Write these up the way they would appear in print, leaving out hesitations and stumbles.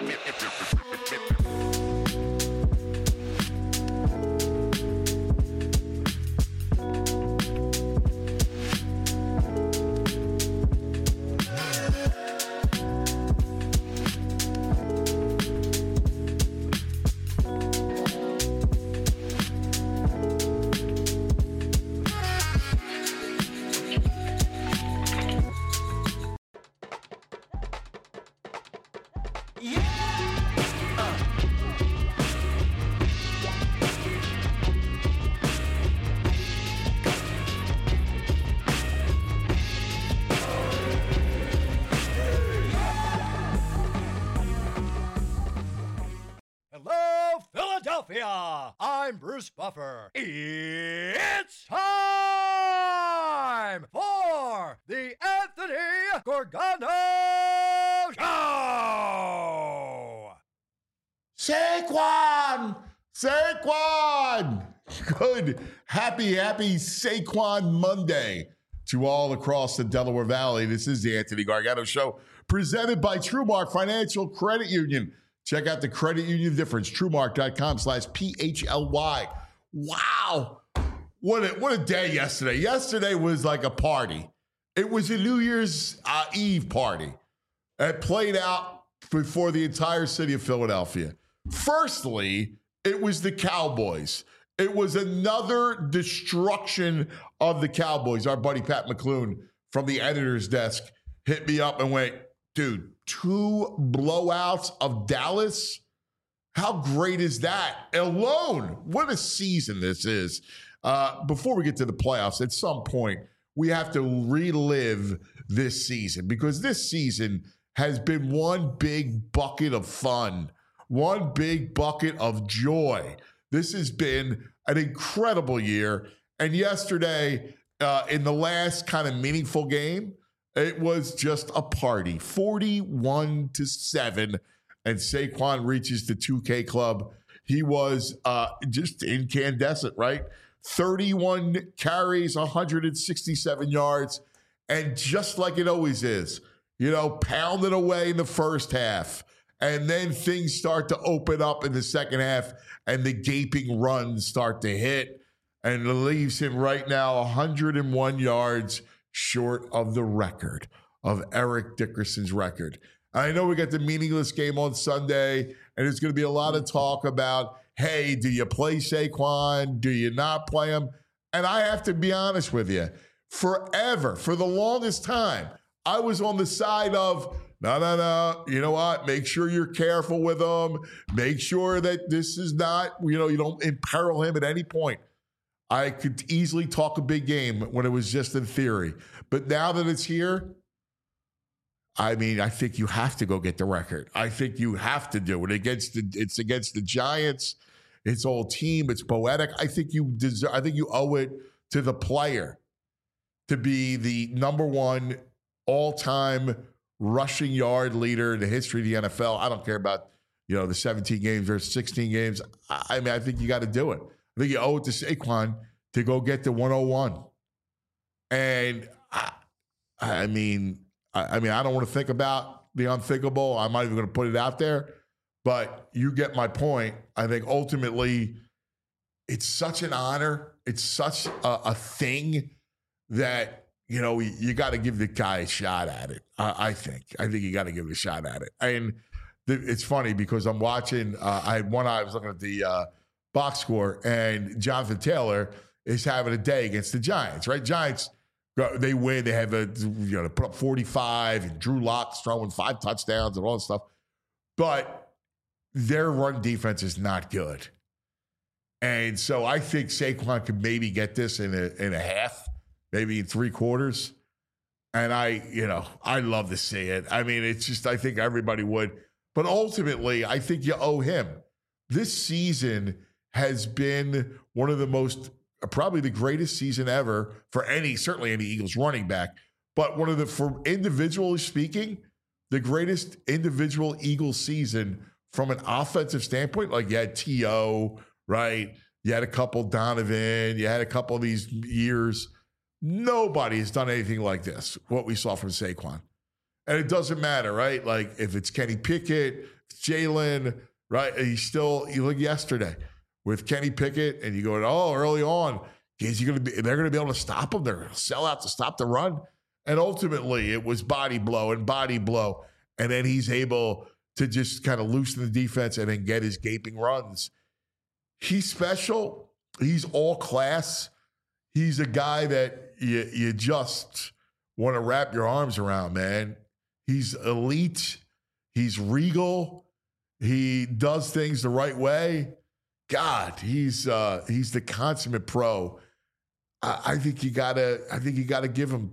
Hello, Philadelphia! I'm Bruce Buffer. It's time for the Anthony Gorgano Show! Saquon! Good, happy Saquon Monday to all across the Delaware Valley. This is the Anthony Gargano Show, presented by TrueMark Financial Credit Union. Check out the credit union difference, TrueMark.com/PHLY. Wow. What a day yesterday. Yesterday was like a party. It was a New Year's Eve party. It played out before the entire city of Philadelphia. Firstly, it was the Cowboys. It was another destruction of the Cowboys. Our buddy Pat McClune from the editor's desk hit me up and went, dude, 2 blowouts of Dallas? How great is that alone? What a season this is. Before we get to the playoffs, at some point, we have to relive this season because this season has been one big bucket of fun, one big bucket of joy. This has been an incredible year. And yesterday, in the last kind of meaningful game, it was just a party, 41-7, and Saquon reaches the 2K club. He was just incandescent, right? 31 carries, 167 yards, and just like it always is, pounded away in the first half, and then things start to open up in the second half, and the gaping runs start to hit, and it leaves him right now 101 yards short of the record of Eric Dickerson's record. I know we got the meaningless game on Sunday, and there's going to be a lot of talk about, hey, do you play Saquon? Do you not play him? And I have to be honest with you, forever, for the longest time, I was on the side of, no, you know what? Make sure you're careful with him. Make sure that this is not, you don't imperil him at any point. I could easily talk a big game when it was just in theory. But now that it's here, I think you have to go get the record. I think you have to do it. It's against the Giants. It's all team. It's poetic. I think you owe it to the player to be the number one all-time rushing yard leader in the history of the NFL. I don't care about, the 17 games or 16 games. I think you got to do it. I think you owe it to Saquon to go get the 101. And I don't want to think about the unthinkable. I'm not even going to put it out there, but you get my point. I think ultimately it's such an honor. It's such a thing that, you got to give the guy a shot at it. I think you got to give it a shot at it. And it's funny because I'm watching, I had one eye, I was looking at the box score, and Jonathan Taylor is having a day against the Giants, right? Giants, they win. They have they put up 45, and Drew Lock's throwing 5 touchdowns and all that stuff. But their run defense is not good. And so I think Saquon could maybe get this in a half, maybe in 3 quarters. And I love to see it. It's just, I think everybody would. But ultimately, I think you owe him. This season has been one of the most, probably the greatest season ever for certainly any Eagles running back, but for individually speaking, the greatest individual Eagles season from an offensive standpoint. Like you had T.O., right? You had a couple Donovan, you had a couple of these years. Nobody has done anything like this, what we saw from Saquon. And it doesn't matter, right? Like if it's Kenny Pickett, Jalen, right? You look yesterday with Kenny Pickett, and you go, early on, they're going to be able to stop him. They're going to sell out to stop the run. And ultimately, it was body blow. And then he's able to just kind of loosen the defense and then get his gaping runs. He's special. He's all class. He's a guy that you just want to wrap your arms around, man. He's elite. He's regal. He does things the right way. God, he's the consummate pro. I think you gotta give him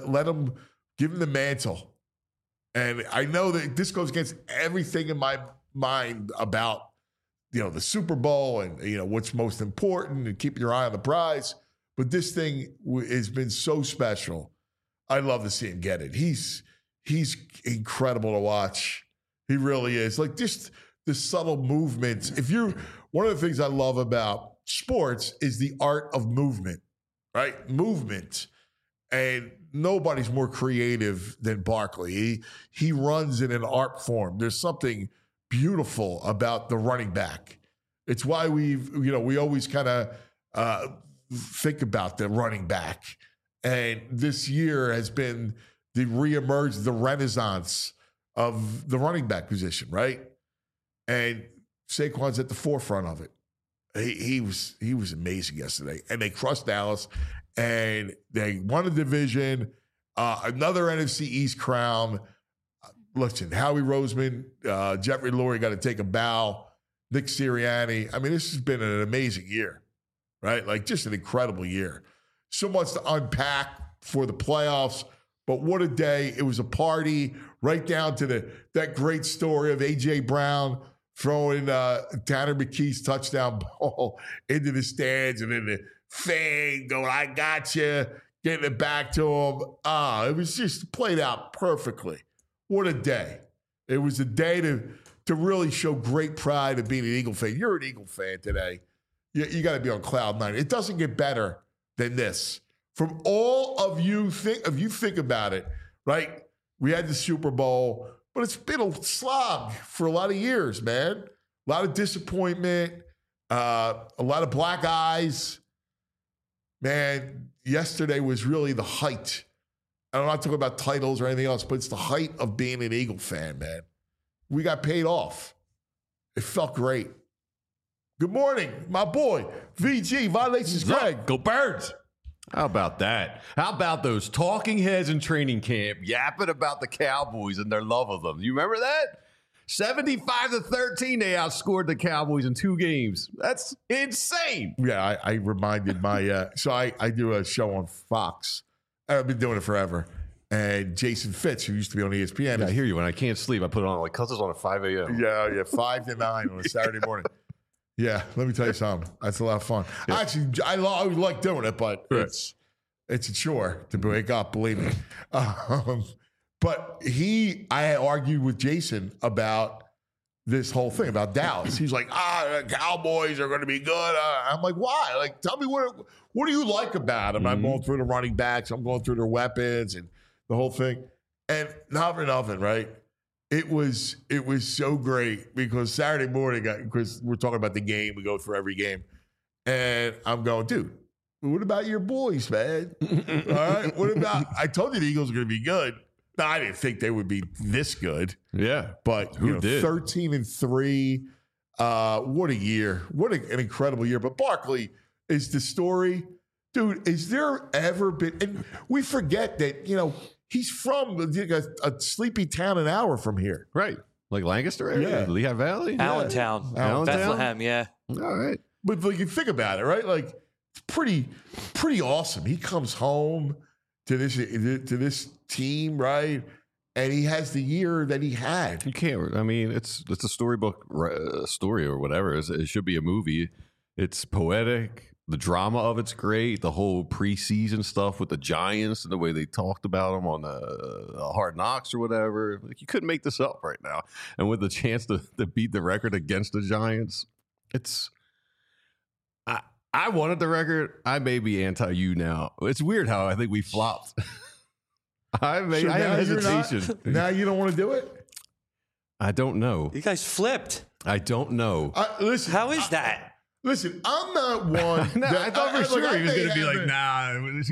give him the mantle. And I know that this goes against everything in my mind about the Super Bowl and what's most important and keeping your eye on the prize. But this thing has been so special. I love to see him get it. He's incredible to watch. He really is. Like just the subtle movements. One of the things I love about sports is the art of movement, right? Movement. And nobody's more creative than Barkley. He runs in an art form. There's something beautiful about the running back. It's why we always kind of think about the running back. And this year has been the renaissance of the running back position, right? And Saquon's at the forefront of it. He was amazing yesterday. And they crushed Dallas, and they won a division, another NFC East crown. Listen, Howie Roseman, Jeffrey Lurie got to take a bow. Nick Sirianni. I mean, this has been an amazing year, right? Like just an incredible year. So much to unpack for the playoffs, but what a day. It was a party right down to that great story of A.J. Brown throwing Tanner McKee's touchdown ball into the stands, and then the fan going, I got you, getting it back to him. It was just played out perfectly. What a day. It was a day to really show great pride of being an Eagle fan. You're an Eagle fan today. You got to be on cloud nine. It doesn't get better than this. From all of you, if you think about it, right? We had the Super Bowl, but it's been a slog for a lot of years, man. A lot of disappointment, a lot of black eyes. Man, yesterday was really the height. I'm not talking about titles or anything else, but it's the height of being an Eagle fan, man. We got paid off. It felt great. Good morning, my boy, VG, Violations Greg. Go Birds. How about that? How about those talking heads in training camp yapping about the Cowboys and their love of them? You remember that? 75-13, they outscored the Cowboys in 2 games. That's insane. Yeah, I reminded my so I do a show on Fox. I've been doing it forever. And Jason Fitz, who used to be on ESPN. Yeah, I hear you. When I can't sleep, I put it on like Cousins on at 5 a.m. Yeah, 5 to 9 on a Saturday morning. Yeah, let me tell you something. That's a lot of fun. Yeah. Actually, I like doing it, but it's a chore to wake up, believe me. But I argued with Jason about this whole thing about Dallas. He's like, the Cowboys are going to be good. I'm like, why? Like, tell me what do you like about them? Mm-hmm. I'm going through the running backs. I'm going through their weapons and the whole thing. And not for nothing, right? It was so great because Saturday morning, because we're talking about the game, we go through every game, and I'm going, dude, what about your boys, man? All right, what about? I told you the Eagles are going to be good. No, I didn't think they would be this good. Yeah, but who did? 13-3. What a year! What an incredible year. But Barkley is the story, dude. Is there ever been? And we forget that he's from a sleepy town an hour from here. Right. Like Lancaster area? Yeah. Lehigh Valley? Allentown. Bethlehem, yeah. All right. But like you think about it, right? Like it's pretty awesome. He comes home to this team, right? And he has the year that he had. You can't. I mean, it's a storybook story or whatever. It should be a movie. It's poetic. The drama of it's great. The whole preseason stuff with the Giants and the way they talked about them on Hard Knocks or whatever. Like, you couldn't make this up right now. And with the chance to beat the record against the Giants, I wanted the record. I may be anti-you now. It's weird how I think we flopped. I have hesitation. Now you don't want to do it? I don't know. You guys flipped. I don't know. Listen, How is that? Listen, I'm not one. No, I thought for sure he was going to be like, nah.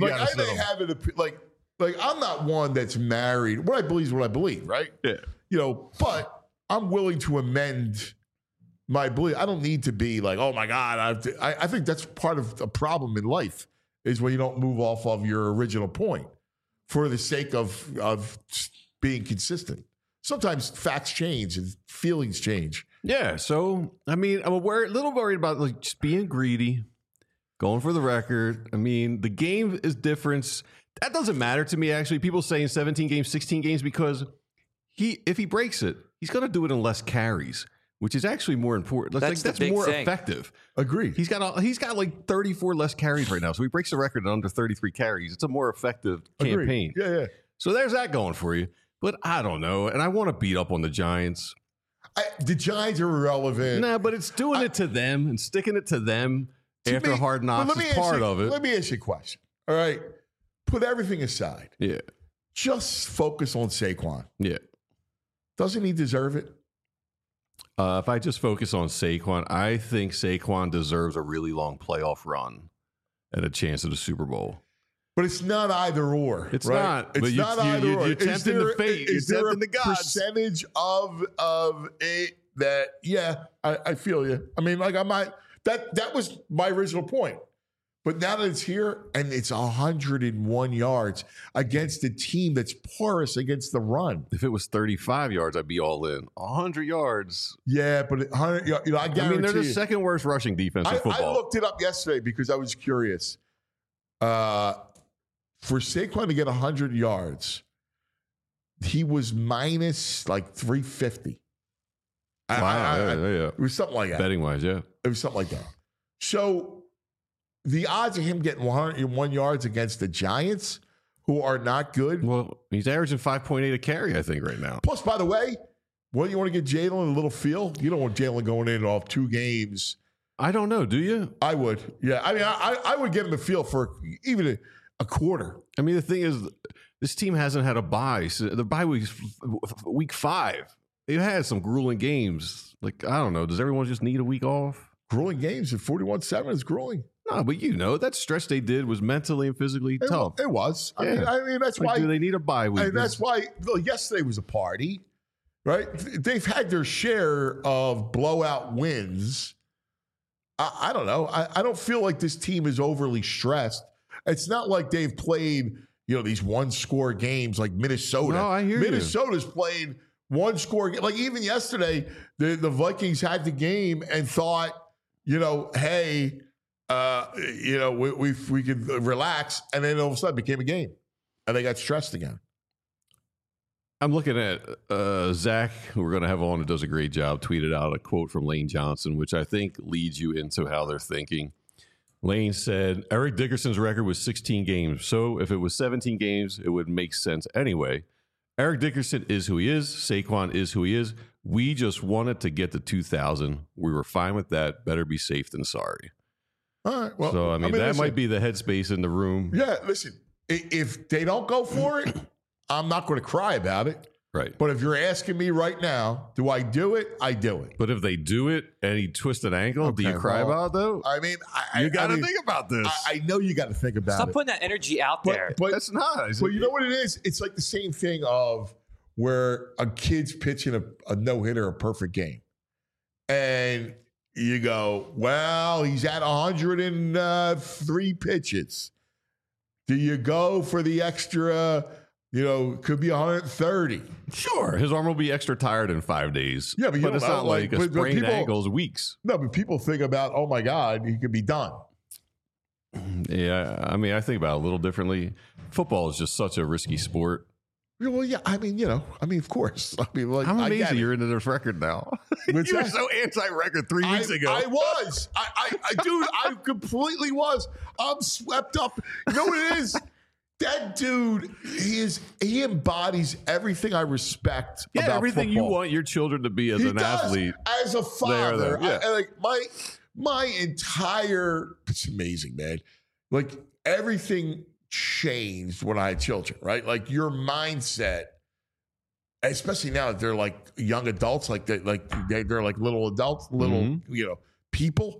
I'm not one that's married. What I believe is what I believe, right? Yeah. But I'm willing to amend my belief. I don't need to be like, oh my God. I think that's part of the problem in life is when you don't move off of your original point for the sake of being consistent. Sometimes facts change and feelings change. Yeah. So, I mean, I'm a little worried about like just being greedy, going for the record. I mean, the game is different. That doesn't matter to me, actually. People saying 17 games, 16 games, because if he breaks it, he's going to do it in less carries, which is actually more important. That's more effective. Agreed. He's got like 34 less carries right now. So he breaks the record in under 33 carries. It's a more effective campaign. Yeah. So there's that going for you. But I don't know. And I want to beat up on the Giants. The Giants are irrelevant. Nah, but it's doing it to them and sticking it to them after Hard Knocks is part of it. Let me ask you a question. All right. Put everything aside. Yeah. Just focus on Saquon. Yeah. Doesn't he deserve it? If I just focus on Saquon, I think Saquon deserves a really long playoff run and a chance at a Super Bowl. But it's not either or. It's right? not. It's but not either or. You're tempting the fate. Is there a the gods. percentage of it that, I feel you. I mean, like I might, that was my original point. But now that it's here and it's 101 yards against a team that's porous against the run. If it was 35 yards, I'd be all in. 100 yards. Yeah, but 100, I guarantee. I mean, they're the second worst rushing defense in football. I looked it up yesterday because I was curious. For Saquon to get 100 yards, he was minus like 350. Yeah. It was something like that. Betting wise, yeah. It was something like that. So the odds of him getting 101 yards against the Giants, who are not good. Well, he's averaging 5.8 a carry, I think, right now. Plus, by the way, when you want to get Jalen a little feel, you don't want Jalen going in off 2 games. I don't know. Do you? I would. Yeah. I mean, I would give him the feel for even a quarter. I mean, the thing is, this team hasn't had a bye. So the bye week's week 5. They've had some grueling games. Like, I don't know. Does everyone just need a week off? Grueling games at 41-7 is grueling. No, but that stretch they did was mentally and physically tough. It was. I mean, that's why. Do they need a bye week? And that's why yesterday was a party, right? They've had their share of blowout wins. I don't know. I don't feel like this team is overly stressed. It's not like they've played, these one-score games like Minnesota. No, I hear Minnesota's played one-score. Like even yesterday, the Vikings had the game and thought, hey, we could relax, and then all of a sudden it became a game, and they got stressed again. I'm looking at Zach, who we're going to have on, who does a great job, tweeted out a quote from Lane Johnson, which I think leads you into how they're thinking. Lane said, Eric Dickerson's record was 16 games, so if it was 17 games, it would make sense anyway. Eric Dickerson is who he is. Saquon is who he is. We just wanted to get to 2,000. We were fine with that. Better be safe than sorry. All right. Well, so, I mean that might be the headspace in the room. Yeah, listen, if they don't go for it, I'm not going to cry about it. Right. But if you're asking me right now, do I do it? I do it. But if they do it and he twists an ankle, do you cry about it, though? I mean, you got to think about this. I know you got to think about it. Stop putting that energy out there. But that's not. But you know what it is? It's like the same thing of where a kid's pitching a no-hitter, a perfect game. And you go, well, he's at 103 pitches. Do you go for the extra, could be 130? Sure. His arm will be extra tired in 5 days. Yeah, but it's not like a sprained ankle is weeks. No, but people think about, oh my God, he could be done. Yeah, I mean, I think about it a little differently. Football is just such a risky sport. Well, yeah, I mean, of course. I mean, like, I'm amazed you're into this record now. You were so anti-record 3 weeks ago. I was. Dude, I completely was. I'm swept up. You know what it is? That dude, he embodies everything I respect about everything football. You want your children to be as an athlete. As a father. Yeah. My entire, it's amazing, man. Like, everything changed when I had children, right? Like, your mindset especially now that they're like young adults, they're like little adults, little people.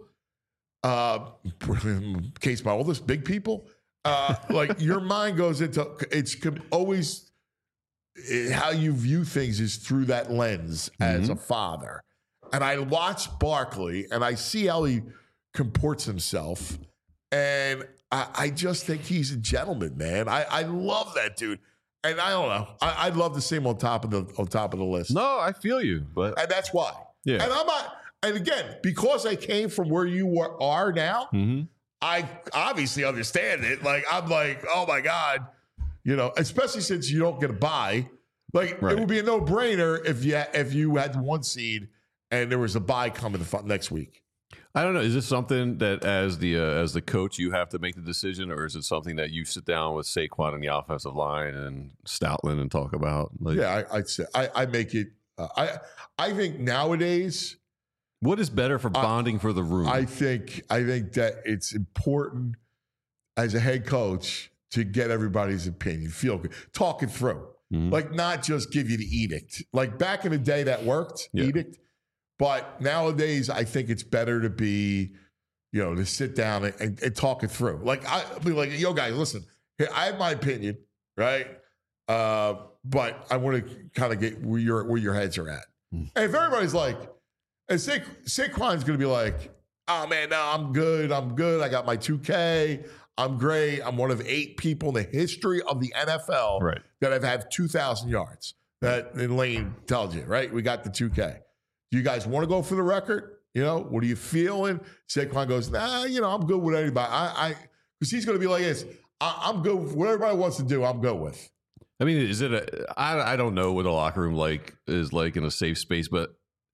Case my oldest, big people. Like your mind goes into always how you view things is through that lens as a father. And I watch Barkley and I see how he comports himself, and I just think he's a gentleman, man. I love that dude. And I don't know. I'd love to see him on top of the list. No, I feel you, but And that's why. Yeah. And I'm not. And again, because I came from where you are now, I obviously understand it. Like I'm like, oh my God, especially since you don't get a bye. Like Right. it would be a no-brainer if you had one seed and there was a bye coming next week. I don't know. Is this something that as the coach you have to make the decision, or is it something that you sit down with Saquon and the offensive line and Stoutland and talk about? Like, Yeah, I'd say I make it. I think nowadays. what is better for bonding for the room? I think that it's important as a head coach to get everybody's opinion, feel good, talk it through, like not just give you the edict. Like back in the day, that worked, edict. But nowadays, I think it's better to be, to sit down and talk it through. Like I be like, yo, guys, listen, here, I have my opinion, right? But I want to kind of get where your heads are at. And if everybody's like, and Saquon's going to be like, oh, man, no, I'm good. I got my 2K. I'm great. I'm one of 8 people in the history of the NFL that have had 2,000 yards. That Lane tells you, right? We got the 2K. Do you guys want to go for the record? What are you feeling? Saquon goes, nah, I'm good with anybody. Because he's going to be like this. I'm good with what everybody wants to do. I'm good with. I mean, is it I don't know what a locker room is like in a safe space, but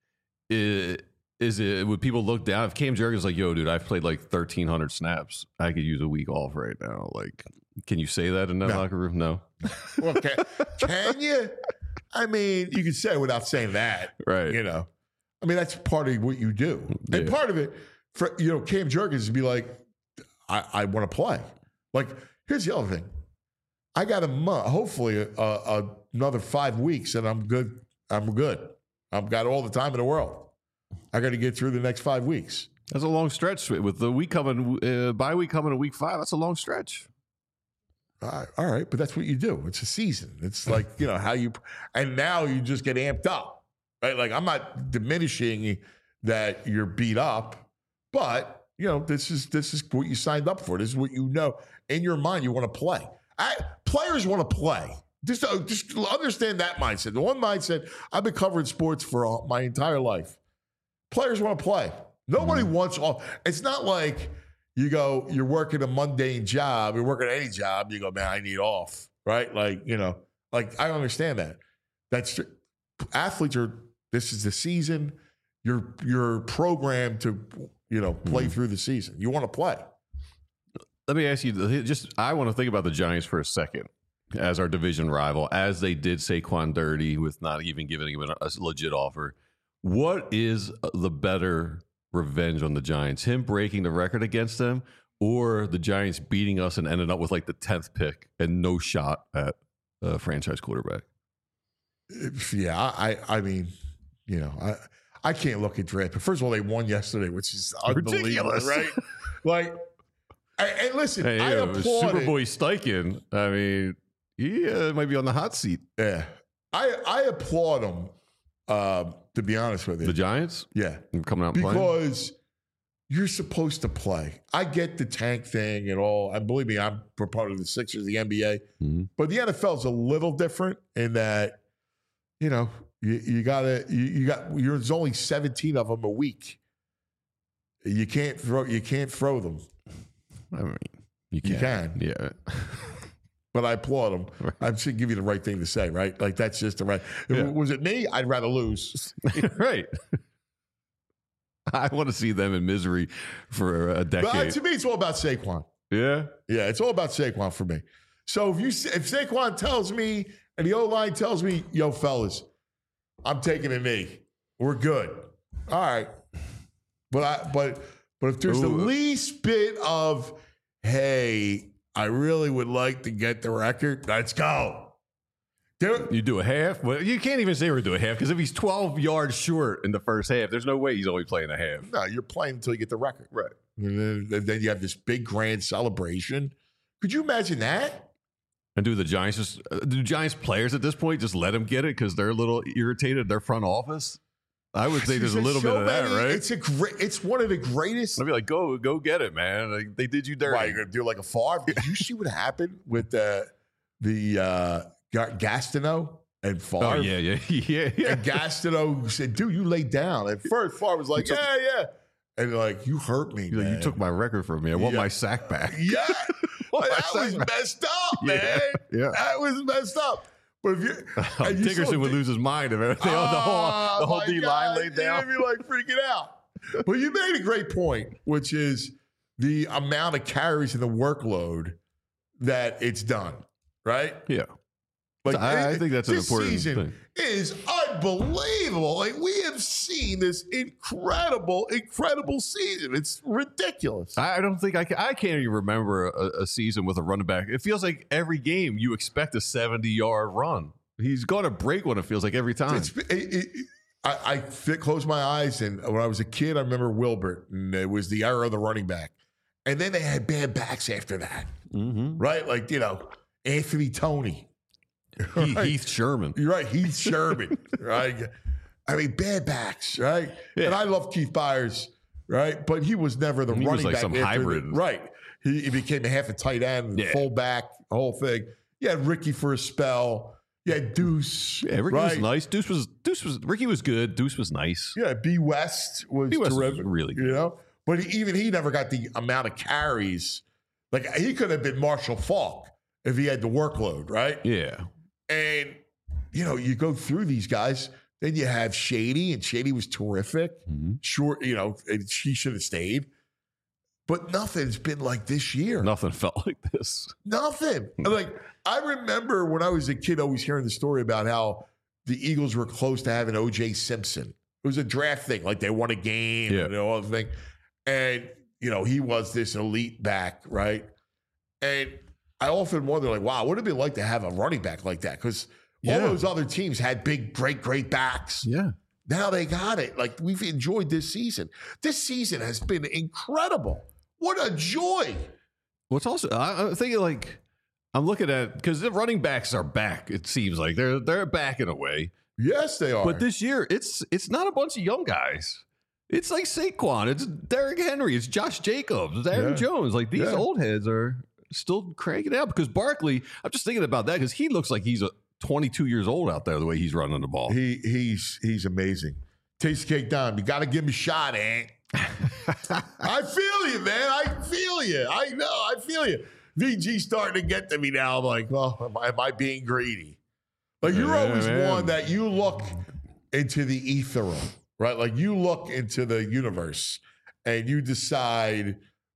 would people look down if Cam Jurgens like, yo, dude, I've played like 1,300 snaps. I could use a week off right now. Like, can you say that in that locker room? No. Well, can you? I mean, you can say it without saying that. Right. I mean, that's part of what you do. And part of it, for Cam Jurgens to be like, I want to play. Like, here's the other thing. I got a month, hopefully another 5 weeks, and I'm good. I've got all the time in the world. I got to get through the next 5 weeks. That's a long stretch with the week coming, bye week coming in week 5. That's a long stretch. All right, but that's what you do. It's a season. It's like, how you, and now you just get amped up, right? Like I'm not diminishing that you're beat up, but this is what you signed up for. This is what in your mind you want to play. Players want to play. Just understand that mindset. The one mindset, I've been covering sports for my entire life. Players want to play. Nobody wants off. It's not like you're working a mundane job, you're working any job, you go, man, I need off, right? Like, I understand that. That's athletes this is the season. You're programmed to, play through the season. You want to play. Let me ask you, I want to think about the Giants for a second as our division rival, as they did Saquon dirty with not even giving him a legit offer. What is the better revenge on the Giants? Him breaking the record against them, or the Giants beating us and ending up with like the 10th pick and no shot at a franchise quarterback? Yeah, I mean, I can't look at draft. But first of all, they won yesterday, which is unbelievable, ridiculous, right? Like, and listen, I applaud Superboy Steichen. I mean, he might be on the hot seat. Yeah, I applaud him. To be honest with you, The Giants, yeah, coming out and playing because you're supposed to play. I get the tank thing and all, and believe me, I'm a proponent of the Sixers, the NBA, but the NFL is a little different in that there's only 17 of them a week. You can't throw them. I mean, you can. Yeah. But I applaud him. Right. I should give you the right thing to say, right? Like, that's just the right. Yeah. Was it me? I'd rather lose. Right. I want to see them in misery for a decade. But to me, it's all about Saquon. Yeah. Yeah, it's all about Saquon for me. So if Saquon tells me and the O-line tells me, yo, fellas, I'm taking a knee. We're good. All right. But if there's the least bit of, hey, I really would like to get the record, let's go. You do a half? Well, you can't even say we're doing a half because if he's 12 yards short in the first half, there's no way he's only playing a half. No, you're playing until you get the record. Right. And then you have this big grand celebration. Could you imagine that? And do Giants players at this point just let him get it because they're a little irritated at their front office? I would say there's a little bit of that, right? It's one of the greatest. I'd be like, go get it, man. Like, they did you dirty. Why, you're going to do like a Favre? Did you see what happened with the Gastineau and Favre? Oh, yeah. And Gastineau said, dude, you laid down. At first, Favre was like, yeah. And like, you hurt me, man. You took my record from me. I want my sack back. Yeah. That was messed up, man. Yeah. That was messed up. But if you, Dickerson would lose his mind if everything, the whole D line laid down. You'd be like freaking out. But you made a great point, which is the amount of carries and the workload that it's done, right? Yeah. Like I think that's an important season thing. Is unbelievable. Like we have seen this incredible season. It's ridiculous. I don't think I can't even remember a season with a running back. It feels like every game you expect a 70-yard run. He's going to break one. It feels like every time. I close my eyes, and when I was a kid, I remember Wilbert, and it was the era of the running back. And then they had bad backs after that, right? Like, Anthony Toney. Right? Heath Sherman. You're right, Heath Sherman, right? I mean, bad backs, right? Yeah. And I love Keith Byers, right? But he was never the running back. Some hybrid. Right. He became a half a tight end, fullback, the whole thing. You had Ricky for a spell. You had Deuce. Yeah, Ricky was nice. Ricky was good. Deuce was nice. Yeah, B. West was terrific. Was really good. But he never got the amount of carries. Like, he could have been Marshall Faulk if he had the workload, right? Yeah. And, you go through these guys, then you have Shady, and Shady was terrific. Sure, and she should have stayed. But nothing's been like this year. Nothing felt like this. Nothing. Like, I remember when I was a kid always hearing the story about how the Eagles were close to having O.J. Simpson. It was a draft thing. Like, they won a game and all the thing. And, he was this elite back, right? And I often wonder, like, wow, what would it be like to have a running back like that? Because all those other teams had big, great backs. Yeah. Now they got it. Like, we've enjoyed this season. This season has been incredible. What a joy. What's also, I'm thinking, like, I'm looking at, because the running backs are back, it seems like. They're back in a way. Yes, they are. But this year, it's not a bunch of young guys. It's like Saquon. It's Derrick Henry. It's Josh Jacobs. It's Aaron Jones. Like, these old heads are still cranking out, because Barkley, I'm just thinking about that because he looks like he's 22 years old out there the way he's running the ball. He's amazing. Taste cake down. You got to give him a shot, Ant. I feel you, man. I feel you. I know. I feel you. VG's starting to get to me now. I'm like, well, am I being greedy? Like, you're always one that you look into the ether, right? Like, you look into the universe and you decide,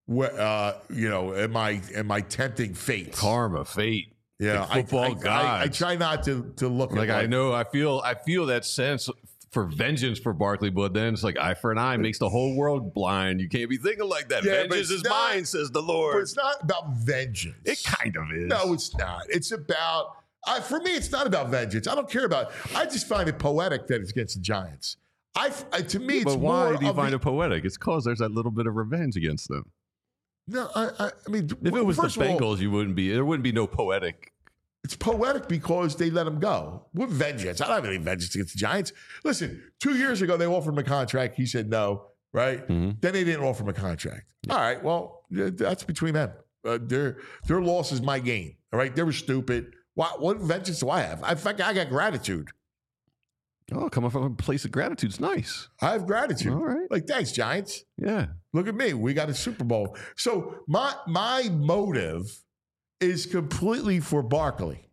am I tempting fate? Karma, fate. Yeah, football gods. I try not to look like, at I feel that sense for vengeance for Barkley, but then it's like eye for an eye makes the whole world blind. You can't be thinking like that. Yeah, vengeance is mine, says the Lord. But it's not about vengeance. It kind of is. No, it's not. It's about, for me, it's not about vengeance. I don't care about, I just find it poetic that it's against the Giants. To me, it's more. But why do you find it poetic? It's because there's that little bit of revenge against them. No, I mean, if it was the Bengals, there wouldn't be no poetic. It's poetic because they let him go with vengeance. I don't have any vengeance against the Giants. Listen, 2 years ago, they offered him a contract. He said no, right? Then they didn't offer him a contract. All right, well, that's between them. Their loss is my gain, all right? They were stupid. What vengeance do I have? I got gratitude. Oh, coming from a place of gratitude is nice. I have gratitude. All right. Like, thanks, Giants. Yeah. Look at me. We got a Super Bowl. So my motive is completely for Barkley.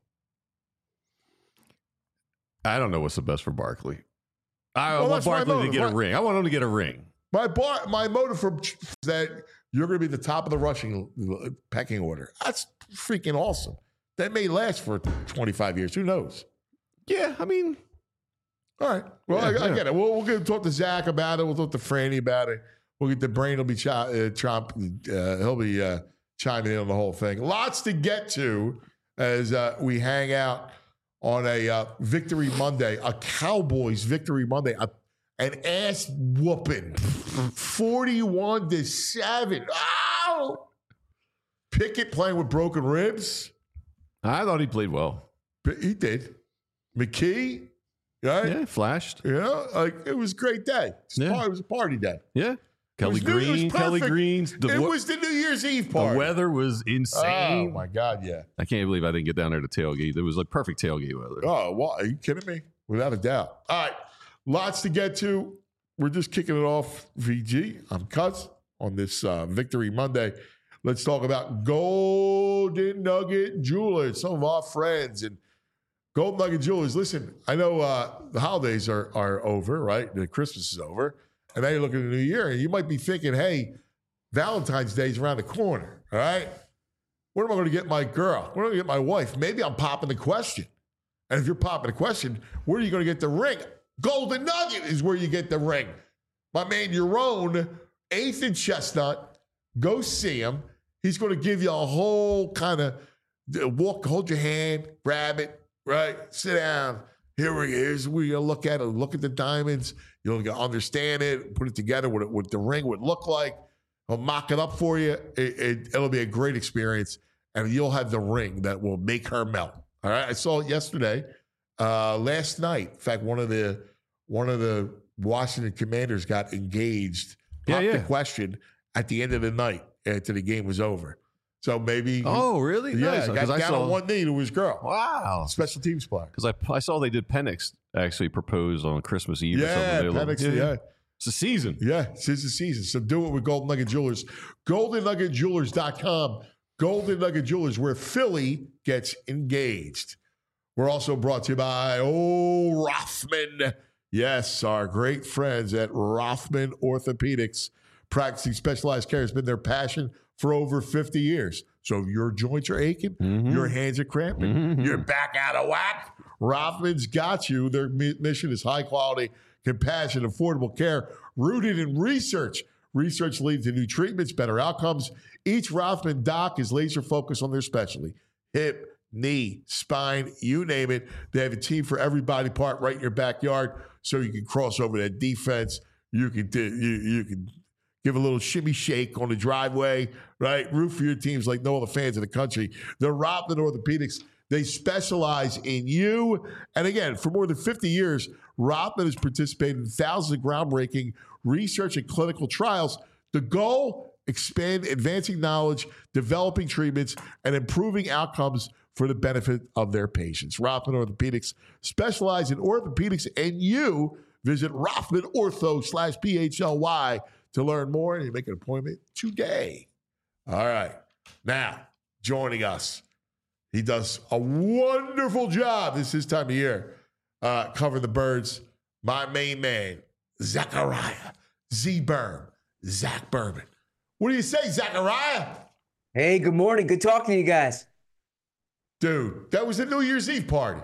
I don't know what's the best for Barkley. I want Barkley to get a ring. I want him to get a ring. My motive for is that you're going to be the top of the rushing pecking order. That's freaking awesome. That may last for 25 years. Who knows? Yeah, I mean. All right. Well, I get it. We'll get to talk to Zach about it. We'll talk to Franny about it. We'll get the brain. Will be he'll be chiming in on the whole thing. Lots to get to as we hang out on a Victory Monday, a Cowboys Victory Monday, an ass whooping, 41-7. Oh! Pickett playing with broken ribs. I thought he played well. He did. McKee, right? Yeah, flashed. You know, like it was a great day. It was a party day. Yeah. Kelly It was perfect. Green's. It was the New Year's Eve party. The weather was insane. Oh, my God, yeah. I can't believe I didn't get down there to tailgate. It was like perfect tailgate weather. Oh, well, are you kidding me? Without a doubt. All right, lots to get to. We're just kicking it off, VG. I'm Cuz on this Victory Monday. Let's talk about Golden Nugget Jewelers, some of our friends. And Golden Nugget Jewelers, listen, I know the holidays are over, right? The Christmas is over. And now you're looking at the new year, and you might be thinking, hey, Valentine's Day is around the corner, all right? What am I going to get my girl? What am I going to get my wife? Maybe I'm popping the question. And if you're popping the question, where are you going to get the ring? Golden Nugget is where you get the ring. My man, Yaron, 8th and Chestnut, go see him. He's going to give you a whole kind of walk, hold your hand, grab it, right? Sit down. Here's where you look at it. Look at the diamonds. You'll understand it, put it together, what the ring would look like. I'll mock it up for you. It'll be a great experience, and you'll have the ring that will make her melt. All right. I saw it yesterday, last night. In fact, one of the Washington Commanders got engaged. Popped the question at the end of the night after the game was over. So maybe. Oh, really? Yeah, Nice. got down on one knee to his girl. Wow. Special teams player. Because I saw they did Penix actually propose on Christmas Eve or something. Penix, yeah. It's the season. Yeah, it's the season. So do it with Golden Nugget Jewelers. GoldenNuggetJewelers.com. Golden Nugget Jewelers, where Philly gets engaged. We're also brought to you by Rothman. Yes, our great friends at Rothman Orthopedics. Practicing specialized care has been their passion for over 50 years. So if your joints are aching, your hands are cramping, you're back out of whack, Rothman's got you. Their mission is high quality, compassionate, affordable care rooted in research. Research leads to new treatments, better outcomes. Each Rothman doc is laser focused on their specialty. Hip, knee, spine, you name it. They have a team for every body part right in your backyard, so you can cross over that defense. You can give a little shimmy shake on the driveway, right? Root for your teams like no other fans in the country. The Rothman Orthopedics, they specialize in you. And again, for more than 50 years, Rothman has participated in thousands of groundbreaking research and clinical trials. The goal, expand advancing knowledge, developing treatments, and improving outcomes for the benefit of their patients. Rothman Orthopedics specialize in orthopedics, and you visit RothmanOrtho.com/PHLY to learn more, and you make an appointment today. All right. Now, joining us, he does a wonderful job. This is his time of year, covering the birds. My main man, Zachariah Z-Berm, Zach Berman. What do you say, Zachariah? Hey, good morning. Good talking to you guys. Dude, that was a New Year's Eve party.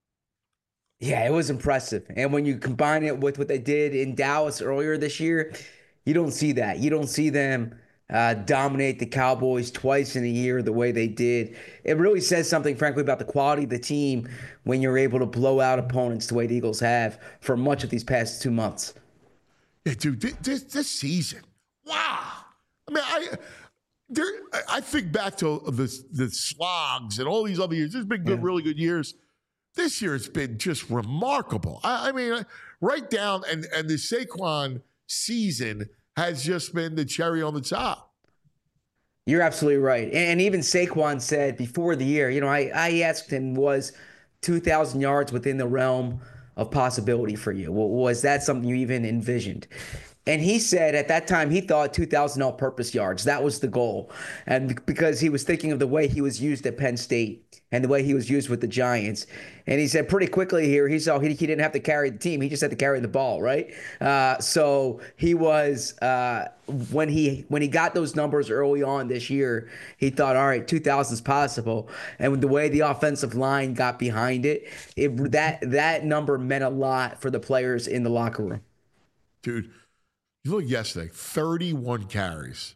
Yeah, it was impressive. And when you combine it with what they did in Dallas earlier this year, you don't see that. You don't see them dominate the Cowboys twice in a year the way they did. It really says something, frankly, about the quality of the team when you're able to blow out opponents the way the Eagles have for much of these past 2 months. Yeah, dude, this season, wow. I mean, I think back to the slogs and all these other years. There's been really good years. This year, it's been just remarkable. I mean, right down, and the Saquon season has just been the cherry on the top. You're absolutely right. And even Saquon said before the year, I asked him, was 2,000 yards within the realm of possibility for you? Was that something you even envisioned? And he said at that time he thought 2,000 all-purpose yards. That was the goal. And because he was thinking of the way he was used at Penn State and the way he was used with the Giants. And he said pretty quickly here, he saw he didn't have to carry the team. He just had to carry the ball, right? So he was when he got those numbers early on this year, he thought, all right, 2,000 is possible. And with the way the offensive line got behind it, that number meant a lot for the players in the locker room. Dude, you look yesterday, 31 carries.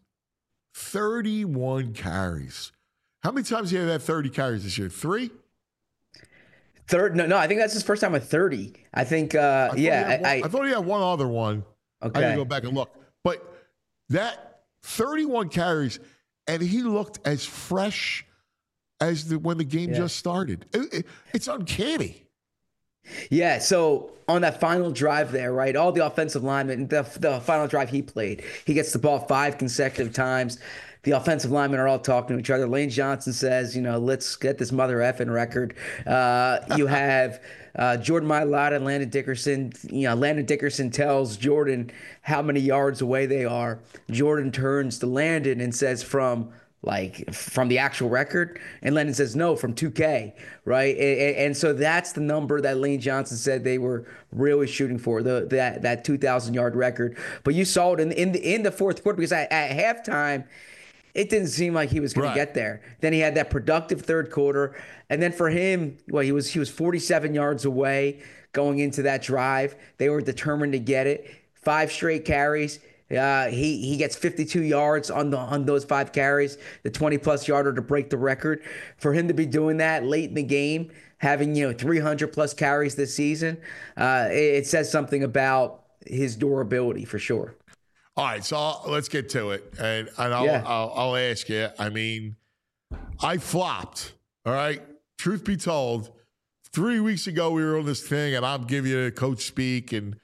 31 carries. How many times have you had 30 carries this year? 3? Third? No, I think that's his first time with 30. I think, I I thought he had one other one. I okay. gotta go back and look. But that 31 carries, and he looked as fresh as when the game just started. It's uncanny. Yeah, so on that final drive there, right, all the offensive linemen, the final drive he played, he gets the ball 5 consecutive times. The offensive linemen are all talking to each other. Lane Johnson says, let's get this mother effing record. You have Jordan Mailata and Landon Dickerson. Landon Dickerson tells Jordan how many yards away they are. Jordan turns to Landon and says from the actual record, and Landon says no, from 2K, right? And so that's the number that Lane Johnson said they were really shooting for, that 2,000-yard record. But you saw it in the fourth quarter, because at halftime, it didn't seem like he was going to get there. Then he had that productive third quarter, and then for him, he was 47 yards away going into that drive. They were determined to get it. 5 straight carries. He gets 52 yards on those 5 carries, the 20-plus yarder to break the record. For him to be doing that late in the game, having 300-plus carries this season, it says something about his durability for sure. All right, so let's get to it, and I'll ask you. I mean, I flopped. All right, truth be told, 3 weeks ago we were on this thing, and I'm giving you a coach speak, and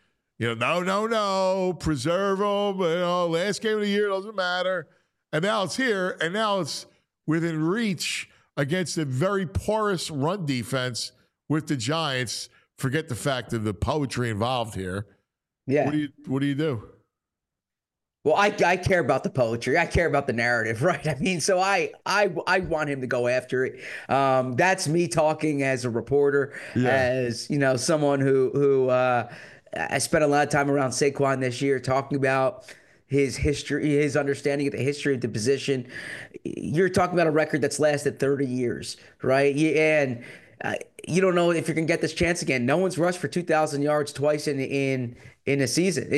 no, preserve them. Last game of the year doesn't matter, and now it's here, and now it's within reach against a very porous run defense with the Giants. Forget the fact of the poetry involved here. Yeah. What do you do? Well, I care about the poetry. I care about the narrative, right? I mean, so I want him to go after it. That's me talking as a reporter, as someone who I spent a lot of time around Saquon this year talking about his history, his understanding of the history of the position. You're talking about a record that's lasted 30 years, right? And you don't know if you're gonna get this chance again. No one's rushed for 2,000 yards twice in a season,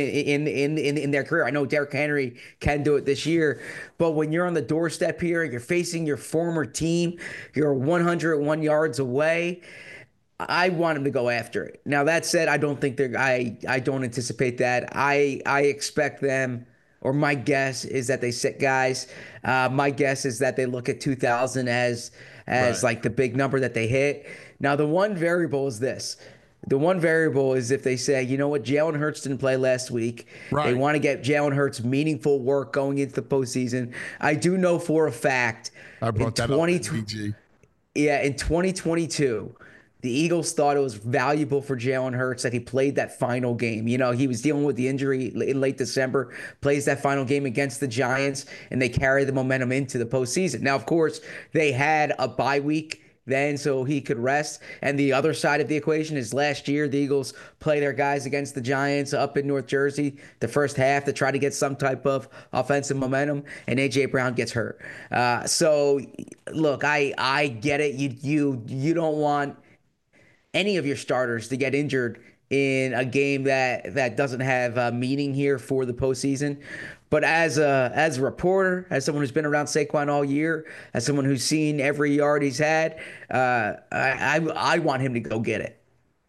in their career. I know Derrick Henry can do it this year, but when you're on the doorstep here, you're facing your former team, you're 101 yards away. I want him to go after it. Now that said, I don't think I don't anticipate that. I expect them, or my guess is that they sit guys. My guess is that they look at 2,000 as like the big number that they hit. Now the one variable is this. The one variable is if they say, you know what, Jalen Hurts didn't play last week. Right. They want to get Jalen Hurts meaningful work going into the postseason. I do know for a fact. I brought that up in PG. Yeah, in 2022, the Eagles thought it was valuable for Jalen Hurts that he played that final game. He was dealing with the injury in late December, plays that final game against the Giants, and they carry the momentum into the postseason. Now, of course, they had a bye week then so he could rest. And the other side of the equation is last year, the Eagles play their guys against the Giants up in North Jersey the first half to try to get some type of offensive momentum, and A.J. Brown gets hurt. So, look, I get it. You don't want any of your starters to get injured in a game that doesn't have meaning here for the postseason. But as a reporter, as someone who's been around Saquon all year, as someone who's seen every yard he's had, I want him to go get it.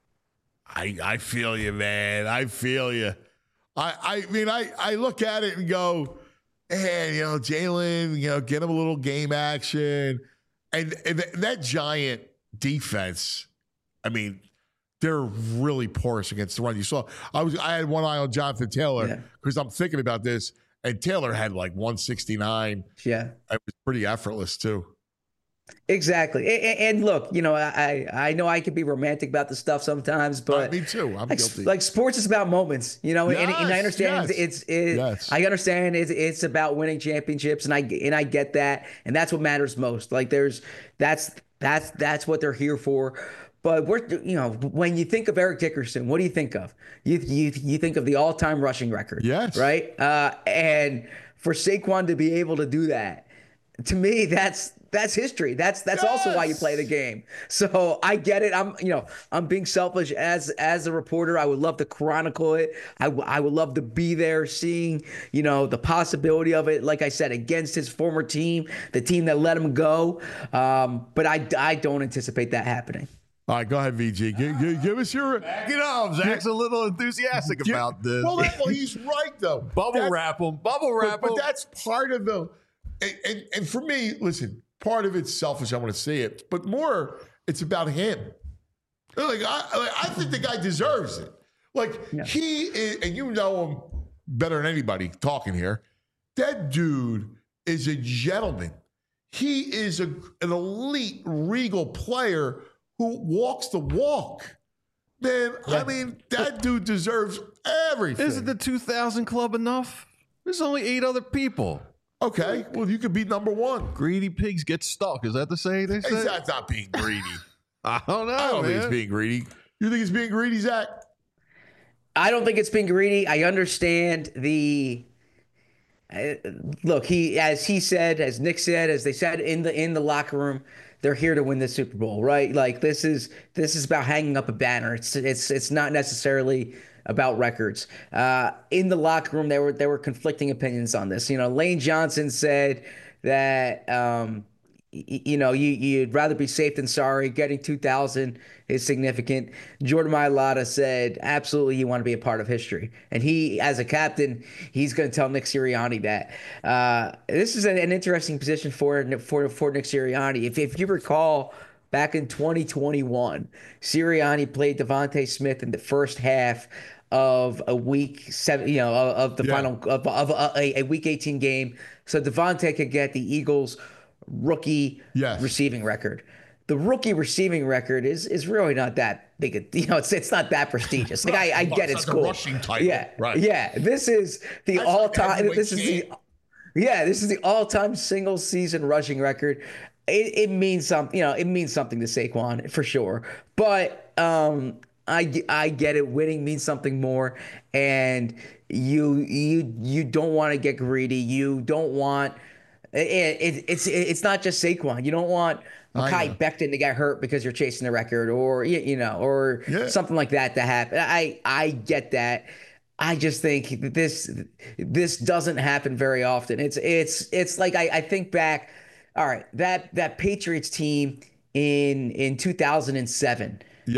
I feel you, man. I feel you. I mean, I look at it and go, hey, Jalen, get him a little game action. And that Giant defense, I mean, they're really porous against the run. You saw, I had one eye on Jonathan Taylor because I'm thinking about this, and Taylor had like 169. Yeah, it was pretty effortless too. Exactly. And look, I know I can be romantic about the stuff sometimes, but me too. I'm guilty. Like sports is about moments, and I understand I understand it's about winning championships, and I get that, and that's what matters most. Like that's what they're here for. But when you think of Eric Dickerson, what do you think of? You think of the all-time rushing record. Yes. Right? And for Saquon to be able to do that, to me, that's history. That's also why you play the game. So I get it. I'm being selfish as a reporter. I would love to chronicle it. I would love to be there seeing, the possibility of it. Like I said, against his former team, the team that let him go. But I don't anticipate that happening. All right, go ahead, VG. Give us your. You know, Zach's a little enthusiastic about this. Well, he's right though. Bubble wrap him. But that's part of the. And for me, listen, part of it's selfish. I want to say it, but more, it's about him. I think the guy deserves it. He is, and you know him better than anybody talking here. That dude is a gentleman. He is an elite, regal player who walks the walk. Man, I mean, that dude deserves everything. Isn't the 2000 club enough? There's only 8 other people. Okay, well, you could be number one. Greedy pigs get stuck. Is that the saying they say? That's not being greedy. I don't know, I don't think man. it's being greedy. You think it's being greedy, Zach? I don't think it's being greedy. I understand the look. As Nick said, as they said in the locker room, they're here to win the Super Bowl, right? Like this is about hanging up a banner. It's not necessarily about records. In the locker room, there were conflicting opinions on this. You know, Lane Johnson said that you'd rather be safe than sorry. Getting 2,000 is significant. Jordan Mailata said absolutely you want to be a part of history, and he, as a captain, he's going to tell Nick Sirianni that. This is an interesting position for Nick Sirianni. If you recall, back in 2021, Sirianni played Devontae Smith in the first half of a week 7, of the final of a week 18 game, so Devontae could get the Eagles' rookie receiving record. The rookie receiving record is really not that big. It's not that prestigious. Like I get it's cool. Rushing title. Yeah, right. Yeah, this is the all-time. This is the all-time single season rushing record. It means something. It means something to Saquon for sure. But I get it. Winning means something more, and you don't want to get greedy. You don't want. It's not just Saquon. You don't want Mekhi Becton to get hurt because you're chasing the record, or something like that to happen. I get that. I just think that this doesn't happen very often. It's like I think back. All right, that Patriots team in 2007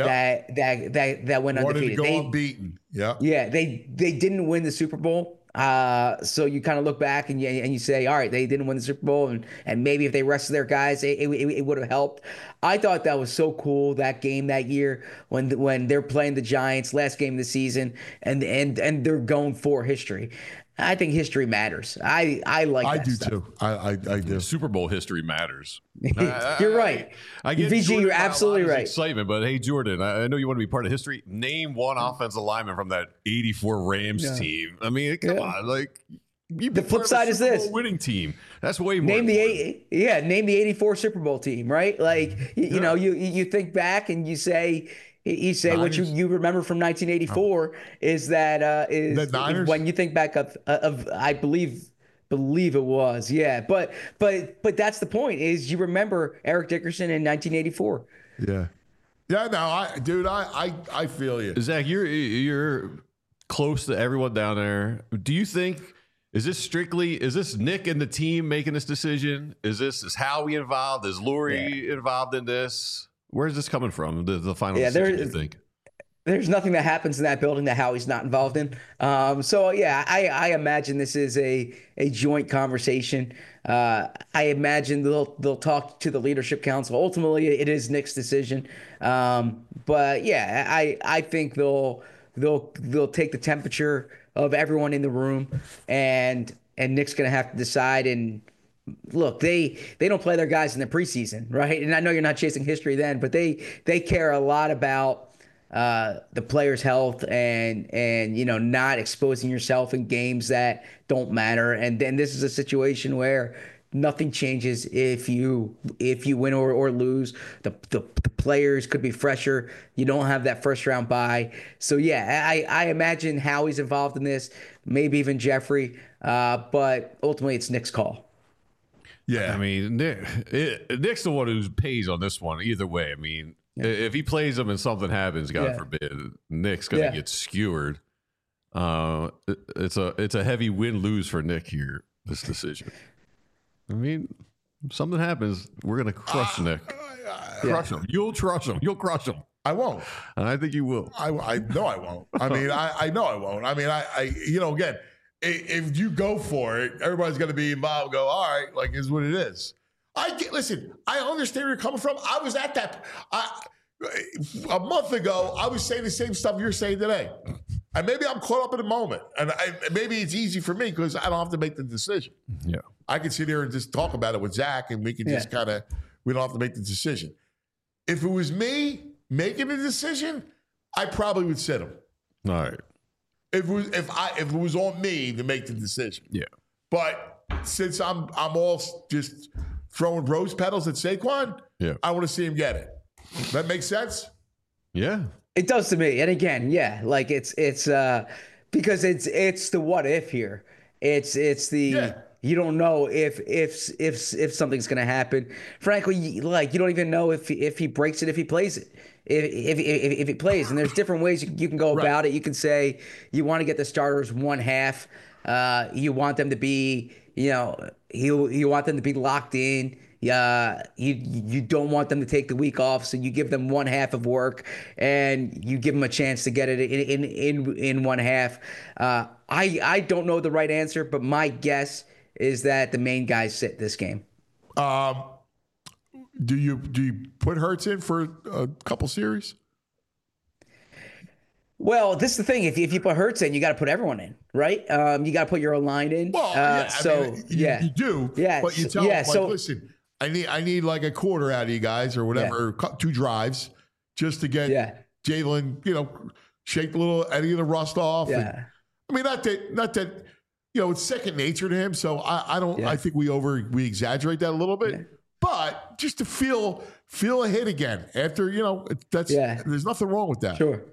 that went undefeated. They unbeaten. Yeah. Yeah, they didn't win the Super Bowl. So you kind of look back and you say, all right, they didn't win the Super Bowl, and maybe if they rested their guys, it would have helped. I thought that was so cool, that game that year when they're playing the Giants, last game of the season, and they're going for history. I think history matters. I like that stuff. Too. I do. Super Bowl history matters. You're right. I get VG, Jordan you're absolutely right. Excitement, but hey, Jordan, I know you want to be part of history. Name one offensive lineman from that '84 Rams team. I mean, come on, like the flip side is this: winning team. That's way more. Name the '84 Super Bowl team, right? Like you think back and you say. You say what you remember from 1984 is that when you think back of I believe it was, yeah, but that's the point, is you remember Eric Dickerson in 1984. No, I feel you, Zach. You're close to everyone down there. Do you think? Is this Nick and the team making this decision? Is Howie involved? Is Lurie involved in this? Where's this coming from? The final decision, you think? There's nothing that happens in that building that Howie's not involved in. I imagine this is a joint conversation. I imagine they'll talk to the leadership council. Ultimately, it is Nick's decision. I think they'll take the temperature of everyone in the room, and Nick's going to have to decide. And look, they don't play their guys in the preseason, right? And I know you're not chasing history then, but they care a lot about the players' health and not exposing yourself in games that don't matter. And then this is a situation where nothing changes if you win or lose. The players could be fresher. You don't have that first round bye. So I imagine Howie's involved in this, maybe even Jeffrey, but ultimately it's Nick's call. Yeah, I mean, Nick's the one who pays on this one either way. I mean, if he plays them and something happens, God forbid, Nick's going to get skewered. It's a heavy win-lose for Nick here, this decision. I mean, If something happens, we're gonna crush Nick. Crush him. You'll crush him. You'll crush him. I won't. And I think you will. I know I won't. I mean, I know I won't. I mean, again, if you go for it, everybody's going to be involved and go, all right, like, is what it is. Listen, I understand where you're coming from. I was at that. A month ago, I was saying the same stuff you're saying today. And maybe I'm caught up in the moment. And maybe it's easy for me because I don't have to make the decision. Yeah. I can sit here and just talk about it with Zach, and we can just we don't have to make the decision. If it was me making the decision, I probably would sit him. All right. If it was on me to make the decision. Yeah. But since I'm all just throwing rose petals at Saquon, I want to see him get it. That makes sense? Yeah. It does to me. And again, like it's because it's the what if here. It's the you don't know if something's going to happen. Frankly, like you don't even know if he breaks it, if he plays it. If he plays, and there's different ways you can go about it. You can say you want to get the starters one half. You want them to be, you want them to be locked in. You don't want them to take the week off, so you give them one half of work, and you give them a chance to get it in one half. I don't know the right answer, but my guess is that the main guys sit this game. Do you put Hurts in for a couple series? Well, this is the thing. If you put Hurts in, you got to put everyone in, right? You got to put your line in. Well, you do. Yeah, but you tell them, listen, I need like a quarter out of you guys or whatever, 2 drives, just to get Jalen, shake a little any of the rust off. Yeah. And, I mean, not that it's second nature to him. So I don't. I think we exaggerate that a little bit. Yeah. But just to feel a hit again after, there's nothing wrong with that. Sure.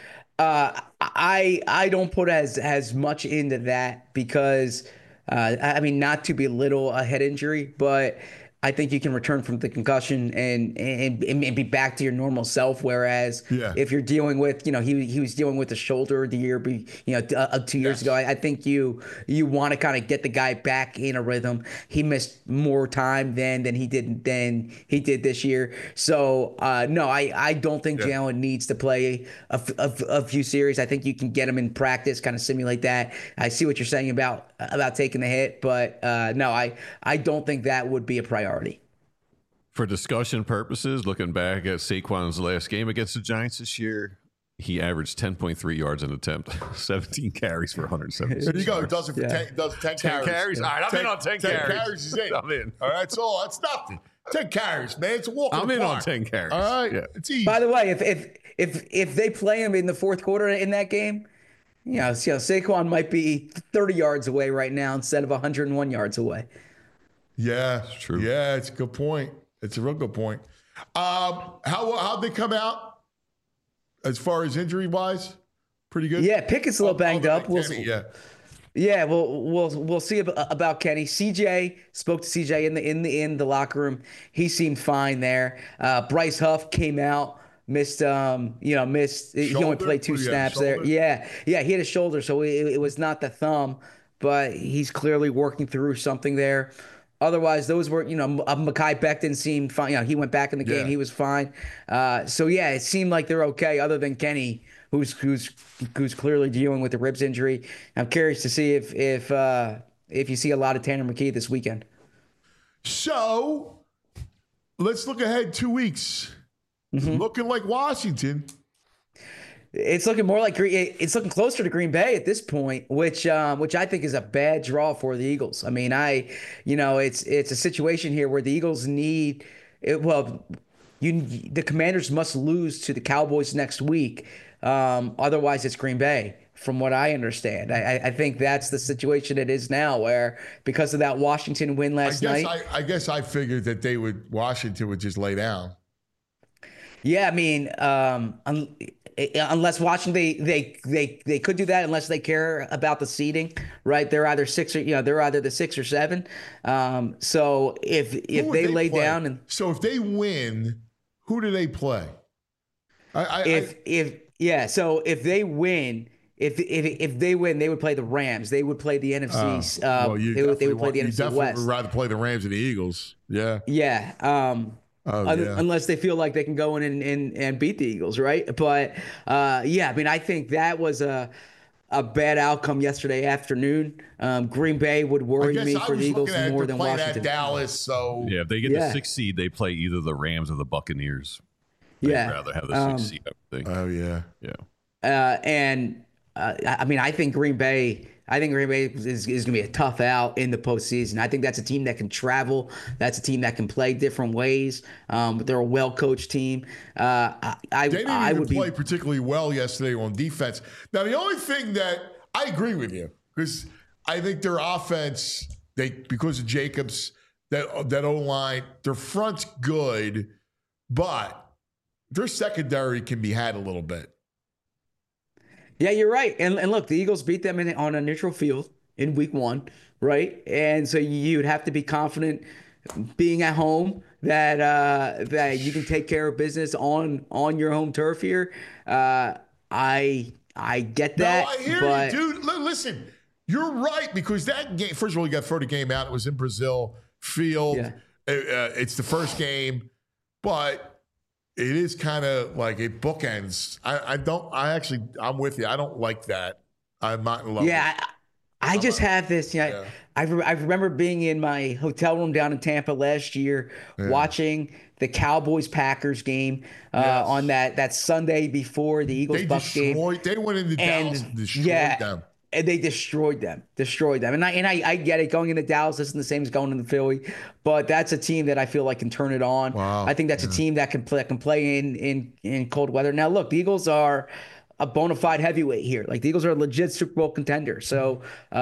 I don't put as much into that because, not to belittle a head injury, but I think you can return from the concussion and be back to your normal self. Whereas if you're dealing with, he was dealing with the shoulder the year, 2 years ago. I think you want to kind of get the guy back in a rhythm. He missed more time than he did this year. So no, I don't think Jalen needs to play a few series. I think you can get him in practice, kind of simulate that. I see what you're saying about taking the hit, but no, I don't think that would be a priority. For discussion purposes, looking back at Saquon's last game against the Giants this year, he averaged 10.3 yards an attempt, 17 carries for 176 There you go. yards. Does it for 10 carries. All right, I'm in on 10 carries. 10 carries is in. I'm in. All right, that's nothing. 10 carries, man. It's a walk. I'm in on 10 carries. All right, it's easy. By the way, if they play him in the fourth quarter in that game, Saquon might be 30 yards away right now instead of 101 yards away. Yeah, it's true. Yeah, it's a good point. It's a real good point. How'd they come out as far as injury wise? Pretty good. Yeah, Pickett's a little banged up. We'll Kenny, see. Yeah, we'll see about Kenny. CJ spoke to CJ in the locker room. He seemed fine there. Bryce Huff came out. Missed. He only played 2 snaps there. Yeah, he had a shoulder, so it was not the thumb, but he's clearly working through something there. Otherwise, those were, Mekhi Becton seemed fine. He went back in the game. He was fine. It seemed like they're okay, other than Kenny, who's clearly dealing with the ribs injury. I'm curious to see if you see a lot of Tanner McKee this weekend. So let's look ahead 2 weeks. Looking like Washington. It's looking more like it's looking closer to Green Bay at this point, which I think is a bad draw for the Eagles. I mean, it's a situation here where the Eagles need it. Well, the Commanders must lose to the Cowboys next week. Otherwise, it's Green Bay, from what I understand. I think that's the situation it is now, where because of that Washington win last night. I guess I figured that Washington would just lay down. Yeah, I mean, unless Washington, they could do that unless they care about the seeding, right? They're either they're either the 6 or 7. So if they lay down and so if they win, who do they play? So if they win, if they win, they would play the Rams. They would play the NFC. They would play the NFC West. Would rather play the Rams and the Eagles. Yeah. Yeah. Unless they feel like they can go in and beat the Eagles, right? But yeah, I mean, I think that was a bad outcome yesterday afternoon. Green Bay would worry me for the Eagles more than Washington. At Dallas, so yeah, if they get the 6th seed, they play either the Rams or the Buccaneers. They'd rather have the 6th seed, I think. Oh yeah, yeah. I mean, I think Green Bay is going to be a tough out in the postseason. I think that's a team that can travel. That's a team that can play different ways. They're a well-coached team. They didn't even play particularly well yesterday on defense. Now, the only thing that I agree with you, because I think their offense, because of Jacobs, that O-line, their front's good, but their secondary can be had a little bit. Yeah, you're right. And look, the Eagles beat them on a neutral field in week 1, right? And so you'd have to be confident being at home that you can take care of business on your home turf here. I get that. No, I hear you, dude. Listen, you're right, because that game, first of all, you got to throw the game out. It was in Brazil field. Yeah. It's the first game, but it is kind of like it bookends. I'm with you. I don't like that. I'm not in love with it. I just have this. I remember being in my hotel room down in Tampa last year, watching the Cowboys-Packers game on that Sunday before the Eagles-Bucs game. They went into Dallas and destroyed them. And they destroyed them. And I get it. Going into Dallas isn't the same as going into Philly, but that's a team that I feel like can turn it on. Wow. I think that's a team that can play in cold weather. Now, look, the Eagles are a bona fide heavyweight here. Like, the Eagles are a legit Super Bowl contender. So,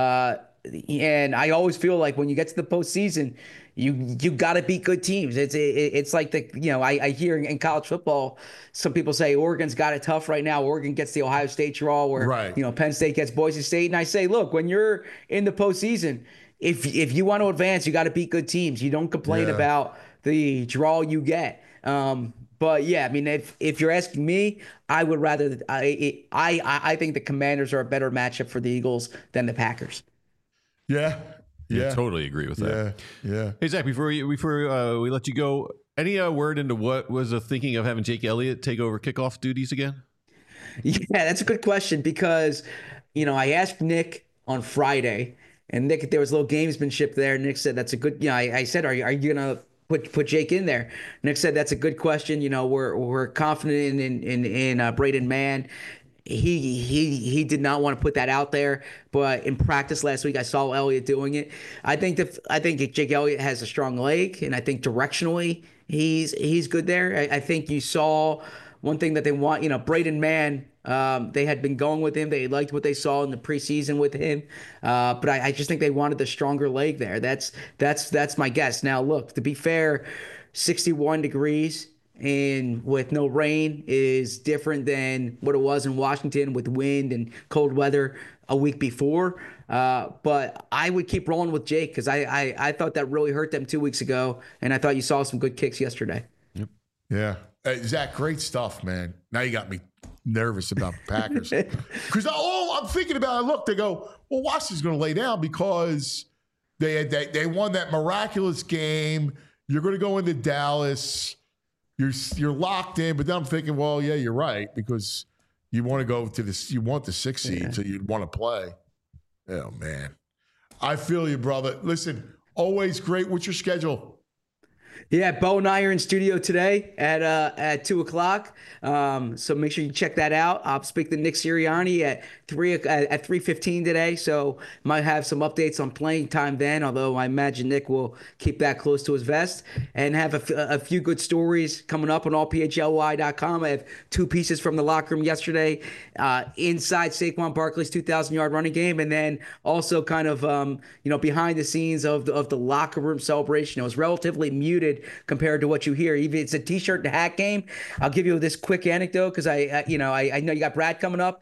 and I always feel like when you get to the postseason, you got to beat good teams. It's like I hear in college football, some people say Oregon's got it tough right now. Oregon gets the Ohio State draw, where Penn State gets Boise State, and I say, look, when you're in the postseason, if you want to advance, you got to beat good teams. You don't complain about the draw you get. But yeah, I mean, if you're asking me, I would rather. I think the Commanders are a better matchup for the Eagles than the Packers. Yeah. Yeah, totally agree with that. Yeah. Hey, Zach, before we let you go, any word into what was the thinking of having Jake Elliott take over kickoff duties again? Yeah, that's a good question, because, I asked Nick on Friday, and Nick, there was a little gamesmanship there. Nick said, that's a good, I said, are you going to put Jake in there? Nick said, that's a good question. We're confident in Braden Mann. He did not want to put that out there, but in practice last week, I saw Elliott doing it. I think Jake Elliott has a strong leg, and I think directionally he's good there. I think you saw one thing that they want. Braden Mann, they had been going with him. They liked what they saw in the preseason with him, but I just think they wanted the stronger leg there. That's my guess. Now, look, to be fair, 61 degrees and with no rain is different than what it was in Washington with wind and cold weather a week before. But I would keep rolling with Jake, because I thought that really hurt them 2 weeks ago, and I thought you saw some good kicks yesterday. Yep. Yeah. Zach, great stuff, man. Now you got me nervous about the Packers. Because all I'm thinking about, look, they go, well, Washington's going to lay down because they won that miraculous game. You're going to go into Dallas. You're locked in, but then I'm thinking, well, yeah, you're right, because you want to go to this. You want the 6th seed, so you'd want to play. Oh man, I feel you, brother. Listen, always great. What's your schedule? Yeah, Bo and I are in studio today at 2:00. So make sure you check that out. I'll speak to Nick Sirianni at 3:15 today. So might have some updates on playing time then, although I imagine Nick will keep that close to his vest, and have a few good stories coming up on allphly.com. I have 2 pieces from the locker room yesterday, inside Saquon Barkley's 2,000-yard running game, and then also kind of behind the scenes of the locker room celebration. It was relatively muted compared to what you hear. Even it's a t-shirt and hat game. I'll give you this quick anecdote, because I know you got Brad coming up.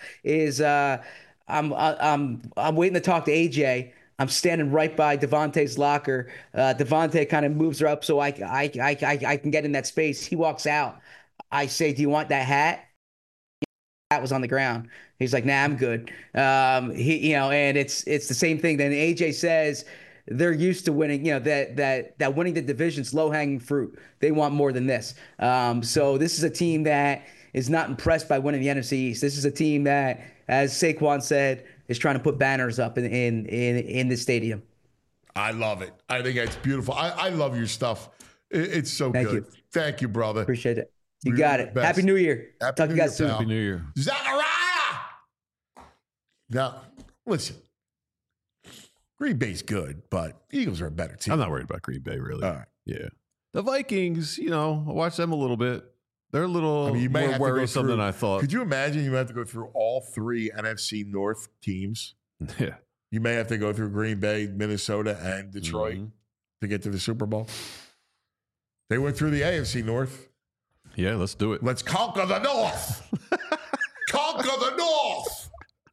I'm waiting to talk to AJ. I'm standing right by Devontae's locker. Devontae kind of moves her up so I can get in that space. He walks out. I say, "Do you want that hat?" was on the ground. He's like, nah, I'm good. And it's the same thing. Then AJ says they're used to winning, that winning the division's low hanging fruit. They want more than this. So this is a team that is not impressed by winning the NFC East. This is a team that, as Saquon said, is trying to put banners up in the stadium. I love it. I think it's beautiful. I love your stuff. It's so Thank good. you. Thank you, brother. Appreciate it. You You're got the it. best. Happy New Year. Happy Talk to New you guys Year, soon. pal. Happy New Year. Zachariah! Now, listen. Green Bay's good, but Eagles are a better team. I'm not worried about Green Bay, really. All right. Yeah. The Vikings, I watch them a little bit. They're a little You may more have to go worrisome through- than I thought. Could you imagine you have to go through all 3 NFC North teams? Yeah. You may have to go through Green Bay, Minnesota, and Detroit Mhm. to get to the Super Bowl. They went through the AFC North. Yeah, let's do it. Let's conquer the North. Conquer the North.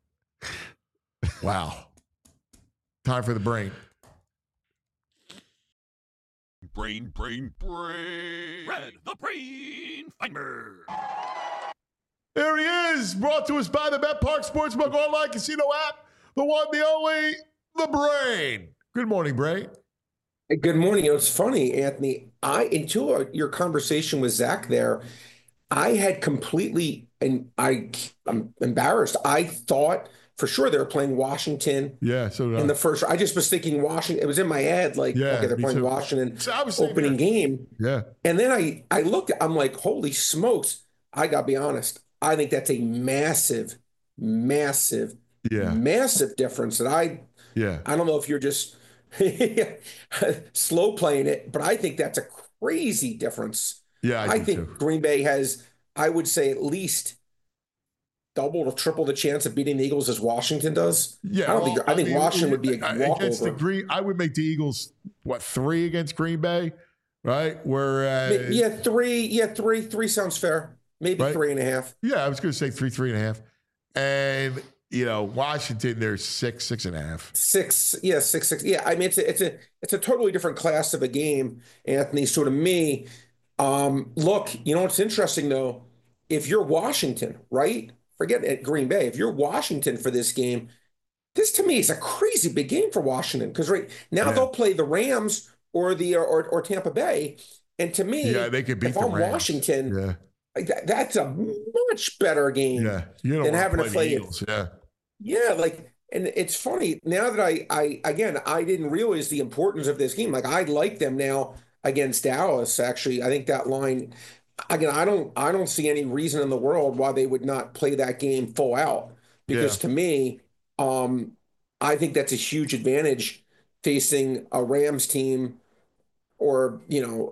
Wow. Time for the brain. Brain. Red the Brain Finder. There he is, brought to us by the Bet Park Sportsbook online casino app, the one, the only, the Brain. Good morning, Brain. Good morning. It's funny, Anthony. Until your conversation with Zach there, I had completely, and I'm embarrassed. I thought for sure they were playing Washington Yeah, so in the first. I just was thinking Washington. It was in my head, like, Yeah, okay, they're me playing too. Washington So I was thinking opening that. game. Yeah. And then I looked, I'm like, holy smokes. I got to be honest. I think that's a massive difference that I don't know if you're just slow playing it, but I think that's a crazy difference. Yeah, I do think too. Green Bay has, I would say, at least double or triple the chance of beating the Eagles as Washington does. Yeah, I think Washington would be a against the walkover. Green. I would make the Eagles 3 against Green Bay, right? Whereas, Three sounds fair. Maybe Right. 3.5. yeah, I was going to say 3.5, and Washington, they're 6.5. 6. Yeah, I mean it's a totally different class of a game, Anthony. So to me, look, what's interesting though, if you're Washington, right? Forget at Green Bay. If you're Washington for this game, this to me is a crazy big game for Washington because right now Yeah. they'll play the Rams or or Tampa Bay, and to me, Yeah, they could beat if the I'm Rams. Washington, Yeah, that's a much better game. yeah. You don't Than want having to to play the it. Eagles. Yeah, Yeah, and it's funny now that I didn't realize the importance of this game. Like I like them now against Dallas. Actually, I think that line again. I don't see any reason in the world why they would not play that game full out. Because to me, I think that's a huge advantage facing a Rams team or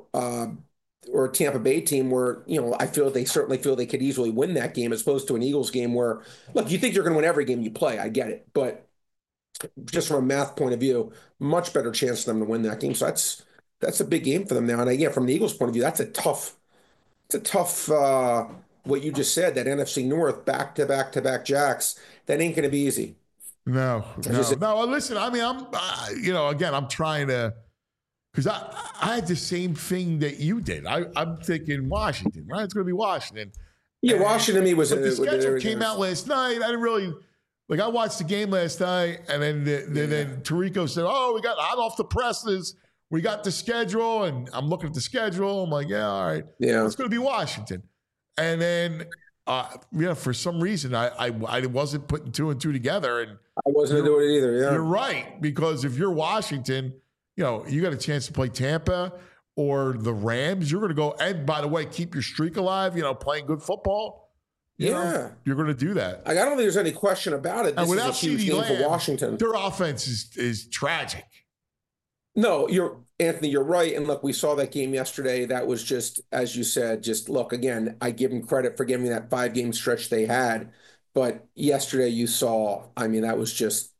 or a Tampa Bay team where, they certainly feel they could easily win that game as opposed to an Eagles game where, look, you think you're going to win every game you play. I get it. But just from a math point of view, much better chance for them to win that game. So that's a big game for them now. And again, from the Eagles point of view, it's a tough, what you just said, that NFC North back-to-back Jacks, that ain't going to be easy. no. Listen, I mean, I'm trying to. Because I had the same thing that you did. I'm thinking Washington, right? It's going to be Washington. Yeah, And- Washington to me was But the schedule there- came out last night. I didn't really I watched the game last night, and then Tirico said, "Oh, we got hot off the presses. We got the schedule," and I'm looking at the schedule. I'm like, "Yeah, all right, Yeah. it's going to be Washington." And then, for some reason, I wasn't putting 2 and 2 together, and I wasn't going to do it either. Yeah. you're right, because if you're Washington, you got a chance to play Tampa or the Rams. You're going to go, and by the way, keep your streak alive, playing good football. Yeah. You're going to do that. I don't think there's any question about it. And This is a without huge CeeDee game Lamb, for Washington. their offense is tragic. No, Anthony, you're right. And look, we saw that game yesterday. That was just, as you said, look, again, I give them credit for giving that 5-game stretch they had. But yesterday you saw, that was just,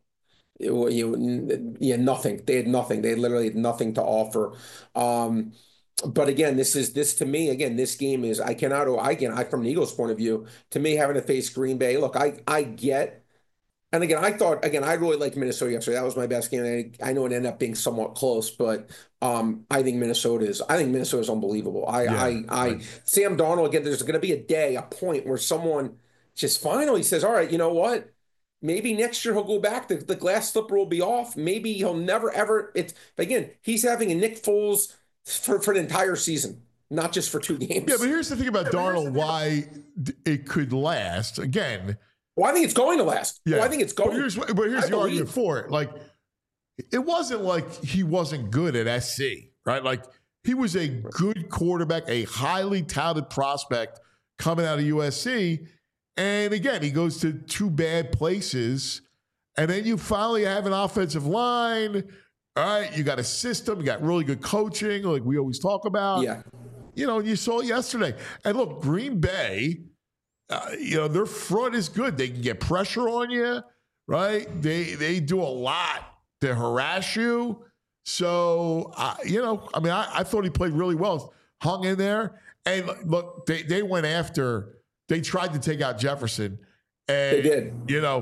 nothing. They had nothing. They literally had nothing to offer. But again, this to me, again, this game is, from the Eagles' point of view, to me, having to face Green Bay, look, I get, and again, I really liked Minnesota yesterday. That was my best game. I know it ended up being somewhat close, but I think Minnesota is unbelievable. Sam Darnold, again, there's going to be a point where someone just finally says, all right, you know what? Maybe next year he'll go back. The glass slipper will be off. Maybe he'll never, ever. But again, he's having a Nick Foles for the entire season, not just for 2 games. Yeah, but here's the thing about Darnold, why it could last. Again, well, I think it's going to last. yeah, well, I think it's going. But here's the argument for it. Like, it wasn't like he wasn't good at SC, right? Like, he was a good quarterback, a highly touted prospect coming out of USC. And again, he goes to 2 bad places. And then you finally have an offensive line. All right, you got a system, you got really good coaching, like we always talk about. Yeah. You know, you saw it yesterday. And look, Green Bay, their front is good. They can get pressure on you, right? They do a lot to harass you. So, I thought he played really well. Hung in there. And look, they went after, they tried to take out Jefferson. And, they did.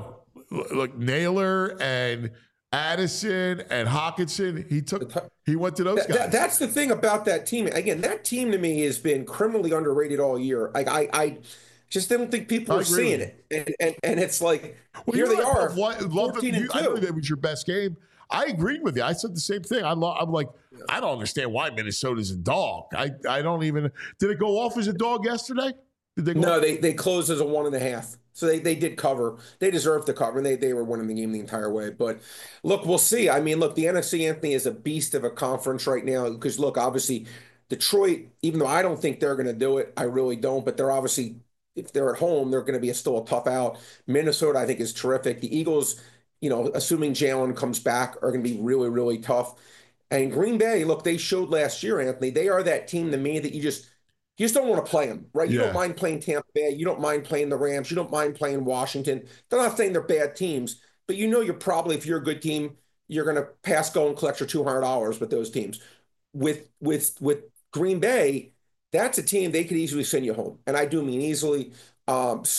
Look, Naylor and Addison and Hawkinson, he went to those guys. That's the thing about that team. Again, that team to me has been criminally underrated all year. Like I just didn't think people were seeing it. And it's like, here they are, 14-2. I knew that was your best game. I agreed with you. I said the same thing. I'm like, I don't understand why Minnesota's a dog. I don't even. Did it go off as a dog yesterday? Did they? No, they closed as a 1.5. So they did cover. They deserved to cover, and they were winning the game the entire way. But look, we'll see. I mean, look, the NFC, Anthony, is a beast of a conference right now because, look, obviously Detroit, even though I don't think they're going to do it, I really don't, but they're obviously, if they're at home, they're going to be still a tough out. Minnesota, I think, is terrific. The Eagles, assuming Jalen comes back, are going to be really, really tough. And Green Bay, look, they showed last year, Anthony, they are that team to me that you just don't want to play them, right? You don't mind playing Tampa Bay. You don't mind playing the Rams. You don't mind playing Washington. They're not saying they're bad teams, but you're probably, if you're a good team, you're going to pass go and collect your $200 with those teams. With Green Bay, that's a team they could easily send you home, and I do mean easily. That's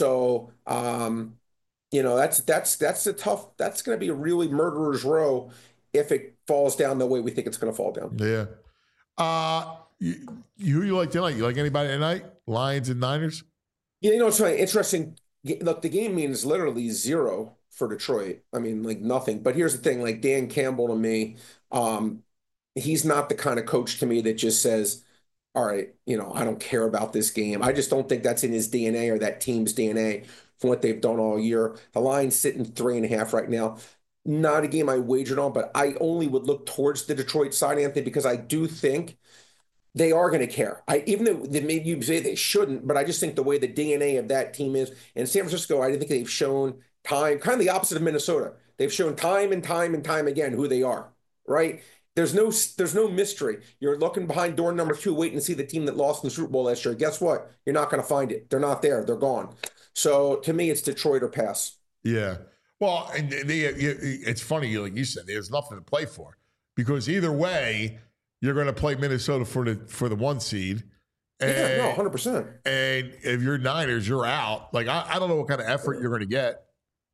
a tough. That's going to be a really murderer's row if it falls down the way we think it's going to fall down. Yeah. Who you like tonight? You like anybody tonight? Lions and Niners? Yeah, it's really interesting. Look, the game means literally 0 for Detroit. I mean, like nothing. But here's the thing, like Dan Campbell to me, he's not the kind of coach to me that just says, all right, I don't care about this game. I just don't think that's in his DNA or that team's DNA from what they've done all year. The line's sitting 3.5 right now. Not a game I wagered on, but I only would look towards the Detroit side, Anthony, because I do think they are going to care. Even though maybe you say they shouldn't, but I just think the way the DNA of that team is. In San Francisco, I think they've shown time, kind of the opposite of Minnesota. They've shown time and time and time again who they are, right? There's no mystery. You're looking behind door number 2, waiting to see the team that lost in the Super Bowl last year. Guess what? You're not going to find it. They're not there. They're gone. So to me, it's Detroit or pass. Yeah. Well, and it's funny, like you said, there's nothing to play for because either way, you're going to play Minnesota for the 1 seed. And, 100%. And if you're Niners, you're out. Like, I don't know what kind of effort you're going to get.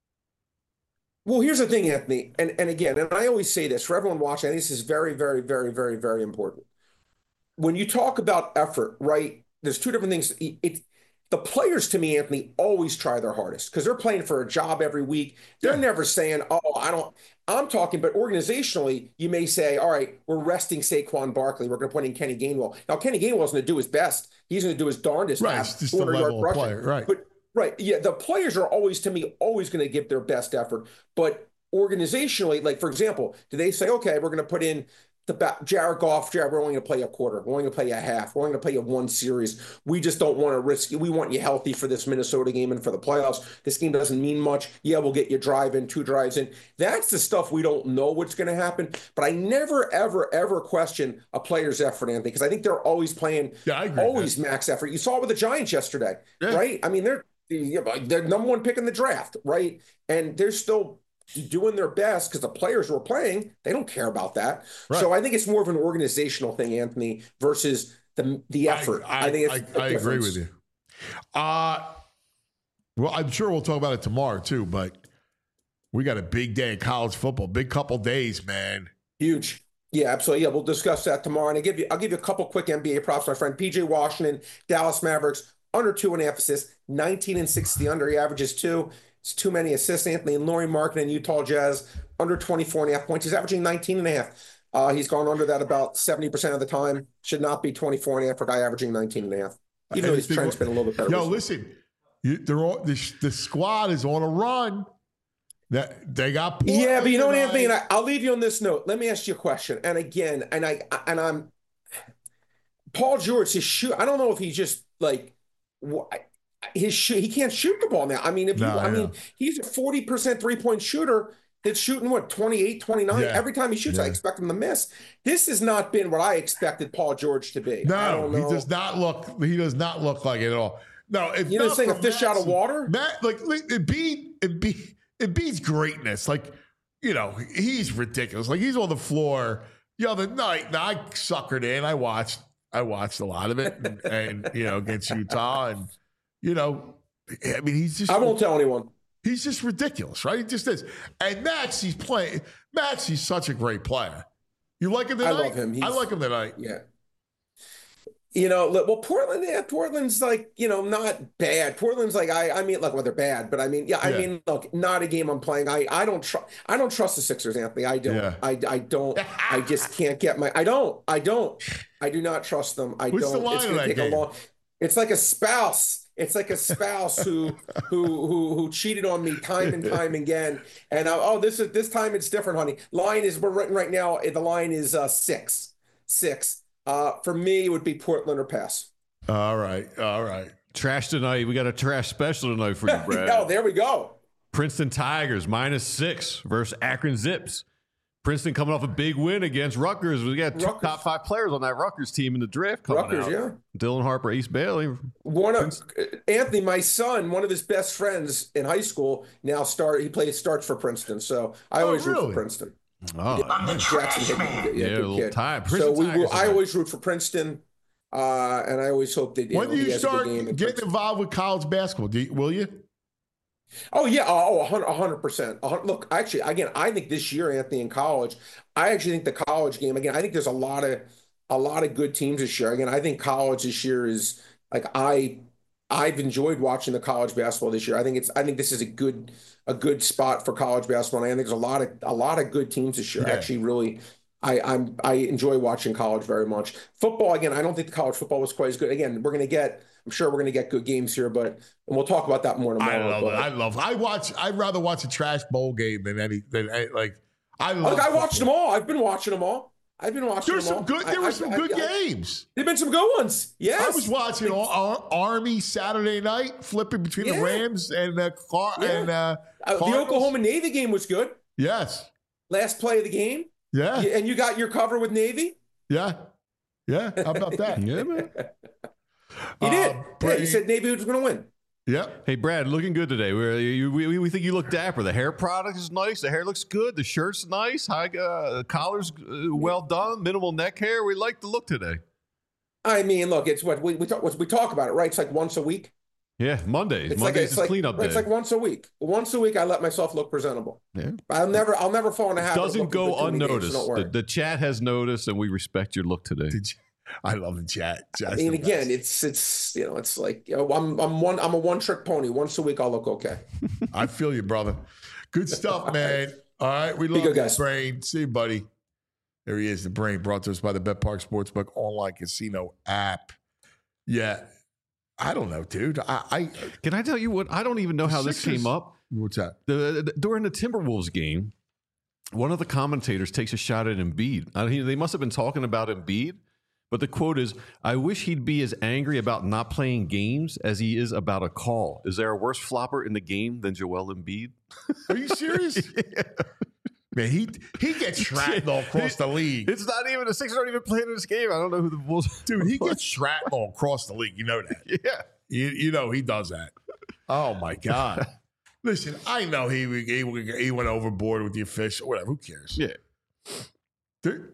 Well, here's the thing, Anthony. And again, and I always say this for everyone watching, I think this is very, very, very, very, very important. When you talk about effort, right, there's 2 different things. The players, to me, Anthony, always try their hardest because they're playing for a job every week. They're never saying, I'm talking, but organizationally, you may say, all right, we're resting Saquon Barkley. We're going to put in Kenny Gainwell. Now, Kenny Gainwell's going to do his best. He's going to do his darndest. Right, it's just the level of player, right. But, the players are always, to me, always going to give their best effort. But organizationally, like, for example, do they say, okay, we're going to put in Jared Goff, we're only going to play a quarter. We're only going to play a half. We're only going to play you 1 series. We just don't want to risk it. We want you healthy for this Minnesota game and for the playoffs. This game doesn't mean much. Yeah, we'll get you 2 drives in. That's the stuff we don't know what's going to happen. But I never, ever, ever question a player's effort, Anthony, because I think they're always playing always max effort. You saw it with the Giants yesterday, right? I mean, they're number 1 pick in the draft, right? And they're still doing their best because the players who are playing, they don't care about that. Right. So I think it's more of an organizational thing, Anthony, versus the effort. I think it's I agree with you. Well, I'm sure we'll talk about it tomorrow too, but we got a big day in college football, big couple days, man. Huge. Yeah, absolutely. Yeah, we'll discuss that tomorrow. And I'll give you a couple quick NBA props, my friend. PJ Washington, Dallas Mavericks, under 2.5 assists, 19 and 6 the under. He averages 2. It's too many assists. Anthony and Lauri Markkanen, Utah Jazz, under 24.5 points. He's averaging 19.5. He's gone under that about 70% of the time. Should not be 24.5 for a guy averaging 19.5. Even though his trend's been a little bit better. Yo, listen, they're all, the squad is on a run. That they got Portland. Yeah, but you know what, Anthony, and I'll leave you on this note. Let me ask you a question. And again, I'm Paul George, his shoot. I don't know if he's just like his shoot. He can't shoot the ball now. I mean, he's a 40% 3-point shooter. That's shooting 28, 29. Yeah. Every time he shoots, I expect him to miss. This has not been what I expected Paul George to be. No, he does not look. He does not look like it at all. No, if you know, saying a fish out of water. It beats greatness. Like, you know, he's ridiculous. Like, he's on the floor. The other night, I suckered in. I watched a lot of it, and you know, against Utah, and you know, I mean, he's just. I won't tell anyone. He's just ridiculous, right? He just is. And Maxey's playing. Maxey's such a great player. You like him tonight? I love him. I like him tonight. Yeah. You know, well, Portland's like, you know, not bad. Portland's like, I mean, look, well, they're bad, but I mean, I mean, look, not a game I'm playing. I don't trust the Sixers, Anthony. I don't. Yeah. I don't. I just can't get my. I do not trust them. What's the line it's of that take game? a long. It's like a spouse. It's like a spouse who cheated on me time and time again. And this time it's different, honey. Line is we're written right now. The line is 6. For me, it would be Portland or pass. All right. Trash tonight. We got a trash special tonight for you, Brad. Oh, there we go. Princeton Tigers -6 versus Akron Zips. Princeton coming off a big win against Rutgers. We got two top 5 players on that Rutgers team in the draft coming out. Yeah. Dylan Harper, Ace Bailey. Anthony, my son, one of his best friends in high school, now starts for Princeton. So I always root for Princeton. Oh, Jackson Hickman, a little time. I always root for Princeton, and I always hope that. When do you start getting involved with college basketball? Will you? Oh yeah, 100%. Look, actually, again, I think this year, Anthony, in college, I actually think the college game again. I think there's a lot of good teams this year. Again, I think college this year is like I've enjoyed watching the college basketball this year. I think this is a good spot for college basketball. And I think there's a lot of good teams this year. Yeah. Actually, really, I enjoy watching college very much. Football, again, I don't think the college football was quite as good. Again, I'm sure we're going to get good games here, and we'll talk about that more tomorrow. I'd rather watch a trash bowl game than I watched them all. I've been watching them all. There were some good games. There've been some good ones. Yes. I was watching Army Saturday night, flipping between the Rams and the Oklahoma Navy game was good. Yes. Last play of the game. Yeah. And you got your cover with Navy? Yeah. Yeah. How about that? Yeah, man. You did. You said Navy was going to win. Yep. Hey, Brad, looking good today. We think you look dapper. The hair product is nice. The hair looks good. The shirt's nice. Collar's well done. Minimal neck hair. We like the look today. I mean, look, it's what we talk about it, right? It's like once a week. Yeah, Mondays. Mondays is cleanup day. It's like once a week. Once a week, I let myself look presentable. Yeah. I'll never fall in a habit. Doesn't go unnoticed. The chat has noticed, and we respect your look today. I love the chat. I mean, again, it's it's like I'm a one-trick pony. Once a week, I'll look okay. I feel you, brother. Good stuff, man. All right, we love you, Brain. See you, buddy. There he is, the Brain, brought to us by the Bet Park Sportsbook online casino app. Yeah, I don't know, dude. I can I tell you what? I don't even know how this came up. What's that? During the Timberwolves game, one of the commentators takes a shot at Embiid. They must have been talking about Embiid. But the quote is, I wish he'd be as angry about not playing games as he is about a call. Is there a worse flopper in the game than Joel Embiid? Are you serious? Yeah. Man, he gets shrapnel across the league. It's not even, the Sixers aren't even playing in this game. I don't know who the Bulls are. Dude, he gets shrapnel across the league. You know that. Yeah. You know he does that. Oh, my God. Listen, I know he went overboard with the official. Whatever, who cares? Yeah. Dude,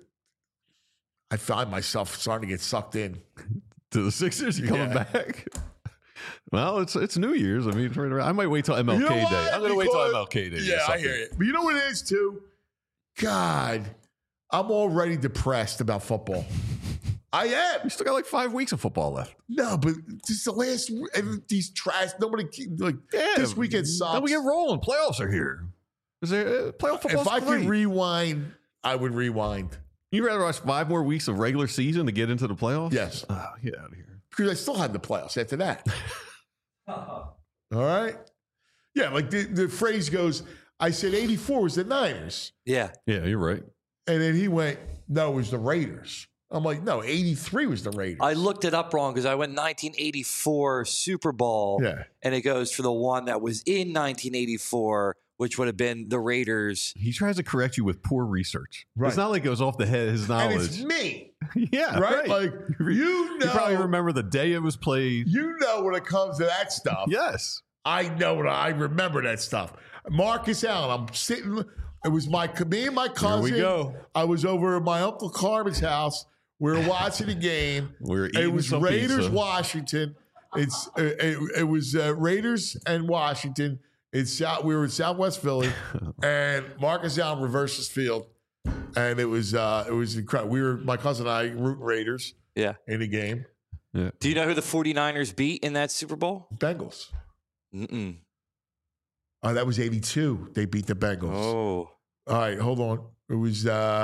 I find myself starting to get sucked in to the Sixers. You coming back? Well, it's New Year's. I mean, I might wait till MLK Day. I'm going to wait till MLK Day. Yeah, I hear you. But you know what it is too? God, I'm already depressed about football. I am. You still got like 5 weeks of football left. No, but this is the last. These trash. Nobody like this weekend sucks. Then we get rolling. Playoffs are here. Is there playoff football? If I could rewind, I would rewind. You'd rather watch 5 more weeks of regular season to get into the playoffs? Yes. Oh, get out of here. Because I still had the playoffs after that. All right. Yeah, like the phrase goes, I said 84 was the Niners. Yeah. Yeah, you're right. And then he went, no, it was the Raiders. I'm like, no, 83 was the Raiders. I looked it up wrong because I went 1984 Super Bowl. Yeah. And it goes for the one that was in 1984, which would have been the Raiders. He tries to correct you with poor research. Right. It's not like it goes off the head his knowledge. And it's me. Yeah, Right? Like, you know. You probably remember the day it was played. You know when it comes to that stuff. Yes. I know I remember that stuff. Marcus Allen, I'm sitting. It was me and my cousin. Here we go. I was over at my Uncle Carmen's house. We were watching the game. We were eating It was some Raiders, pizza. Washington. It was Raiders and Washington. We were in Southwest Philly, and Marcus Allen reverses field, and it was incredible. My cousin and I rooting Raiders. Yeah. In the game. Yeah. Do you know who the 49ers beat in that Super Bowl? Bengals. Mm-mm. Oh, that was 82. They beat the Bengals. Oh. All right, hold on. It was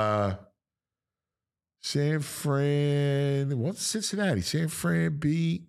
San Fran. What's Cincinnati? San Fran beat.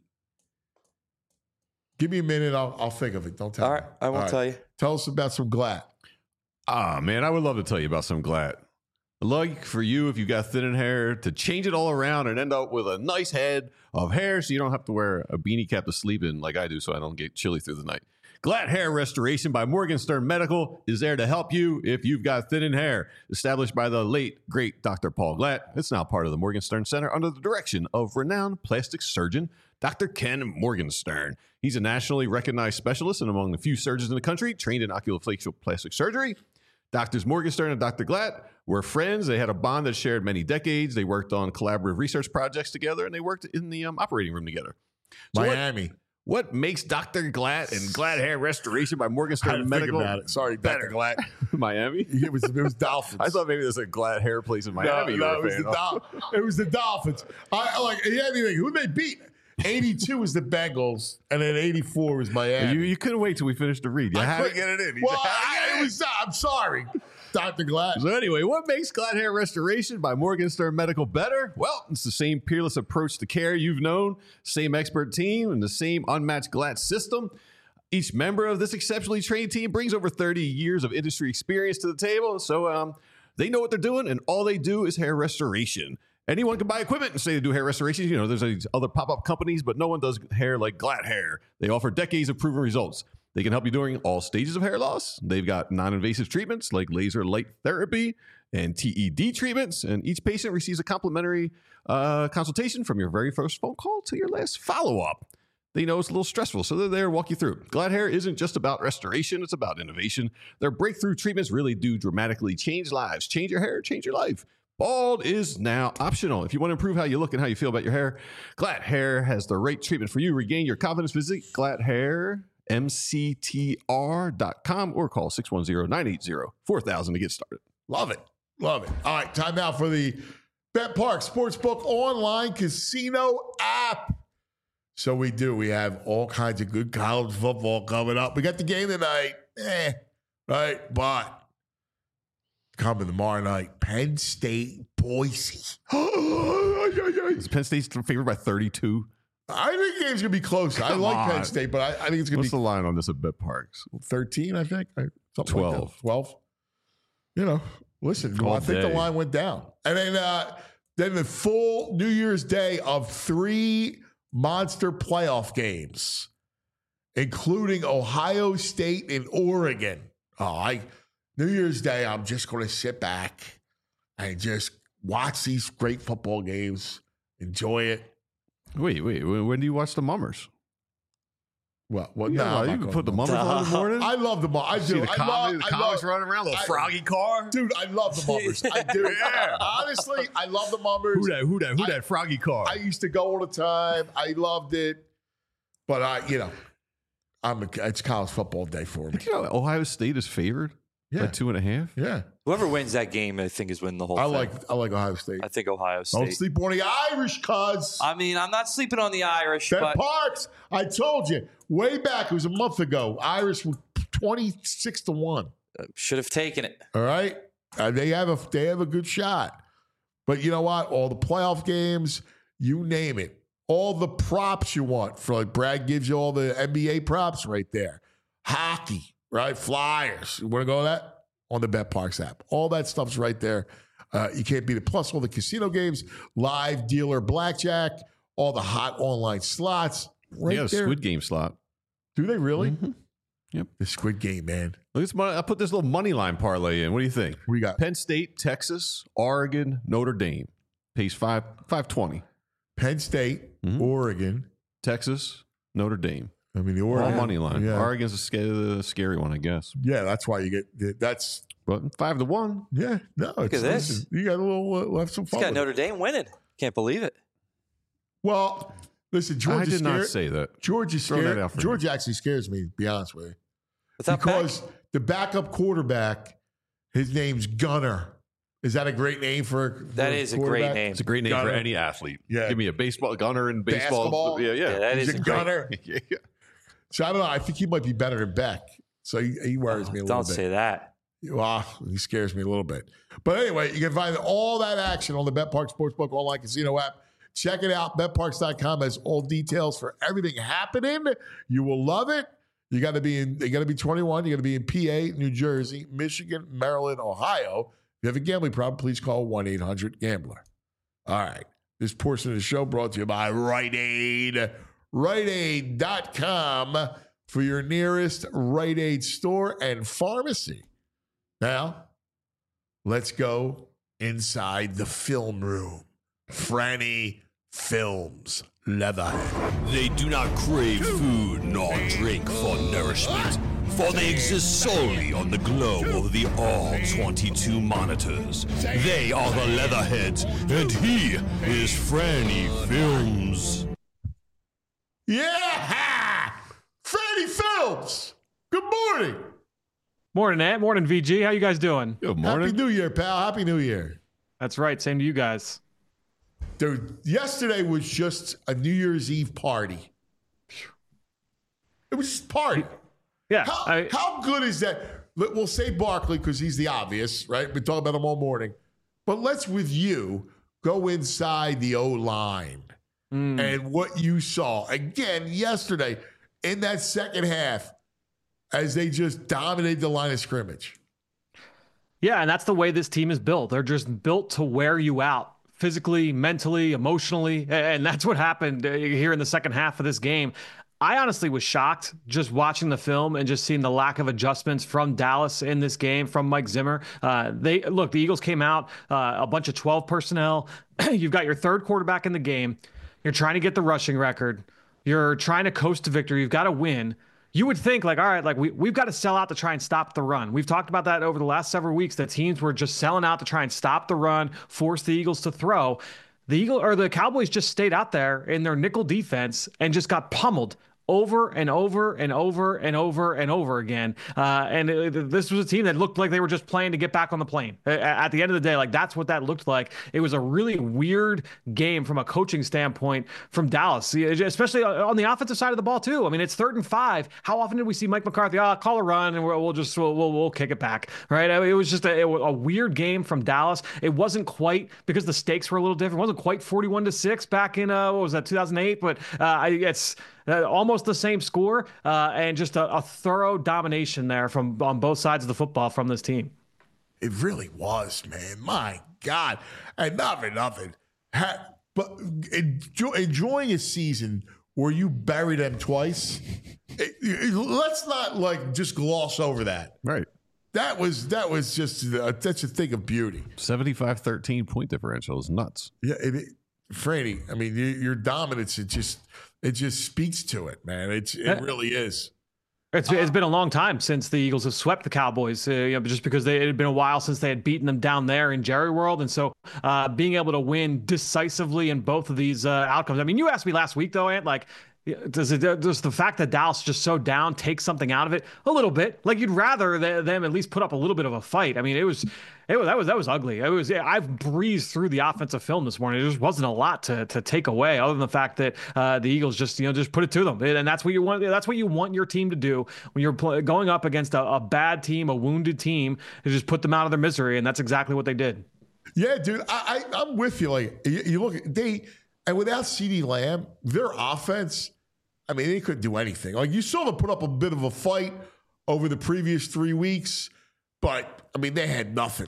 Give me a minute. I'll think of it. Don't tell All me. right. I won't tell you. Tell us about some Glatt. Ah, man, I would love to tell you about some Glatt. I'd like for you, if you got thinning hair, to change it all around and end up with a nice head of hair so you don't have to wear a beanie cap to sleep in like I do so I don't get chilly through the night. Glatt Hair Restoration by Morgenstern Medical is there to help you if you've got thinning hair. Established by the late, great Dr. Paul Glatt, it's now part of the Morgenstern Center under the direction of renowned plastic surgeon Dr. Ken Morgenstern. He's a nationally recognized specialist and among the few surgeons in the country trained in oculofacial plastic surgery. Doctors Morgenstern and Dr. Glatt were friends. They had a bond that shared many decades. They worked on collaborative research projects together, and they worked in the operating room together. So Miami. What makes Dr. Glatt and Glatt Hair Restoration by Morgenstern Medical about it. Sorry, better? Dr. Glatt. Miami? It was Dolphins. I thought maybe there's a Glatt hair place in Miami. No, it was the Dolphins. Who they beat? 82 was the Bengals, and then 84 was Miami. You couldn't wait till we finished the read. You had to couldn't- get it in. Well, I'm sorry, Dr. Glatt. So anyway, what makes Glatt Hair Restoration by Morgenstern Medical better? Well, it's the same peerless approach to care you've known, same expert team, and the same unmatched Glatt system. Each member of this exceptionally trained team brings over 30 years of industry experience to the table, so they know what they're doing, and all they do is hair restoration. Anyone can buy equipment and say they do hair restoration. You know, there's these other pop-up companies, but no one does hair like Glatt Hair. They offer decades of proven results. They can help you during all stages of hair loss. They've got non-invasive treatments like laser light therapy and TED treatments, and each patient receives a complimentary consultation from your very first phone call to your last follow-up. They know it's a little stressful, so they're there to walk you through. Glatt Hair isn't just about restoration, it's about innovation. Their breakthrough treatments really do dramatically change lives. Change your hair, change your life. Bald is now optional. If you want to improve how you look and how you feel about your hair, Glatt Hair has the right treatment for you. Regain your confidence. Visit glatthairmctr.com or call 610-980-4000 to get started. Love it. Love it. All right, time out for the Bet Park Sportsbook online casino app. So we do. We have all kinds of good college football coming up. We got the game tonight. Right? But coming tomorrow night, Penn State, Boise. Is Penn State's favored by 32? I think the game's going to be close. I like on. Penn State, but I think it's going What's to the be line on this at Bet Parks? 13, I think. Something 12. Like that. 12. You know, listen, All I think the day. line went down. And then the full New Year's Day of 3 monster playoff games, including Ohio State and Oregon. New Year's Day, I'm just going to sit back and just watch these great football games, enjoy it. Wait. When do you watch the Mummers? Well, You can put the Mummers on in the morning. I love the Mummers. I do. See the comics I love, running around, little froggy car. dude, I love the Mummers. I do. Yeah. Honestly, I love the Mummers. Who that froggy car? I used to go all the time. I loved it. But it's college football day for me. You know, Ohio State is favored. Yeah. By 2.5? Yeah. Whoever wins that game, I think, is winning the whole I thing. like Ohio State. I think Ohio State. Don't sleep on the Irish, cuz. I mean, I'm not sleeping on the Irish, Bet but Parks, I told you way back, it was a month ago. Irish were 26-1. should have taken it. All right, they have a good shot. But you know what? All the playoff games, you name it, all the props you want. For like Brad gives you all the NBA props right there. Hockey, right? Flyers. You want to go with that? On the Bet Parks app. All that stuff's right there. You can't beat it. Plus all the casino games, live dealer blackjack, all the hot online slots. Right Yeah, there. Squid Game slot. Do they really? Mm-hmm. Yep. The Squid Game, man. Look at this I put this little money line parlay in. What do you think? We got Penn State, Texas, Oregon, Notre Dame. Pays 520. Penn State, Mhm. Oregon. Texas, Notre Dame. I mean, the All Oregon money line. Yeah. Oregon's a scary one, I guess. Yeah, that's why you get that's. But 5-1. Yeah, no. Look at this. Listen, you got a little have some He's fun. got with it. Notre Dame winning. Can't believe it. Well, listen, I Georgia did not scared. say that. Georgia Throw that scared. out for you. Georgia actually scares me. To be honest with you, Without because Peck? the backup quarterback, his name's Gunner. Is that a great name for? That is a great quarterback? name. It's a great name Gunner. for any athlete. Yeah. Give me a baseball gunner in baseball. Basketball? Yeah. Yeah, that He's is a great- Gunner. yeah. So I don't know. I think he might be better than Beck. So he worries me a little Don't bit. say that. Well, he scares me a little bit. But anyway, you can find all that action on the BetParks Sportsbook online casino app. Check it out. BetParks.com has all details for everything happening. You will love it. You got to be 21. You got to be in PA, New Jersey, Michigan, Maryland, Ohio. If you have a gambling problem, please call 1-800-GAMBLER. All right. This portion of the show brought to you by Rite Aid. RiteAid.com for your nearest Rite Aid store and pharmacy. Now, let's go inside the film room. Franny Films Leatherhead. They do not crave food nor drink for nourishment, for they exist solely on the glow of the all 22 monitors. They are the Leatherheads, and he is Franny Films. Yeah! Franny Films! Good morning! Morning, Ant. Morning, VG. How you guys doing? Good Happy morning. New Year, pal. Happy New Year. That's right. Same to you guys. Dude, yesterday was just a New Year's Eve party. It was just a party. Yeah. How good is that? We'll say Barkley because he's the obvious, right? We talk about him all morning. But let's, with you, go inside the O-line and what you saw again yesterday in that second half as they just dominated the line of scrimmage. Yeah, and that's the way this team is built. They're just built to wear you out physically, mentally, emotionally, and that's what happened here in the second half of this game. I honestly was shocked just watching the film and just seeing the lack of adjustments from Dallas in this game, from Mike Zimmer. The Eagles came out, a bunch of 12 personnel. You've got your third quarterback in the game. You're trying to get the rushing record. You're trying to coast to victory. You've got to win. You would think like, all right, like we've got to sell out to try and stop the run. We've talked about that over the last several weeks, that teams were just selling out to try and stop the run, force the Eagles to throw. The Cowboys just stayed out there in their nickel defense and just got pummeled over and over and over and over and over again. This was a team that looked like they were just playing to get back on the plane. At the end of the day, like that's what that looked like. It was a really weird game from a coaching standpoint from Dallas, especially on the offensive side of the ball too. I mean, it's 3rd and 5. How often did we see Mike McCarthy, call a run and we'll kick it back, right? I mean, it was just a weird game from Dallas. It wasn't quite, because the stakes were a little different. It wasn't quite 41-6 back in, 2008, but it's almost the same score, and just a thorough domination there on both sides of the football from this team. It really was, man. My God. And not for nothing. But enjoying a season where you bury them twice, let's not just gloss over that. Right. That was just that's a thing of beauty. 75-13 point differential is nuts. Yeah, Franny, I mean, your dominance, it just speaks to it, man. It really is. It's been a long time since the Eagles have swept the Cowboys, just because it had been a while since they had beaten them down there in Jerry World. And so being able to win decisively in both of these outcomes. I mean, you asked me last week, though, Ant, like, Does the fact that Dallas is just so down take something out of it a little bit? Like you'd rather them at least put up a little bit of a fight. I mean, that was ugly. I've breezed through the offensive film this morning. There just wasn't a lot to take away, other than the fact that the Eagles just put it to them, and that's what you want. That's what you want your team to do when you're going up against a bad team, a wounded team, to just put them out of their misery, and that's exactly what they did. Yeah, dude, I'm with you. Like you look, and without CeeDee Lamb, their offense, I mean, they couldn't do anything. Like you saw them put up a bit of a fight over the previous 3 weeks, but I mean, they had nothing.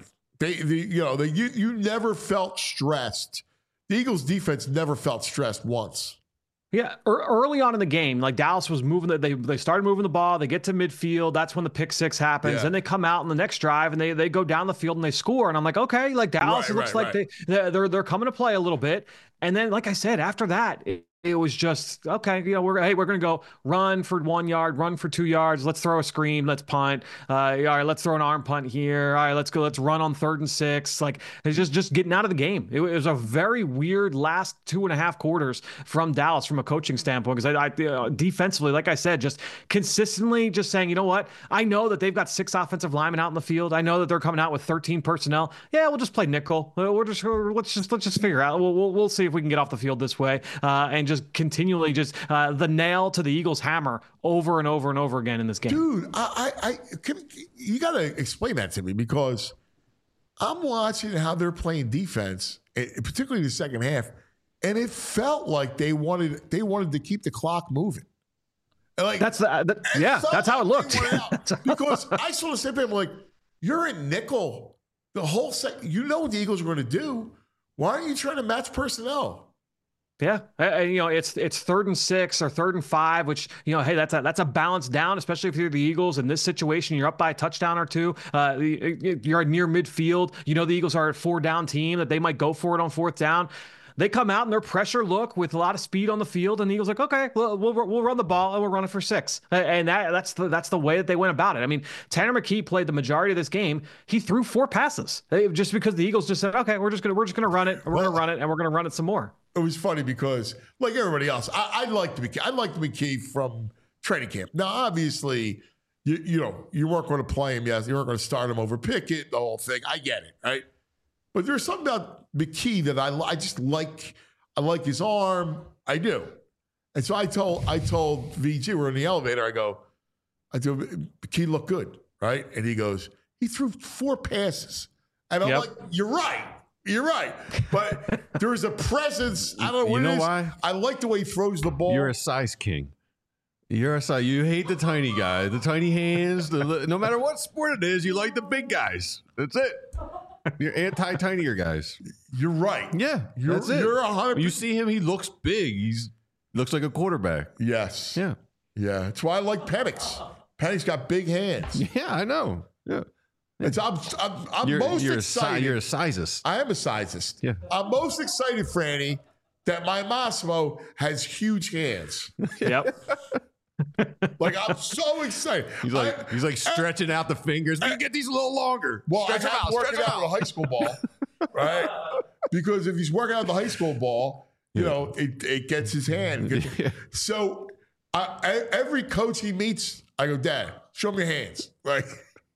You never felt stressed. The Eagles defense never felt stressed once. Yeah, early on in the game, like Dallas was moving, they started moving the ball. They get to midfield. That's when the pick six happens. Then they come out in the next drive and they go down the field and they score. And I'm like, okay, like Dallas, it looks like they're coming to play a little bit. And then, like I said, after that, it was just, okay, we're going to go run for 1 yard, run for 2 yards. Let's throw a screen. Let's punt. All right, let's throw an arm punt here. All right, let's go. Let's run on 3rd and 6. Like it's just getting out of the game. It was a very weird last 2.5 quarters from Dallas from a coaching standpoint. Because I defensively, like I said, just consistently just saying, you know what? I know that they've got 6 offensive linemen out in the field. I know that they're coming out with 13 personnel. Yeah, we'll just play nickel. Let's just figure out. We'll see if we can get off the field this way and just continually the nail to the Eagles' hammer over and over and over again in this game. Dude, you got to explain that to me, because I'm watching how they're playing defense, particularly the second half, and it felt like they wanted to keep the clock moving. Like that's how it looked. Because I saw the same thing. I'm like, you're in nickel the whole second. You know what the Eagles are going to do. Why aren't you trying to match personnel? Yeah, it's 3rd and 6 or 3rd and 5, which hey, that's a balance down, especially if you're the Eagles. In this situation, you're up by a touchdown or 2. You're near midfield. The Eagles are a 4-down team that they might go for it on 4th down. They come out in their pressure look with a lot of speed on the field, and the Eagles like, okay, we'll run the ball and we'll run it for 6. And that's the way that they went about it. I mean, Tanner McKee played the majority of this game. He threw 4 passes just because the Eagles just said, okay, we're just gonna run it. We're gonna run it, and we're gonna run it some more. It was funny because, like everybody else, I liked McKee. I liked McKee from training camp. Now, obviously, you weren't going to play him. Yes, you weren't going to start him over Pickett. The whole thing. I get it, right? But there's something about McKee that I just like. I like his arm. I do. And so I told VG, we're in the elevator. I told McKee looked good, right? And he goes, he threw 4 passes, and I'm like, you're right. You're right. But there's a presence. I don't know what it is. Why? I like the way he throws the ball. You're a size king. You hate the tiny guy, the tiny hands. No matter what sport it is, you like the big guys. That's it. You're anti-tinier guys. You're right. Yeah, that's it. You're 100%. You see him, he looks big. He looks like a quarterback. Yes. Yeah. Yeah. That's why I like Penix. Penix got big hands. Yeah, I know. Yeah. I'm most excited. You're a sizist. I am a sizist. Yeah. I'm most excited, Franny, that my Massimo has huge hands. Yep. Like, I'm so excited. He's like stretching out the fingers. We can get these a little longer. Well, I have working out with a high school ball, right? Because if he's working out the high school ball, it gets his hand. So every coach he meets, I go, Dad, show me your hands. Like,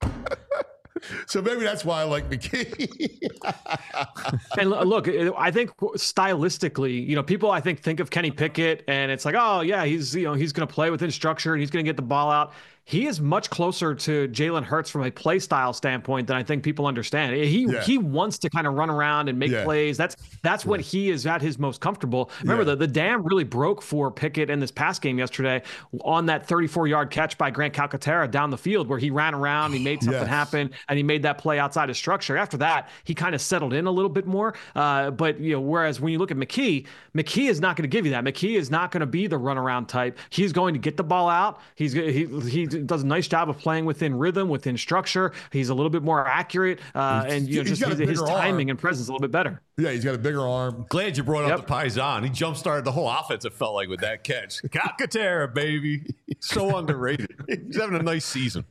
so maybe that's why I like McKee. And look, I think stylistically, people I think of Kenny Pickett and it's like, oh yeah, he's going to play within structure and he's going to get the ball out. He is much closer to Jalen Hurts from a play style standpoint than I think people understand. He wants to kind of run around and make plays. That's what he is at his most comfortable. Remember, the dam really broke for Pickett in this pass game yesterday on that 34-yard catch by Grant Calcaterra down the field where he ran around, he made something happen, and he made that play outside of structure. After that, he kind of settled in a little bit more. But whereas when you look at McKee is not going to give you that. McKee is not going to be the runaround type. He's going to get the ball out. He does a nice job of playing within rhythm, within structure. He's a little bit more accurate, and his timing and presence a little bit better. Yeah, he's got a bigger arm. Glad you brought up the Paisan. He jump-started the whole offense, it felt like, with that catch. Calcaterra, baby. So underrated. He's having a nice season.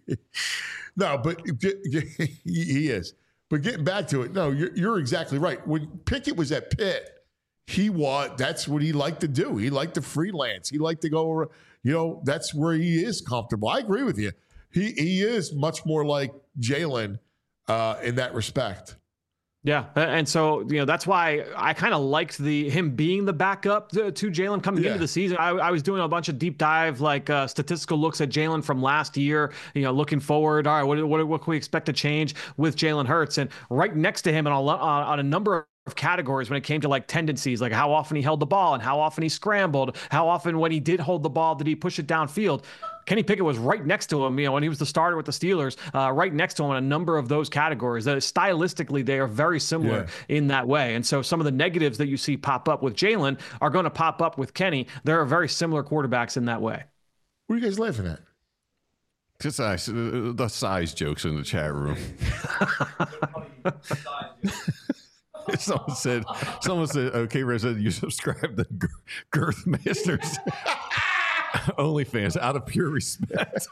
No, but he is. But getting back to it, no, you're exactly right. When Pickett was at Pitt, that's what he liked to do. He liked to freelance. He liked to go, that's where he is comfortable. I agree with you. He is much more like Jalen in that respect. Yeah, and so that's why I kind of liked him being the backup to Jalen coming into the season. I was doing a bunch of deep dive statistical looks at Jalen from last year. Looking forward. All right, what can we expect to change with Jalen Hurts? And right next to him on a number of categories when it came to like tendencies, like how often he held the ball and how often he scrambled, how often when he did hold the ball did he push it downfield. Kenny Pickett was right next to him, when he was the starter with the Steelers, right next to him in a number of those categories. Stylistically, they are very similar in that way. And so some of the negatives that you see pop up with Jalen are going to pop up with Kenny. They're very similar quarterbacks in that way. What are you guys laughing at? Just the size jokes in the chat room. Someone said, okay, Ray said you subscribe to Girth Masters OnlyFans out of pure respect.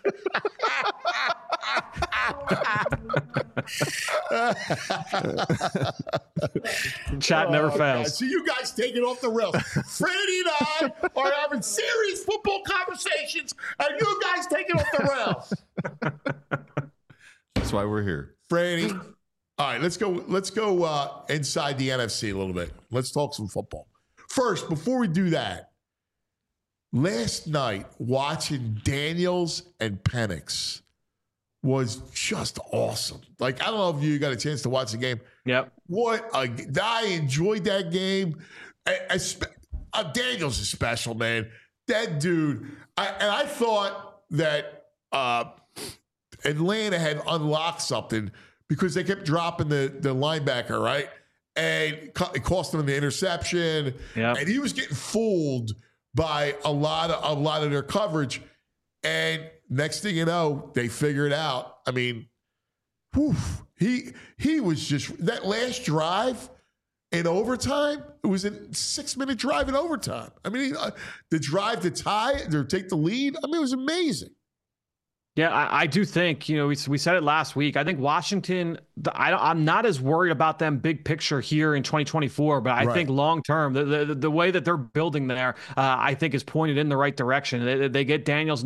Chat never fails. So you guys take it off the rails. Freddie and I are having serious football conversations, and you guys take it off the rails. That's why we're here. Freddie. All right, let's go inside the NFC a little bit. Let's talk some football. First, before we do that, last night watching Daniels and Penix was just awesome. Like, I don't know if you got a chance to watch the game. Yep. I enjoyed that game. Daniels is special, man. That dude. I thought that Atlanta had unlocked something because they kept dropping the linebacker, right? And it cost them the interception. Yep. And he was getting fooled by a lot of their coverage. And next thing you know, they figure it out. I mean, he was just that last drive in overtime. It was a 6-minute drive in overtime. I mean, the drive to tie or take the lead. I mean, it was amazing. Yeah, I do think, we said it last week. I think Washington, I'm not as worried about them big picture here in 2024, but I think long term, the way that they're building there, I think is pointed in the right direction. They get Daniels.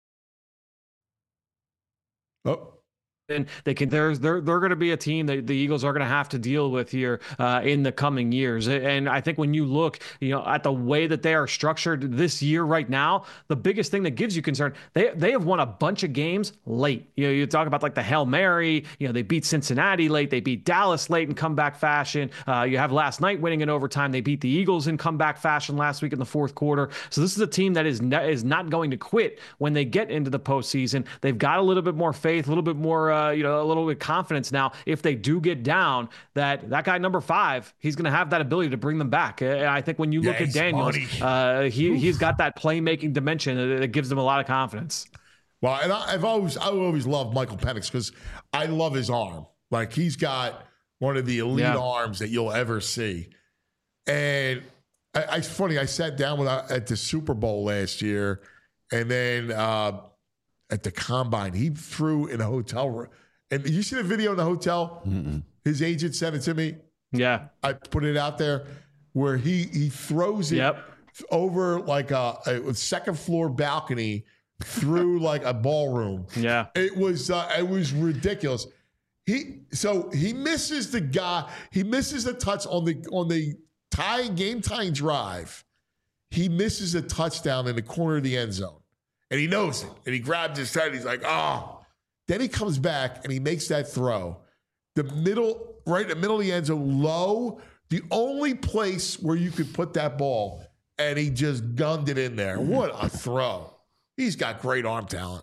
And they're going to be a team that the Eagles are going to have to deal with here in the coming years. And I think when you look, at the way that they are structured this year right now, the biggest thing that gives you concern, they have won a bunch of games late. You talk about like the Hail Mary, they beat Cincinnati late, they beat Dallas late in comeback fashion. You have last night winning in overtime. They beat the Eagles in comeback fashion last week in the fourth quarter. So this is a team that is not going to quit when they get into the postseason. They've got a little bit more faith, a little bit more a little bit of confidence now. If they do get down, that guy number 5, he's going to have that ability to bring them back. And I think when you look at Daniels, he's got that playmaking dimension that gives them a lot of confidence. Well, and I always loved Michael Penix because I love his arm. Like, he's got one of the elite arms that you'll ever see. And it's funny. I sat down at the Super Bowl last year, and then at the Combine, he threw in a hotel room. And you see the video in the hotel? Mm-mm. His agent sent it to me. Yeah. I put it out there where he throws it over like a second floor balcony through like a ballroom. Yeah. It was ridiculous. He misses the guy. He misses the touch on the game tying drive. He misses a touchdown in the corner of the end zone. And he knows it. And he grabs his head. He's like, oh. Then he comes back and he makes that throw. Right in the middle of the end zone, low, the only place where you could put that ball. And he just gunned it in there. What a throw. He's got great arm talent.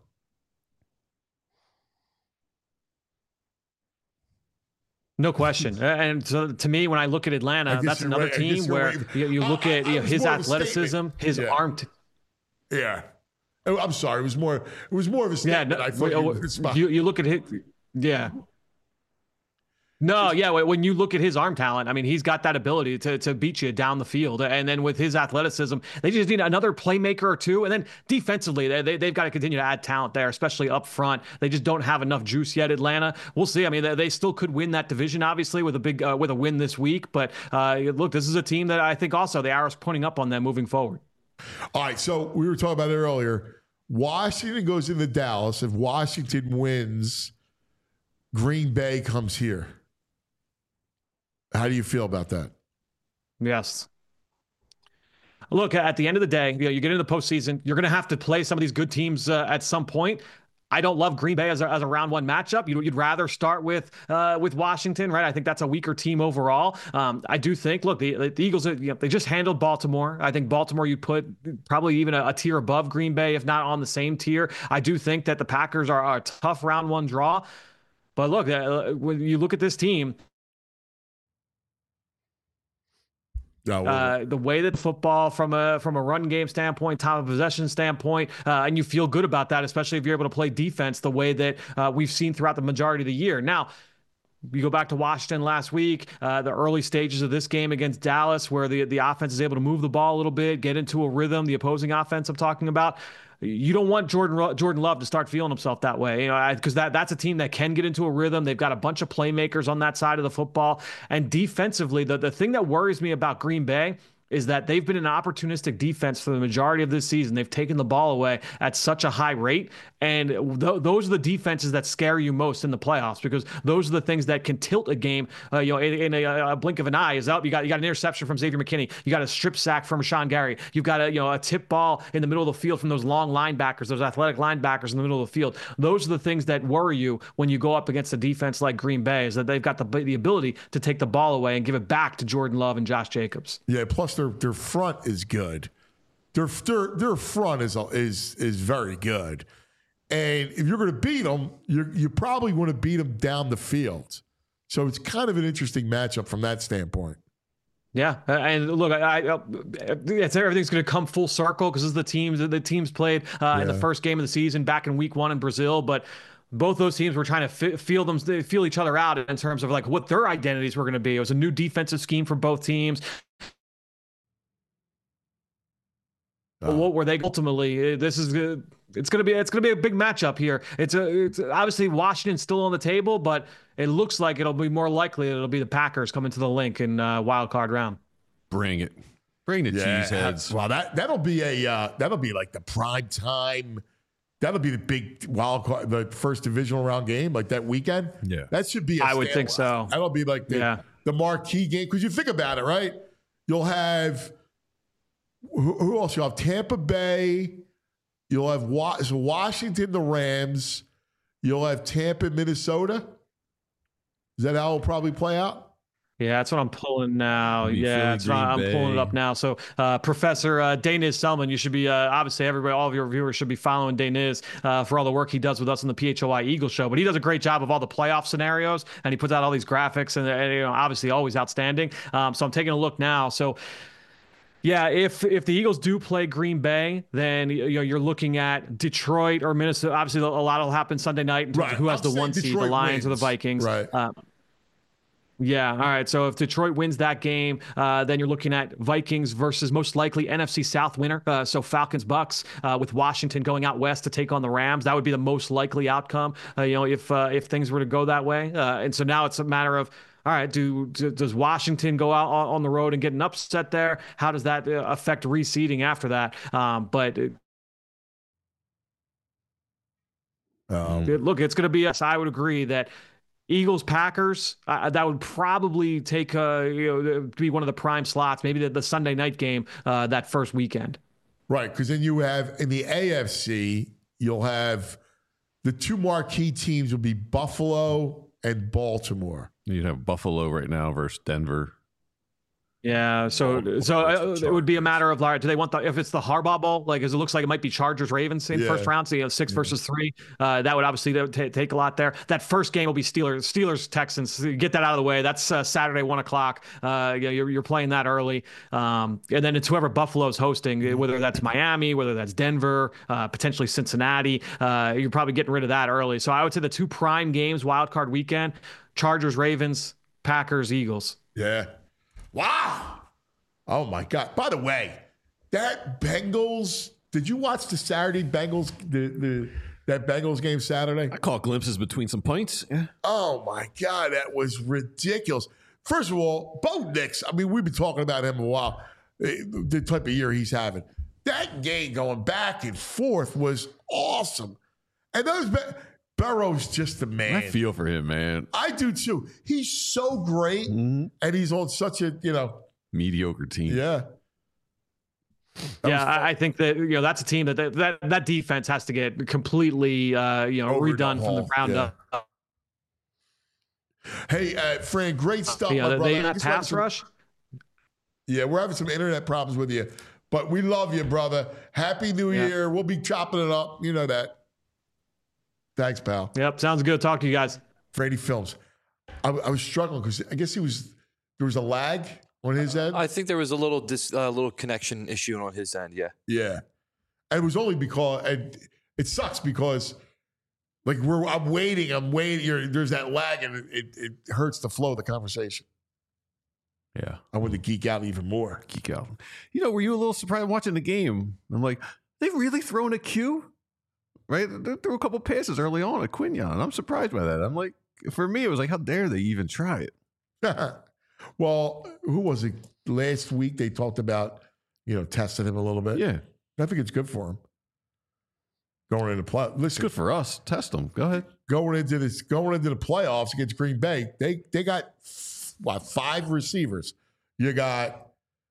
No question. And so to me, when I look at Atlanta, that's another team where you look at his athleticism, his arm. Yeah. I'm sorry. It was more of a statement. You look at it. Yeah. No, yeah. When you look at his arm talent, I mean, he's got that ability to beat you down the field. And then with his athleticism, they just need another playmaker or two. And then defensively, they've got to continue to add talent there, especially up front. They just don't have enough juice yet, Atlanta. We'll see. I mean, they still could win that division, obviously, with a win this week. But look, this is a team that I think also the arrow's pointing up on them moving forward. All right, so we were talking about it earlier. Washington goes into Dallas. If Washington wins, Green Bay comes here. How do you feel about that? Yes. Look, at the end of the day, you get into the postseason, you're going to have to play some of these good teams at some point. I don't love Green Bay as a round one matchup. You'd rather start with Washington, right? I think that's a weaker team overall. I do think, look, the Eagles, they just handled Baltimore. I think Baltimore you'd put probably even a tier above Green Bay, if not on the same tier. I do think that the Packers are a tough round one draw. But look, when you look at this team, the way that football from a run game standpoint, time of possession standpoint, and you feel good about that, especially if you're able to play defense the way that we've seen throughout the majority of the year. Now, you go back to Washington last week, the early stages of this game against Dallas, where the offense is able to move the ball a little bit, get into a rhythm, the opposing offense I'm talking about. You don't want Jordan Love to start feeling himself that way, because that's a team that can get into a rhythm. They've got a bunch of playmakers on that side of the football. And defensively, the thing that worries me about Green Bay is that they've been an opportunistic defense for the majority of this season. They've taken the ball away at such a high rate. And those are the defenses that scare you most in the playoffs, because those are the things that can tilt a game in a blink of an eye. You got an interception from Xavier McKinney. You got a strip sack from Rashawn Gary. You've got a tip ball in the middle of the field from those long linebackers, those athletic linebackers in the middle of the field. Those are the things that worry you when you go up against a defense like Green Bay, is that they've got the ability to take the ball away and give it back to Jordan Love and Josh Jacobs. Yeah, plus their front is good. Their front is very good. And if you're going to beat them, you probably want to beat them down the field. So it's kind of an interesting matchup from that standpoint. Yeah, and look, everything's going to come full circle because this is the teams played in the first game of the season back in week 1 in Brazil, but both those teams were trying to feel each other out in terms of like what their identities were going to be. It was a new defensive scheme for both teams. What were they ultimately? It's going to be a big matchup here. It's obviously Washington's still on the table, but it looks like it'll be more likely it'll be the Packers coming to the link in wild card round. Bring it, bring the cheeseheads. Well, that'll be like the prime time. That'll be the big wild card, the first divisional round game, like that weekend. Yeah, that should be. I would think so. That'll be like the marquee game, because you think about it, right? You'll have. Who else? You'll have Tampa Bay. You'll have Washington, the Rams. You'll have Tampa, Minnesota. Is that how it'll probably play out? Yeah, that's what I'm pulling now. I'm pulling it up now. So, Professor Daniz Selman, you should be obviously all of your viewers should be following Daniz for all the work he does with us on the PHOI Eagle Show. But he does a great job of all the playoff scenarios, and he puts out all these graphics, and obviously always outstanding. So I'm taking a look now. So. Yeah, if the Eagles do play Green Bay, then you're looking at Detroit or Minnesota. Obviously, a lot will happen Sunday night in terms of who has the 1 seed, the Lions or the Vikings. Right. Yeah. All right. So if Detroit wins that game, then you're looking at Vikings versus most likely NFC South winner. So Falcons Bucks with Washington going out west to take on the Rams. That would be the most likely outcome. If things were to go that way. And so now it's a matter of, all right, does Washington go out on the road and get an upset there? How does that affect reseeding after that? Look, it's going to be. I would agree that Eagles Packers that would probably take be one of the prime slots, maybe the Sunday night game that first weekend. Right, because then you have in the AFC, you'll have the two marquee teams will be Buffalo and Baltimore. You'd have Buffalo right now versus Denver. Yeah, so it would be a matter of like, do they want if it's the Harbaugh Bowl, like as it looks like it might be Chargers Ravens in first round, so 6 versus 3. That would obviously take a lot there. That first game will be Steelers Texans. Get that out of the way. That's Saturday 1:00. You're playing that early, and then it's whoever Buffalo's hosting, whether that's Miami, whether that's Denver, potentially Cincinnati. You're probably getting rid of that early. So I would say the 2 prime games, wild card weekend: Chargers Ravens, Packers Eagles. Yeah. Wow. Oh, my God. By the way, that Bengals, did you watch the Saturday Bengals, that Bengals game Saturday? I caught glimpses between some points. Yeah. Oh, my God. That was ridiculous. First of all, Bo Nix, I mean, we've been talking about him a while, the type of year he's having. That game going back and forth was awesome. And those Burrow's just the man. I feel for him, man. I do too. He's so great, and he's on such a mediocre team. Yeah. I think that that's a team that defense has to get completely redone from the ground up. Hey, Fran, great stuff, my brother. They pass rush. Yeah, we're having some internet problems with you, but we love you, brother. Happy New Year. We'll be chopping it up. You know that. Thanks, pal. Yep, sounds good. Talk to you guys. Frady Films. I was struggling because I guess there was a lag on his end. I think there was a little connection issue on his end. Yeah. Yeah, and it was only because it sucks because like I'm waiting. There's that lag, and it hurts the flow of the conversation. Yeah, I want to geek out even more. Geek out. Were you a little surprised watching the game? I'm like, they've really thrown a Q. Right? They threw a couple passes early on at Quinyon. I'm surprised by that. I'm like, for me, it was like, how dare they even try it? Well, who was it? Last week they talked about, testing him a little bit. Yeah. I think it's good for him. Going into play. Listen, it's good for us. Test them. Go ahead. Going into the playoffs against Green Bay, they got 5 receivers. You got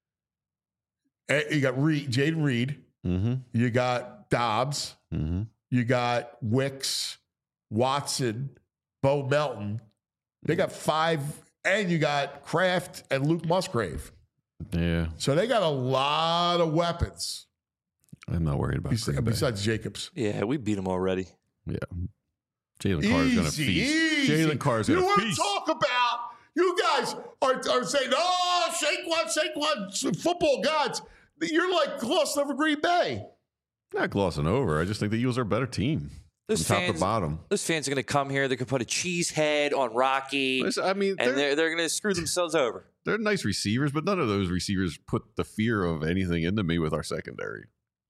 Jaden Reed. Mm-hmm. You got Dobbs. Mm-hmm. You got Wicks, Watson, Bo Melton. They got 5, and you got Kraft and Luke Musgrave. Yeah. So they got a lot of weapons. I'm not worried about besides Jacobs. Yeah, we beat him already. Yeah. Jalen Carr is going to feast. Jalen Carr is going to feast. You want to talk about, you guys are saying, oh, Saquon, football gods. You're like glossing over Green Bay. Not glossing over. I just think the Eagles are a better team. From top to bottom. Those fans are going to come here. They could put a cheese head on Rocky. I mean, and they're going to screw themselves over. They're nice receivers, but none of those receivers put the fear of anything into me with our secondary.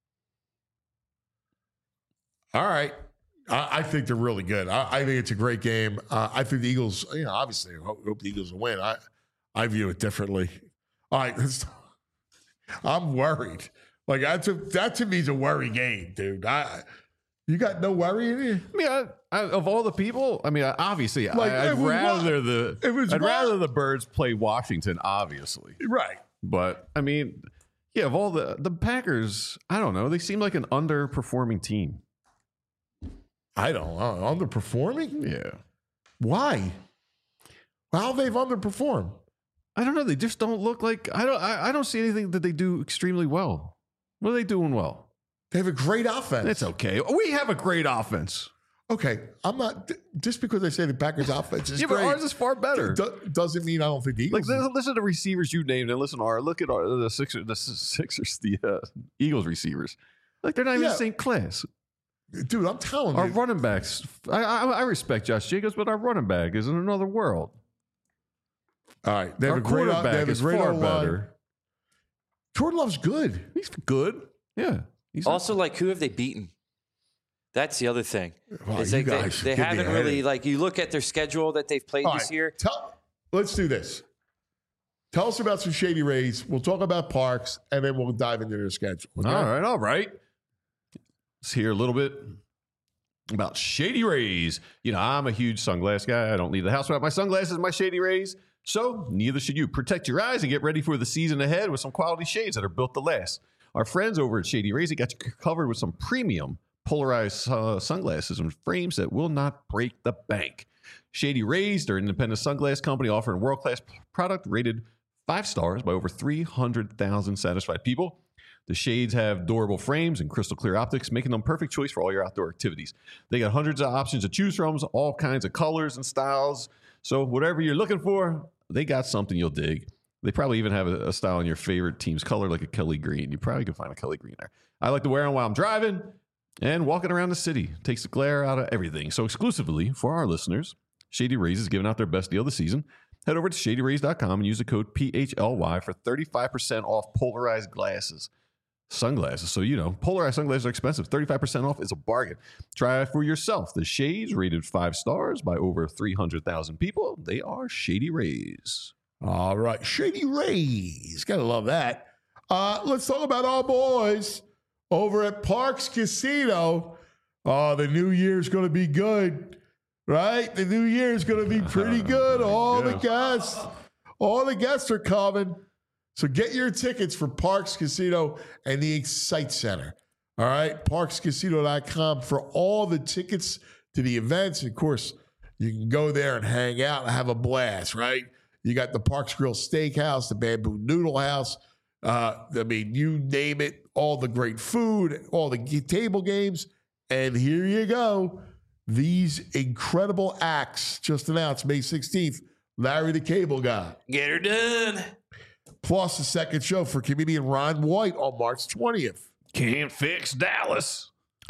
All right. I think they're really good. I think it's a great game. I think the Eagles, obviously, I hope the Eagles will win. I view it differently. All right. I'm worried. Like, that to me is a worry game, dude. You got no worry in you? I mean, of all the people, obviously, I'd rather the Birds play Washington, obviously. Right. But, of all the Packers, I don't know. They seem like an underperforming team. I don't know. Underperforming? Yeah. Why? How they've underperformed? I don't know. They just don't look like I don't see anything that they do extremely well. What are they doing well? They have a great offense. It's okay. We have a great offense. Okay. I'm not just because I say the Packers offense is great. But ours is far better. Doesn't mean I don't think the Eagles. Listen to receivers you named and listen to look at the Sixers, the Eagles receivers. Like they're not even the same class. Dude, I'm telling you. Our running backs, I respect Josh Jacobs, but our running back is in another world. All right. They have our a great quarterback is far better. Jordan Love's good. He's good. Yeah. Also, who have they beaten? That's the other thing. Wow, it's like they haven't really, you look at their schedule that they've played this year. Let's do this. Tell us about some Shady Rays. We'll talk about Parks, and then we'll dive into their schedule. Okay? All right. Let's hear a little bit about Shady Rays. I'm a huge sunglass guy. I don't leave the house without my sunglasses, my Shady Rays. So neither should you. Protect your eyes and get ready for the season ahead with some quality shades that are built to last. Our friends over at Shady Rays got you covered with some premium polarized sunglasses and frames that will not break the bank. Shady Rays, they're an independent sunglass company offering world-class product rated 5 stars by over 300,000 satisfied people. The shades have durable frames and crystal clear optics, making them perfect choice for all your outdoor activities. They got hundreds of options to choose from, all kinds of colors and styles. So whatever you're looking for, they got something you'll dig. They probably even have a style in your favorite team's color, like a Kelly green. You probably can find a Kelly green there. I like to wear them while I'm driving and walking around the city. Takes the glare out of everything. So exclusively for our listeners, Shady Rays is giving out their best deal of the season. Head over to shadyrays.com and use the code PHLY for 35% off polarized glasses. Sunglasses. So, polarized sunglasses are expensive. 35% off is a bargain. Try it for yourself. The shades rated 5 stars by over 300,000 people. They are Shady Rays. All right. Shady Rays. Gotta love that. Let's talk about our boys over at Parx Casino. Oh, the new year's going to be good, right? The new year's going to be pretty good. All the guests are coming. So get your tickets for Parx Casino and the Excite Center. All right, parxcasino.com for all the tickets to the events. Of course, you can go there and hang out and have a blast, right? You got the Parx Grill Steakhouse, the Bamboo Noodle House. You name it, all the great food, all the table games. And here you go. These incredible acts just announced May 16th. Larry the Cable Guy. Get her done. Plus a second show for comedian Ron White on March 20th. Can't fix Dallas.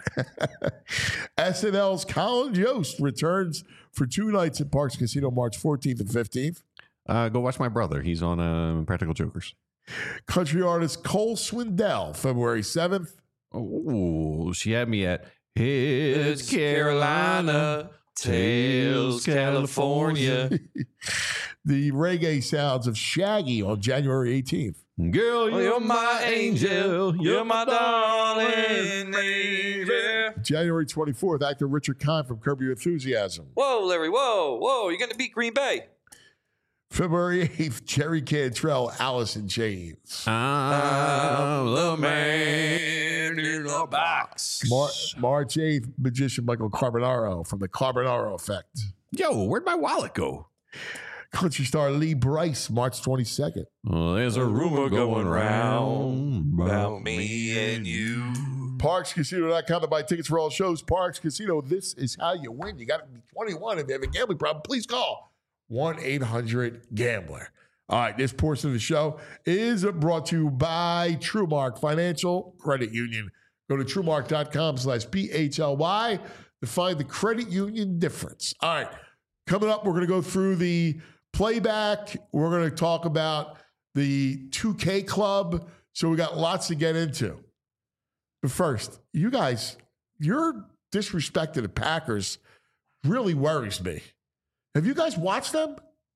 SNL's Colin Jost returns for 2 nights at Parx Casino March 14th and 15th. Go watch my brother. He's on Practical Jokers. Country artist Cole Swindell, February 7th. Oh, she had me at It's Carolina, Tails, California. The reggae sounds of Shaggy on January 18th. Girl, You're my angel. You're my darling angel. January 24th, actor Richard Kind from Curb Your Enthusiasm. Whoa, Larry. Whoa. You're going to beat Green Bay. February 8th, Jerry Cantrell, Alice in Chains. I'm the man in the box. March 8th, magician Michael Carbonaro from the Carbonaro Effect. Yo, where'd my wallet go? Country star Lee Brice, March 22nd. Well, there's a rumor going round about me and you. ParxCasino.com to buy tickets for all shows. Parx Casino, this is how you win. You got to be 21. If you have a gambling problem, please call 1-800-GAMBLER. All right, this portion of the show is brought to you by TrueMark Financial Credit Union. Go to TrueMark.com/PHLY to find the credit union difference. All right, coming up, we're going to go through the playback. We're going to talk about the 2K Club. So we got lots to get into. But first, you guys, your disrespect to the Packers really worries me. Have you guys watched them?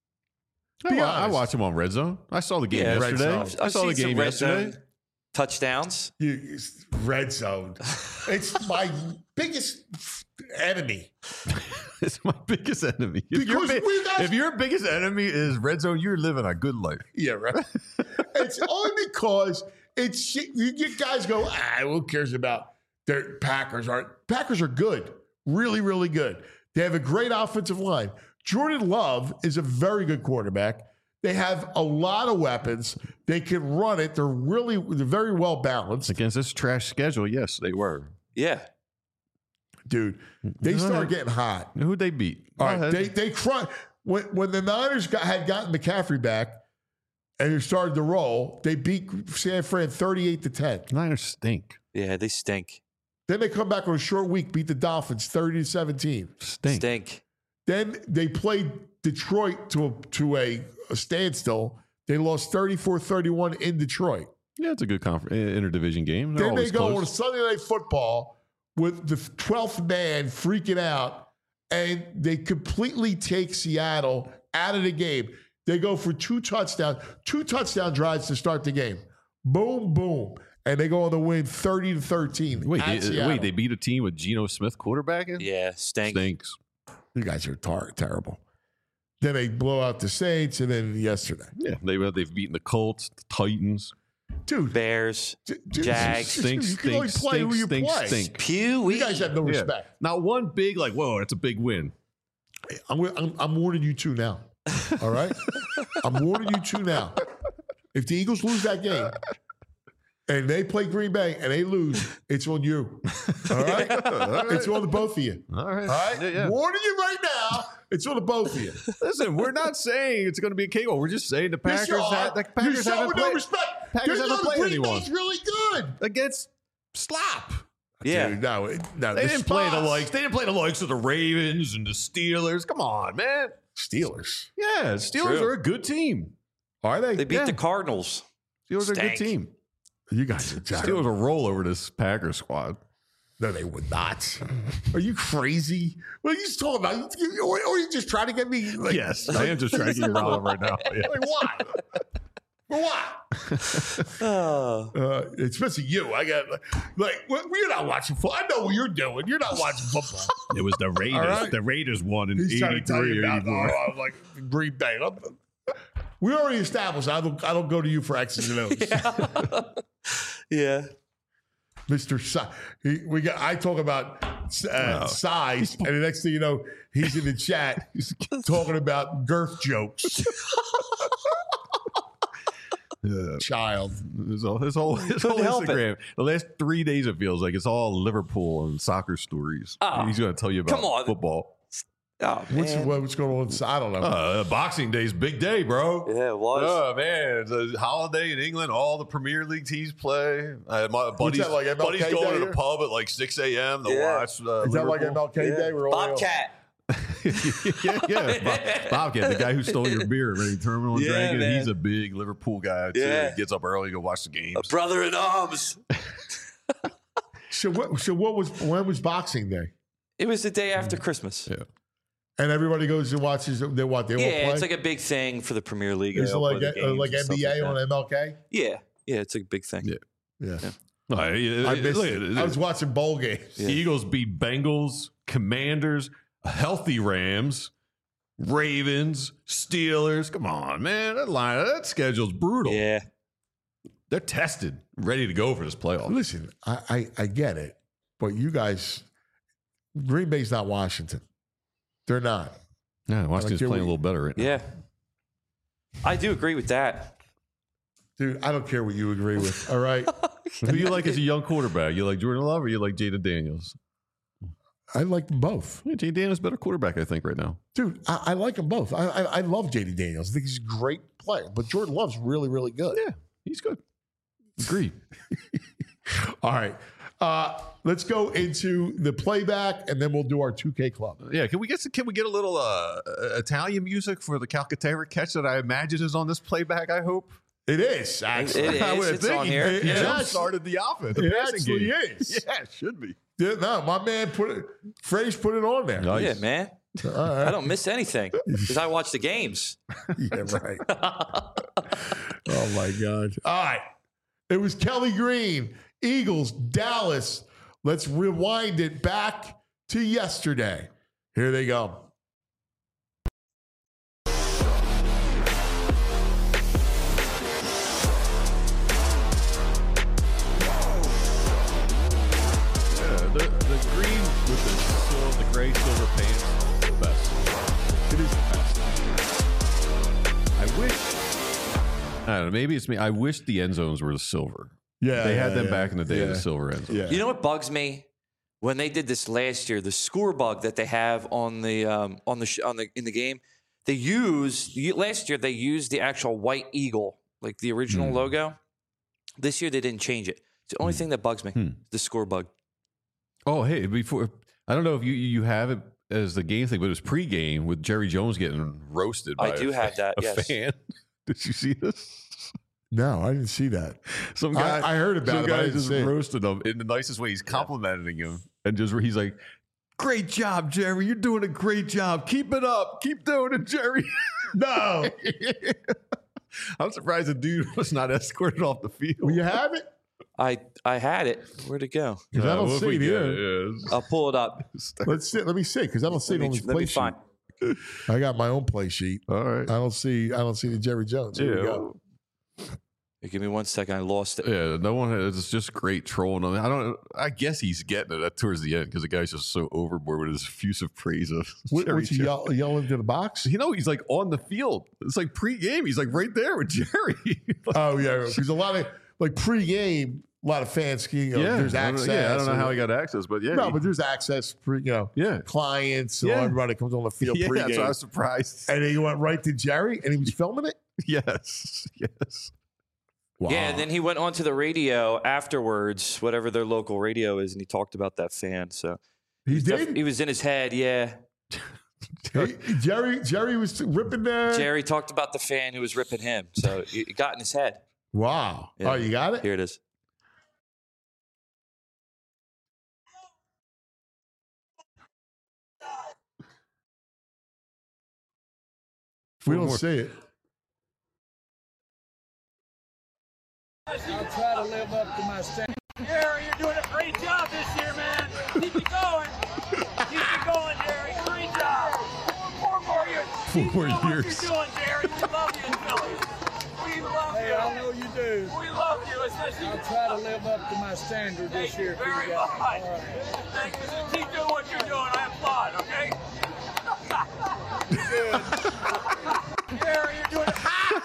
I watched them on Red Zone. I saw the game yesterday. I saw the game yesterday. Touchdowns. Red Zone. It's my biggest enemy. It's my biggest enemy. If your biggest enemy is Red Zone, you're living a good life. Yeah, right. It's only because you guys go, who cares about their Packers? Packers are good. Really, really good. They have a great offensive line. Jordan Love is a very good quarterback. They have a lot of weapons. They can run it. They're very well balanced. Against this trash schedule, yes, they were. Yeah. Dude, they started getting hot. Who'd they beat? All right, they crushed. When the Niners had gotten McCaffrey back and they started to roll, they beat San Fran 38-10. Niners stink. Yeah, they stink. Then they come back on a short week, beat the Dolphins 30-17. Stink. Then they played Detroit to a standstill. They lost 34-31 in Detroit. Yeah, it's a good interdivision game. Then they go on Sunday Night Football with the 12th man freaking out, and they completely take Seattle out of the game. They go for two touchdown drives to start the game. Boom, boom. And they go on to win 30-13. Wait, they beat a team with Geno Smith quarterbacking? Yeah, stinks. You guys are terrible. Then they blow out the Saints, and then yesterday. Yeah, they've beaten the Colts, the Titans. Dude. Bears, Jags. Stinks. You can only play who you play. Pew. You guys have no respect. Not one big, whoa, that's a big win. I'm warning you two now. All right? I'm warning you two now. If the Eagles lose that game and they play Green Bay and they lose, it's on you. All right? It's on the both of you. All right. All right? Yeah. Warning you right now, it's on the both of you. Listen, we're not saying it's going to be a cakewalk. We're just saying the Packers, Yes, you are. the Packers You're showing haven't no played. respect. Packers haven't played Green anyone Bay's really good. against slop. Yeah. Dude, no, They didn't play the likes. They didn't play the likes of the Ravens and the Steelers. Come on, man. Steelers. Yeah, Steelers True. are a good team. Are they? They beat Yeah. the Cardinals. Steelers are a good Stank. team. You guys are Steelers will roll over this Packers squad. No, they would not. Are you crazy? What are you talking about? Or you just trying to get me? Like, Yes, I am just trying to get you riled up right now. Yeah. Like what? For what? Oh. Especially you. I got we're not watching football. I know what you're doing. You're not watching football. It was the Raiders. All right. The Raiders won in He's trying to tell 83 you or about 84. like Green Bay. We already established. I don't go to you for X's and O's. Yeah. Mr. I talk about size, and the next thing you know, he's in the chat talking about girth jokes. Child. His whole help it. Instagram. The last 3 days, it feels like it's all Liverpool and soccer stories. Oh, He's going to tell you about come on. football. Oh, man. What's going on? I don't know. Boxing Day's big day, bro. Yeah, it was. Oh man, it's a holiday in England. All the Premier League teams play. My buddies, that, like MLK buddies going Day to the here? pub at like 6 a.m. to Yeah. watch. Is that like Liverpool. MLK Day? We're all Bobcat. yeah. Bobcat, the guy who stole your beer at any terminal and Yeah, drank it. man. He's a big Liverpool guy too. Yeah. He gets up early to go watch the games. A brother in arms. So when was Boxing Day? It was the day after Christmas. Yeah. And everybody goes and watches. They all play. It's like a big thing for the Premier League. Is They it all like play the games like and stuff NBA like that. on MLK? Yeah, it's a big thing. Yeah. Yeah. I missed it. I was watching bowl games. Eagles beat Bengals, Commanders, healthy Rams, Ravens, Steelers. Come on, man. That schedule's brutal. Yeah. They're tested, ready to go for this playoff. Listen, I get it, but you guys, Green Bay's not Washington. They're not. Yeah, Washington's care playing a what little better right now. Yeah. I do agree with that. Dude, I don't care what you agree with. All right. Who do you like as a young quarterback? You like Jordan Love or you like Jaden Daniels? I like them both. Yeah, Jaden Daniels is a better quarterback, I think, right now. Dude, I like them both. I love J.D. Daniels. I think he's a great player. But Jordan Love's really, really good. Yeah, he's good. Agreed. All right. Let's go into the playback, and then we'll do our 2K club. Yeah, can we get a little Italian music for the Calcaterra catch that I imagine is on this playback, I hope? It is, actually. It is. I would It's think on here. He Yeah. jump started the offense. The It passing actually game. is. Yeah, it should be. Yeah, no, my man Frage put it on there. Nice. Yeah, man. All right. I don't miss anything because I watch the games. Yeah, right. Oh, my God. All right. It was Kelly Green, Eagles, Dallas. Let's rewind it back to yesterday. Here they go. The green with the gray silver paint, the best. It is the best. I wish. I don't know. Maybe it's me. I wish the end zones were the silver. Yeah. They had them yeah, back in the day, yeah. the silver end zone. Yeah. You know what bugs me? When they did this last year, the score bug that they have in the game, they used last year. They used the actual white eagle, like the original logo. This year they didn't change it. It's the only thing that bugs me. The score bug. Oh, hey, before I don't know if you have it as the game thing, but it was pregame with Jerry Jones getting roasted. By I do have that. a Yes. fan. Did you see this? No, I didn't see that. Some guy I heard about some it, but I guy didn't just see it. roasted him in the nicest way. He's complimenting him and he's like, "Great job, Jerry. You're doing a great job. Keep it up. Keep doing it, Jerry." No. I'm surprised the dude was not escorted off the field. Will you have it? I had it. Where'd it go? 'Cause I don't Well, if see we it get here. yeah. I'll pull it up. Let's see. Let me see, because I don't see it on this Let play me sheet. find. I got my own play sheet. All right. I don't see the Jerry Jones. Here we go. Give me 1 second. I lost it. Yeah, no one. It's just great trolling him. I guess he's getting it towards the end because the guy's just so overboard with his effusive praise of. What's he yelling to the box? He's like on the field. It's like pre-game. He's like right there with Jerry. Oh yeah, because a lot of like pre-game, a lot of fans. There's access. I don't know how he got access, but yeah, but there's access for clients and everybody that comes on the field pre-game. So I was surprised. And then he went right to Jerry, and he was filming it. Yes. Wow. Yeah, and then he went on to the radio afterwards, whatever their local radio is, and he talked about that fan. So he did. He was in his head, yeah. Jerry was ripping there. Jerry talked about the fan who was ripping him, so it got in his head. Wow. Yeah. Oh, you got it? Here it is. We don't see it. I'll try to live up to my standard. Jerry, you're doing a great job this year, man. Keep it going. Keep it going, Jerry. Great job. 4 more years. 4 more years. What you're doing, Jerry. We love you in Philly. We love you. Hey, I know you do. We love you, especially. I'll try to live up to my standard this year. Very much. Right. Thank you. Keep doing what you're doing. I applaud, okay? Good. Jerry, you're doing it.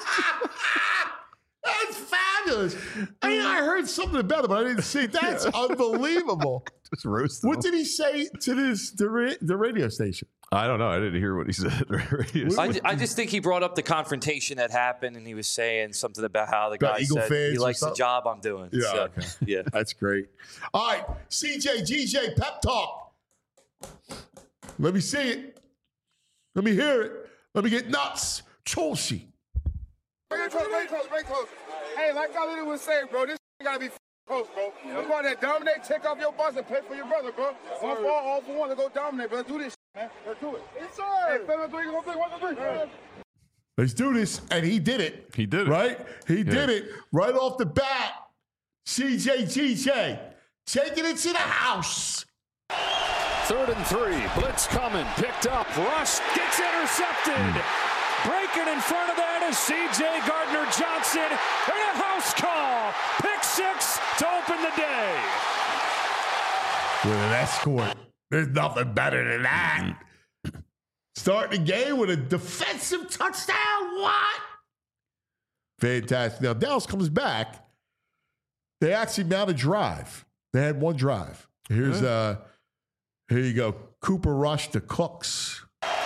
That's fabulous. I heard something about it, but I didn't see it. That's unbelievable. Just roasted. What did he say to the radio station? I don't know. I didn't hear what he said. I just think he brought up the confrontation that happened, and he was saying something about how the guy said he likes the job I'm doing. Yeah, so, okay. Yeah. That's great. All right, CJ, GJ, pep talk. Let me see it. Let me hear it. Let me get nuts. Chelsea. Very close. Hey, like I was saying, bro, this gotta be close, bro. Let's go out there, dominate, take off your boss, and play for your brother, bro. One for all for one, let's go dominate, bro. Let's do this, man. Let's do it. Yes, sir. Hey, 1, 2, 3. Let's do this. And he did it. He did it. Right? He did it right off the bat. CJ, GJ, taking it to the house. 3rd and 3. Blitz coming. Picked up. Rush gets intercepted. Breaking in front of that is C.J. Gardner-Johnson. And a house call. Pick 6 to open the day. With an escort. There's nothing better than that. Starting the game with a defensive touchdown. What? Fantastic. Now, Dallas comes back. They actually mounted a drive. They had one drive. Here you go. Cooper Rush to Cooks.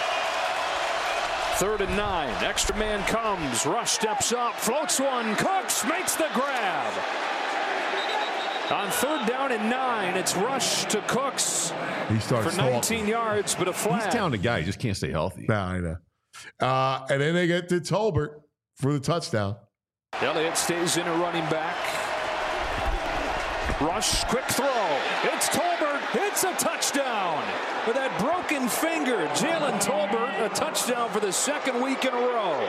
3rd and 9. Extra man comes. Rush steps up. Floats one. Cooks makes the grab. On 3rd down and 9, it's Rush to Cooks. He starts for 19 yards, but a flag. He's talented guy. He just can't stay healthy. No, I know. And then they get to Tolbert for the touchdown. Elliott stays in a running back. Rush, quick throw. It's Tolbert. It's a touchdown. With that broken finger, Jalen Tolbert, a touchdown for the 2nd week in a row.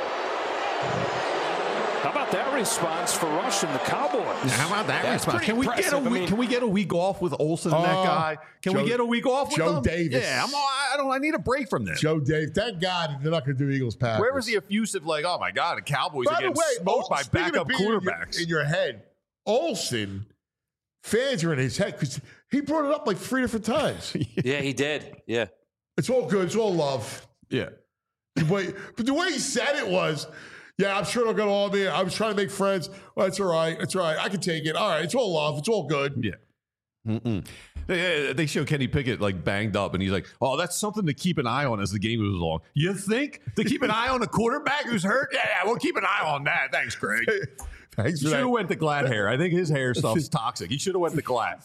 How about that response for Rush and the Cowboys? How about that response? Can we get a week? Can we get a week off with Olsen and that guy? Can we get a week off with Joe them? Davis? Yeah, I need a break from this. Joe Davis. Thank God they're not going to do Eagles Packers. Where was the effusive? Like, oh my God, the Cowboys are getting smoked by backup quarterbacks in your head. Olsen fans are in his head because he brought it up like 3 different times. Yeah, he did. Yeah. It's all good. It's all love. Yeah. But the way he said it was, yeah, I'm sure they'll get all of me. I was trying to make friends. Well, it's all right. It's all right. I can take it. All right. It's all love. It's all good. Yeah. They show Kenny Pickett like banged up, and he's like, "Oh, that's something to keep an eye on as the game goes along." You think to keep an eye on a quarterback who's hurt? Yeah, we'll keep an eye on that. Thanks, Craig. Thanks for Should that. have went to Glad hair. I think his hair stuff's toxic. He should have went to Glad.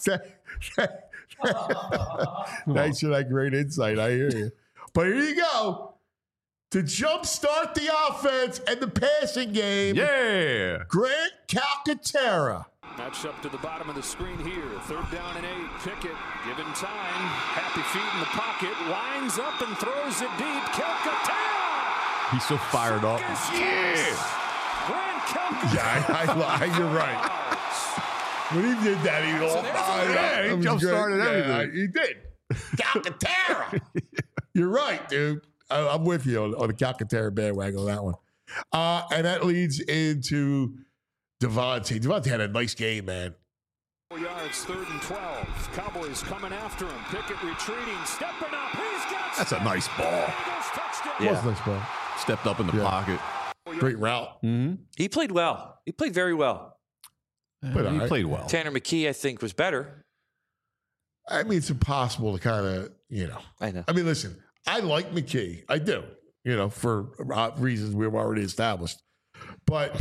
Thanks for that great insight. I hear you. But here you go. To jumpstart the offense and the passing game. Yeah. Grant Calcaterra. Match up to the bottom of the screen here. 3rd down and 8. Pickett given time. Happy feet in the pocket. Lines up and throws it deep. Calcaterra. He's so fired up. Yeah. Grant Calcaterra. Yeah, you're right. When he did that, he all fired up. He jump-started everything. He did. Calcaterra. You're right, dude. I'm with you on the Calcaterra bandwagon on that one. And that leads into Devontae had a nice game, man. 4 yards, 3rd and 12. Cowboys coming after him. Pickett retreating, stepping up. That's a nice ball. Yeah. Was a nice ball. Stepped up in the pocket. Great route. Mm-hmm. He played well. He played very well. But he played well. Tanner McKee, I think, was better. I mean, it's impossible to kind of, I know. I mean, listen, I like McKee. I do, for reasons we've already established. But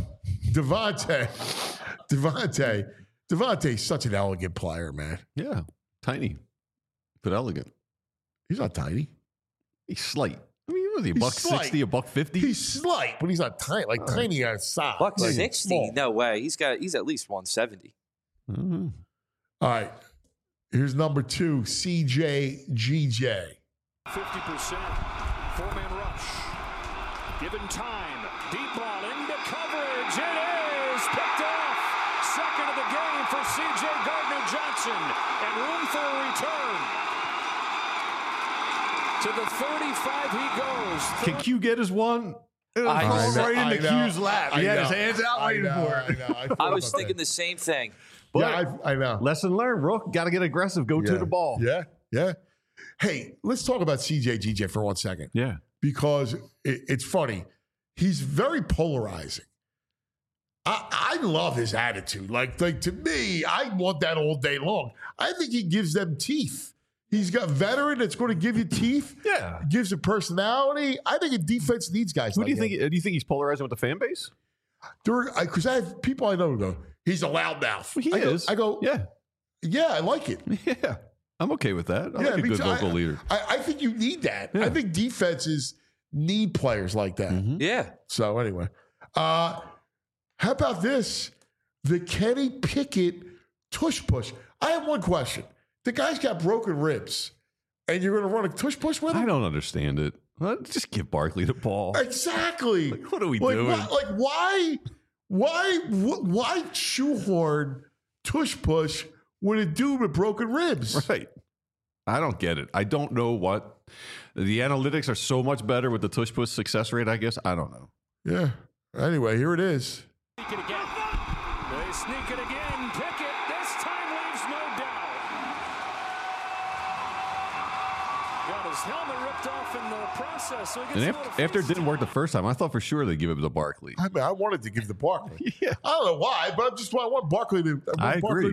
Devontae's such an elegant player, man. Yeah. Tiny, but elegant. He's not tiny. He's slight. I mean, was he $160, $150? He's slight, but he's not tiny. Like tiny on size. $160? No way. He's at least 170. Mm-hmm. All right. Here's number 2, CJ GJ. 50%. 4-man rush. Given time. Deep ball into coverage. It is picked off. Second of the game for C.J. Gardner-Johnson. And room for a return. To the 35 he goes. Can Q get his one? Right into Q's lap. He had his hands out waiting for it. I was thinking the same thing. But I know. Lesson learned, Rook. Got to get aggressive. Go to the ball. Yeah. Hey, let's talk about CJ GJ for 1 second. Yeah. Because it's funny. He's very polarizing. I love his attitude. Like to me, I want that all day long. I think he gives them teeth. He's got veteran that's going to give you teeth. Yeah. Gives a personality. I think a defense needs guys Who like do you him. think? Do you think he's polarizing with the fan base? Because I have people I know who go, he's a loudmouth. He is. I go, yeah, I like it. Yeah. I'm okay with that. I like a good vocal leader. I think you need that. Yeah. I think defenses need players like that. Mm-hmm. Yeah. So anyway, how about this? The Kenny Pickett tush push. I have one question. The guy's got broken ribs, and you're going to run a tush push with him? I don't understand it. Just give Barkley the ball. Exactly. Like, what are we doing? Why shoehorn tush push with a dude with broken ribs? Right. I don't get it. I don't know what. The analytics are so much better with the tush push success rate, I guess. I don't know. Yeah. Anyway, here it is. Sneak it again. They sneak it again. Pickett this time leaves no doubt. Got his helmet ripped off in the process. So he gets after it didn't work the first time, I thought for sure they'd give it to Barkley. I mean, I wanted to give the Barkley. Yeah. I don't know why, but I want Barkley to. I agree.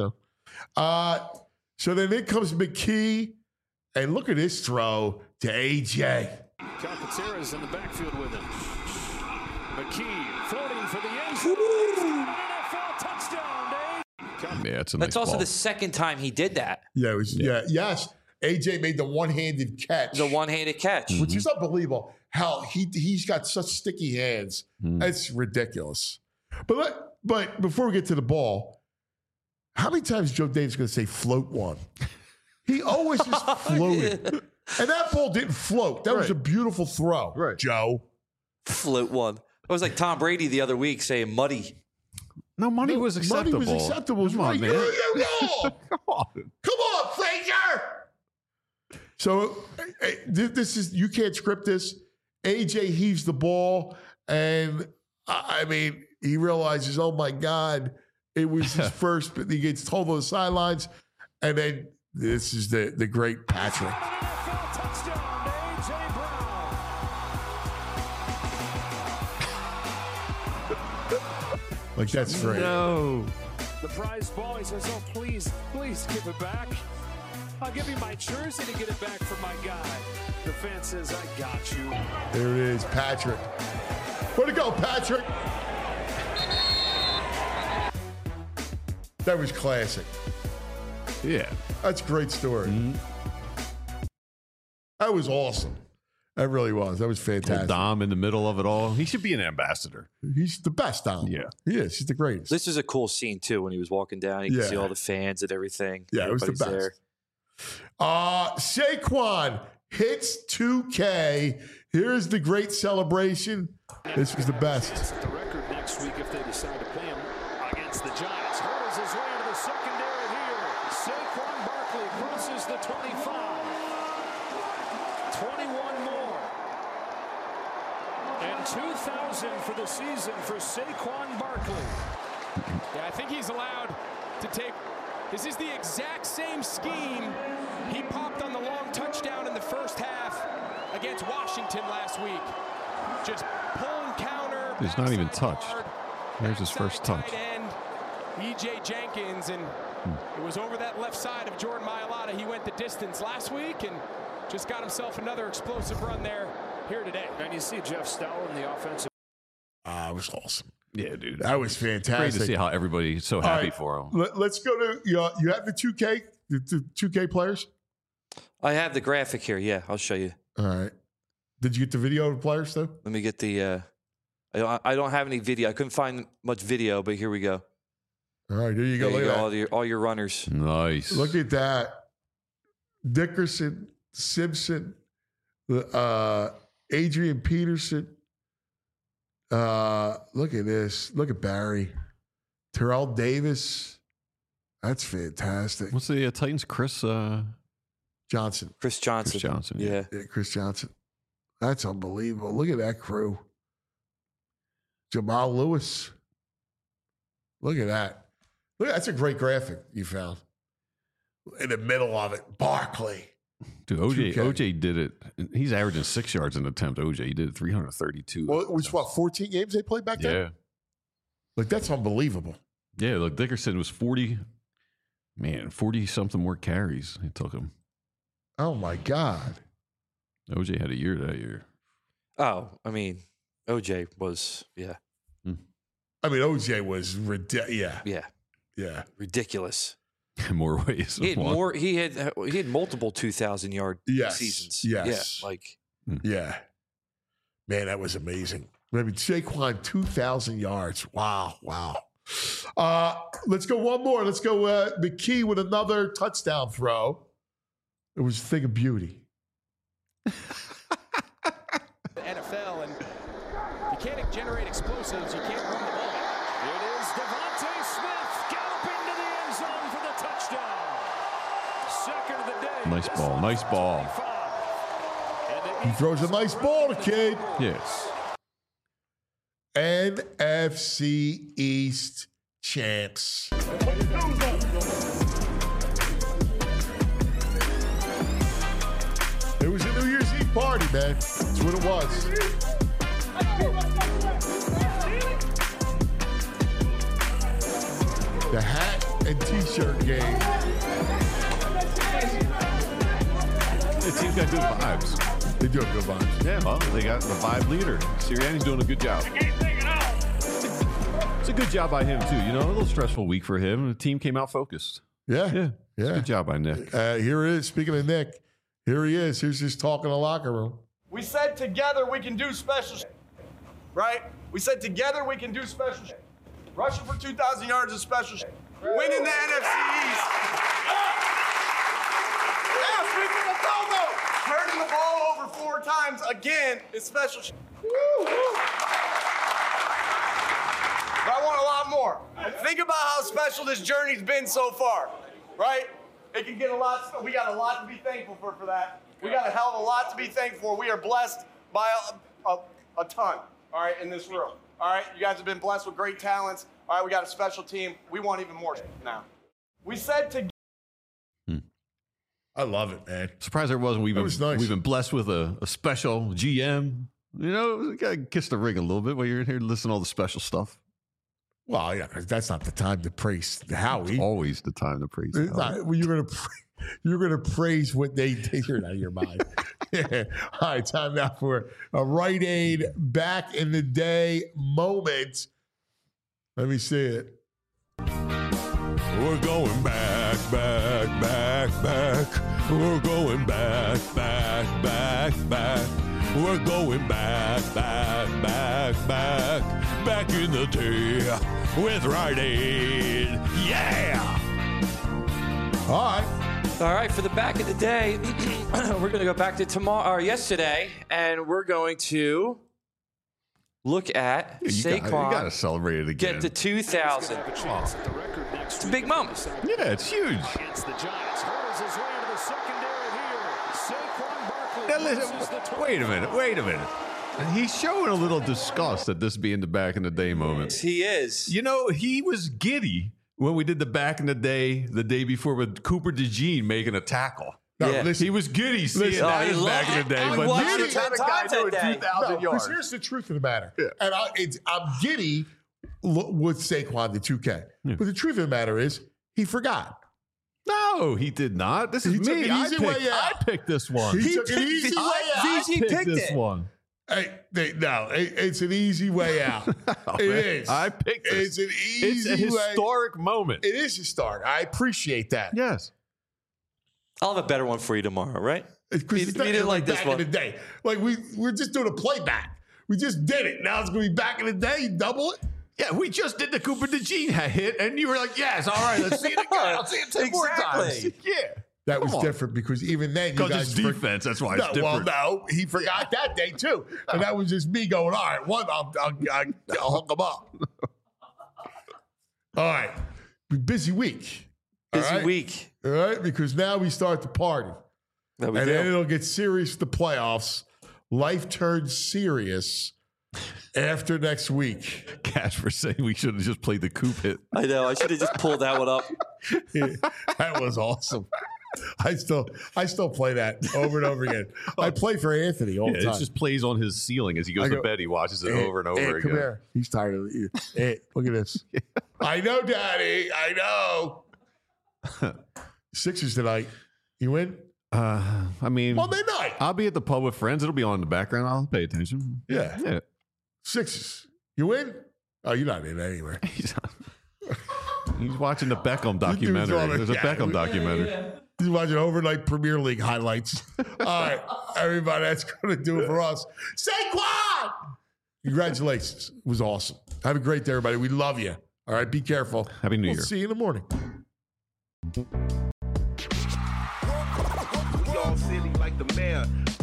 So then in comes McKee, and look at this throw to AJ. Calcaterra's in the backfield with him. McKee floating for the end zone. NFL touchdown, Dave. Yeah, it's a nice That's also ball. the second time he did that. Yeah, it was. Yeah, yes. AJ made the one-handed catch. The one-handed catch. Which is unbelievable. How he's got such sticky hands. It's ridiculous. But before we get to the ball, how many times Joe Dave's going to say float one? He always just floated. And that ball didn't float. That was a beautiful throw, Joe. Float one. It was like Tom Brady the other week saying muddy. No, money was acceptable. Money was acceptable. Come on, man. Come on, Frazier. So this is, you can't script this. AJ heaves the ball, and I mean, he realizes, oh my God, it was his first, but he gets told on the sidelines. And then this is the great Patrick. Like, that's great. No. The prize ball, he says, oh, please give it back. I'll give you my jersey to get it back for my guy. The fan says, I got you. There it is, Patrick. Way to go, Patrick. That was classic. Yeah. That's a great story. That was awesome. That really was. That was fantastic. Dom in the middle of it all. He should be an ambassador. He's the best, Dom. Yeah. He is. He's the greatest. This is a cool scene, too, when he was walking down. You can see all the fans and everything. Yeah, it was the best. There. Saquon hits 2K. Here's the great celebration. This was the best. Set the record next week if they decide to play him against the Giants. Hurdles his way into the secondary here. Saquon Barkley crosses the 25. 21 more. And 2,000 for the season for Saquon Barkley. Yeah, I think he's allowed to take. This is the exact same scheme he popped on the long touchdown in the first half against Washington last week. Just pull and counter. He's not even touched. There's his first touch. End, E.J. Jenkins, and it was over that left side of Jordan Mailata. He went the distance last week and just got himself another explosive run there here today. And you see Jeff Stower in the offensive. It was awesome. Yeah, dude. That was fantastic. Great to see how everybody's so happy for him. Let's go to you have the 2K, the 2K players? I have the graphic here. Yeah, I'll show you. All right. Did you get the video of the players though? Let me get the I don't have any video. I couldn't find much video, but here we go. All right, there you go. There Look you at go, that. all your runners. Nice. Look at that. Dickerson, Simpson, Adrian Peterson. Look at this. Look at Barry. Terrell Davis. That's fantastic. What's the Titans? Chris Johnson. Chris Johnson. Chris Johnson. Yeah. Chris Johnson. That's unbelievable. Look at that crew. Jamal Lewis. Look at that. Look, that's a great graphic you found. In the middle of it, Barkley. Dude, OJ did it. He's averaging 6 yards an attempt. OJ, he did it 332. Well, it was 14 games they played back then? Yeah. Like, that's unbelievable. Yeah, look, Dickerson was 40-something more carries. It took him. Oh, my God. OJ had a year that year. Oh, I mean, OJ was, yeah. I mean, OJ was ridiculous. Yeah. Ridiculous. In more ways. He had multiple 2,000-yard seasons. Yes. Yeah. Yeah. Man, that was amazing. I mean, Saquon, 2,000 yards. Wow. Let's go one more. Let's go McKee with another touchdown throw. It was a thing of beauty. The NFL, and you can't generate explosives. You can't run the ball. It is Devontae Smith galloping to the end zone for the touchdown. Second of the day. Nice ball. He throws a nice ball to Kid. Yes. NFC East champs. It was a New Year's Eve party, man. That's what it was. The hat and t-shirt game. The team's got good vibes. They do have good vibes. Yeah, well, they got the vibe leader. Sirianni's doing a good job. It's a good job by him, too. You know, a little stressful week for him. The team came out focused. Yeah. Good job by Nick. Here it is. Speaking of Nick, here he is. Here's his talk in the locker room. We said together we can do special shit, right? We said together we can do special shit. Rushing for 2,000 yards is special shit. Winning the NFC East. Yeah, sweep the Togo. Turning the ball over 4 times again is special shit. But I want a lot more. Think about how special this journey's been so far, right? It can get a lot. We got a lot to be thankful for that. We got a hell of a lot to be thankful for. We are blessed by a ton, all right, in this room. All right, you guys have been blessed with great talents. All right, we got a special team. We want even more now. We said to. I love it, man. Surprised there wasn't. We've been blessed with a special GM. You know, you gotta kiss the ring a little bit while you're in here listening to all the special stuff. Well, yeah, that's not the time to praise Howie. It's always the time to praise Howie. Well, you're gonna praise what they did. You're out of your mind. Yeah. All right, time now for a Rite Aid back in the day moment. Let me see it. We're going back. We're going back. We're going back in the day with Rite Aid. Yeah! All right, for the back of the day, we're going to go back to yesterday, and we're going to look at Saquon. You got to celebrate it again. Get the 2,000. It's a big moment. Yeah, it's huge. Against the Giants. Hurdles his way into the secondary here. Saquon Barkley. Now listen, wait a minute. He's showing a little disgust at this being the back in the day moment. He is. You know, he was giddy when we did the back in the day before with Cooper DeJean making a tackle. No, Yeah. listen, He was giddy seeing Listen, that he back in the day. I But watched giddy it 10 had a guy times that doing day. 2,000 yards. because here's the truth of the matter. And I'm giddy with Saquon, the 2K. Yeah. But the truth of the matter is, he forgot. No, he did not. This is He took me. an I easy picked, way out. I picked this one. He took an easy way out. I picked this one. Hey, it's an easy way out. Oh, It man. is. I picked this. It's an easy It's a way. historic moment. It is historic. I appreciate that. Yes. I'll have a better one for you tomorrow, right? Because You didn't like this back one. in the day. Like we're just doing a playback. We just did it. Now it's going to be back in the day. You double it. Yeah, we just did the Cooper DeJean hit, and you were like, yes, all right, let's see it again. I'll see it 10 more times. Exactly. Yeah. That was Come on. different because even then, you Because guys it's defense. That's why it's Well, different. no, he forgot that day too, and that was just me going. All right, I'll hook him up. All right, busy week. Busy week. All right, because now we start the party, That we and do. then it'll get serious for the playoffs. Life turns serious after next week. Casper saying we should have just played the Coop hit. I know. I should have just pulled that one up. That was awesome. I still play that over and over again. I play for Anthony all the It time. just plays on his ceiling as he goes I to go, bed. He watches it Hey, over and over hey, again. Come here. He's tired of it. Hey, look at this. I know, Daddy. I know. Sixers tonight. You win? I mean, Monday night. I'll be at the pub with friends. It'll be on in the background. I'll pay attention. Yeah. Yeah. Sixers. You win? Oh, you're not in anywhere. He's watching the Beckham documentary. There's a Beckham documentary. He's watching overnight Premier League highlights. All right, everybody, that's going to do it for us. Saquon! Congratulations. It was awesome. Have a great day, everybody. We love you. All right, be careful. Happy New We'll Year. see you in the morning. We all silly like the mayor.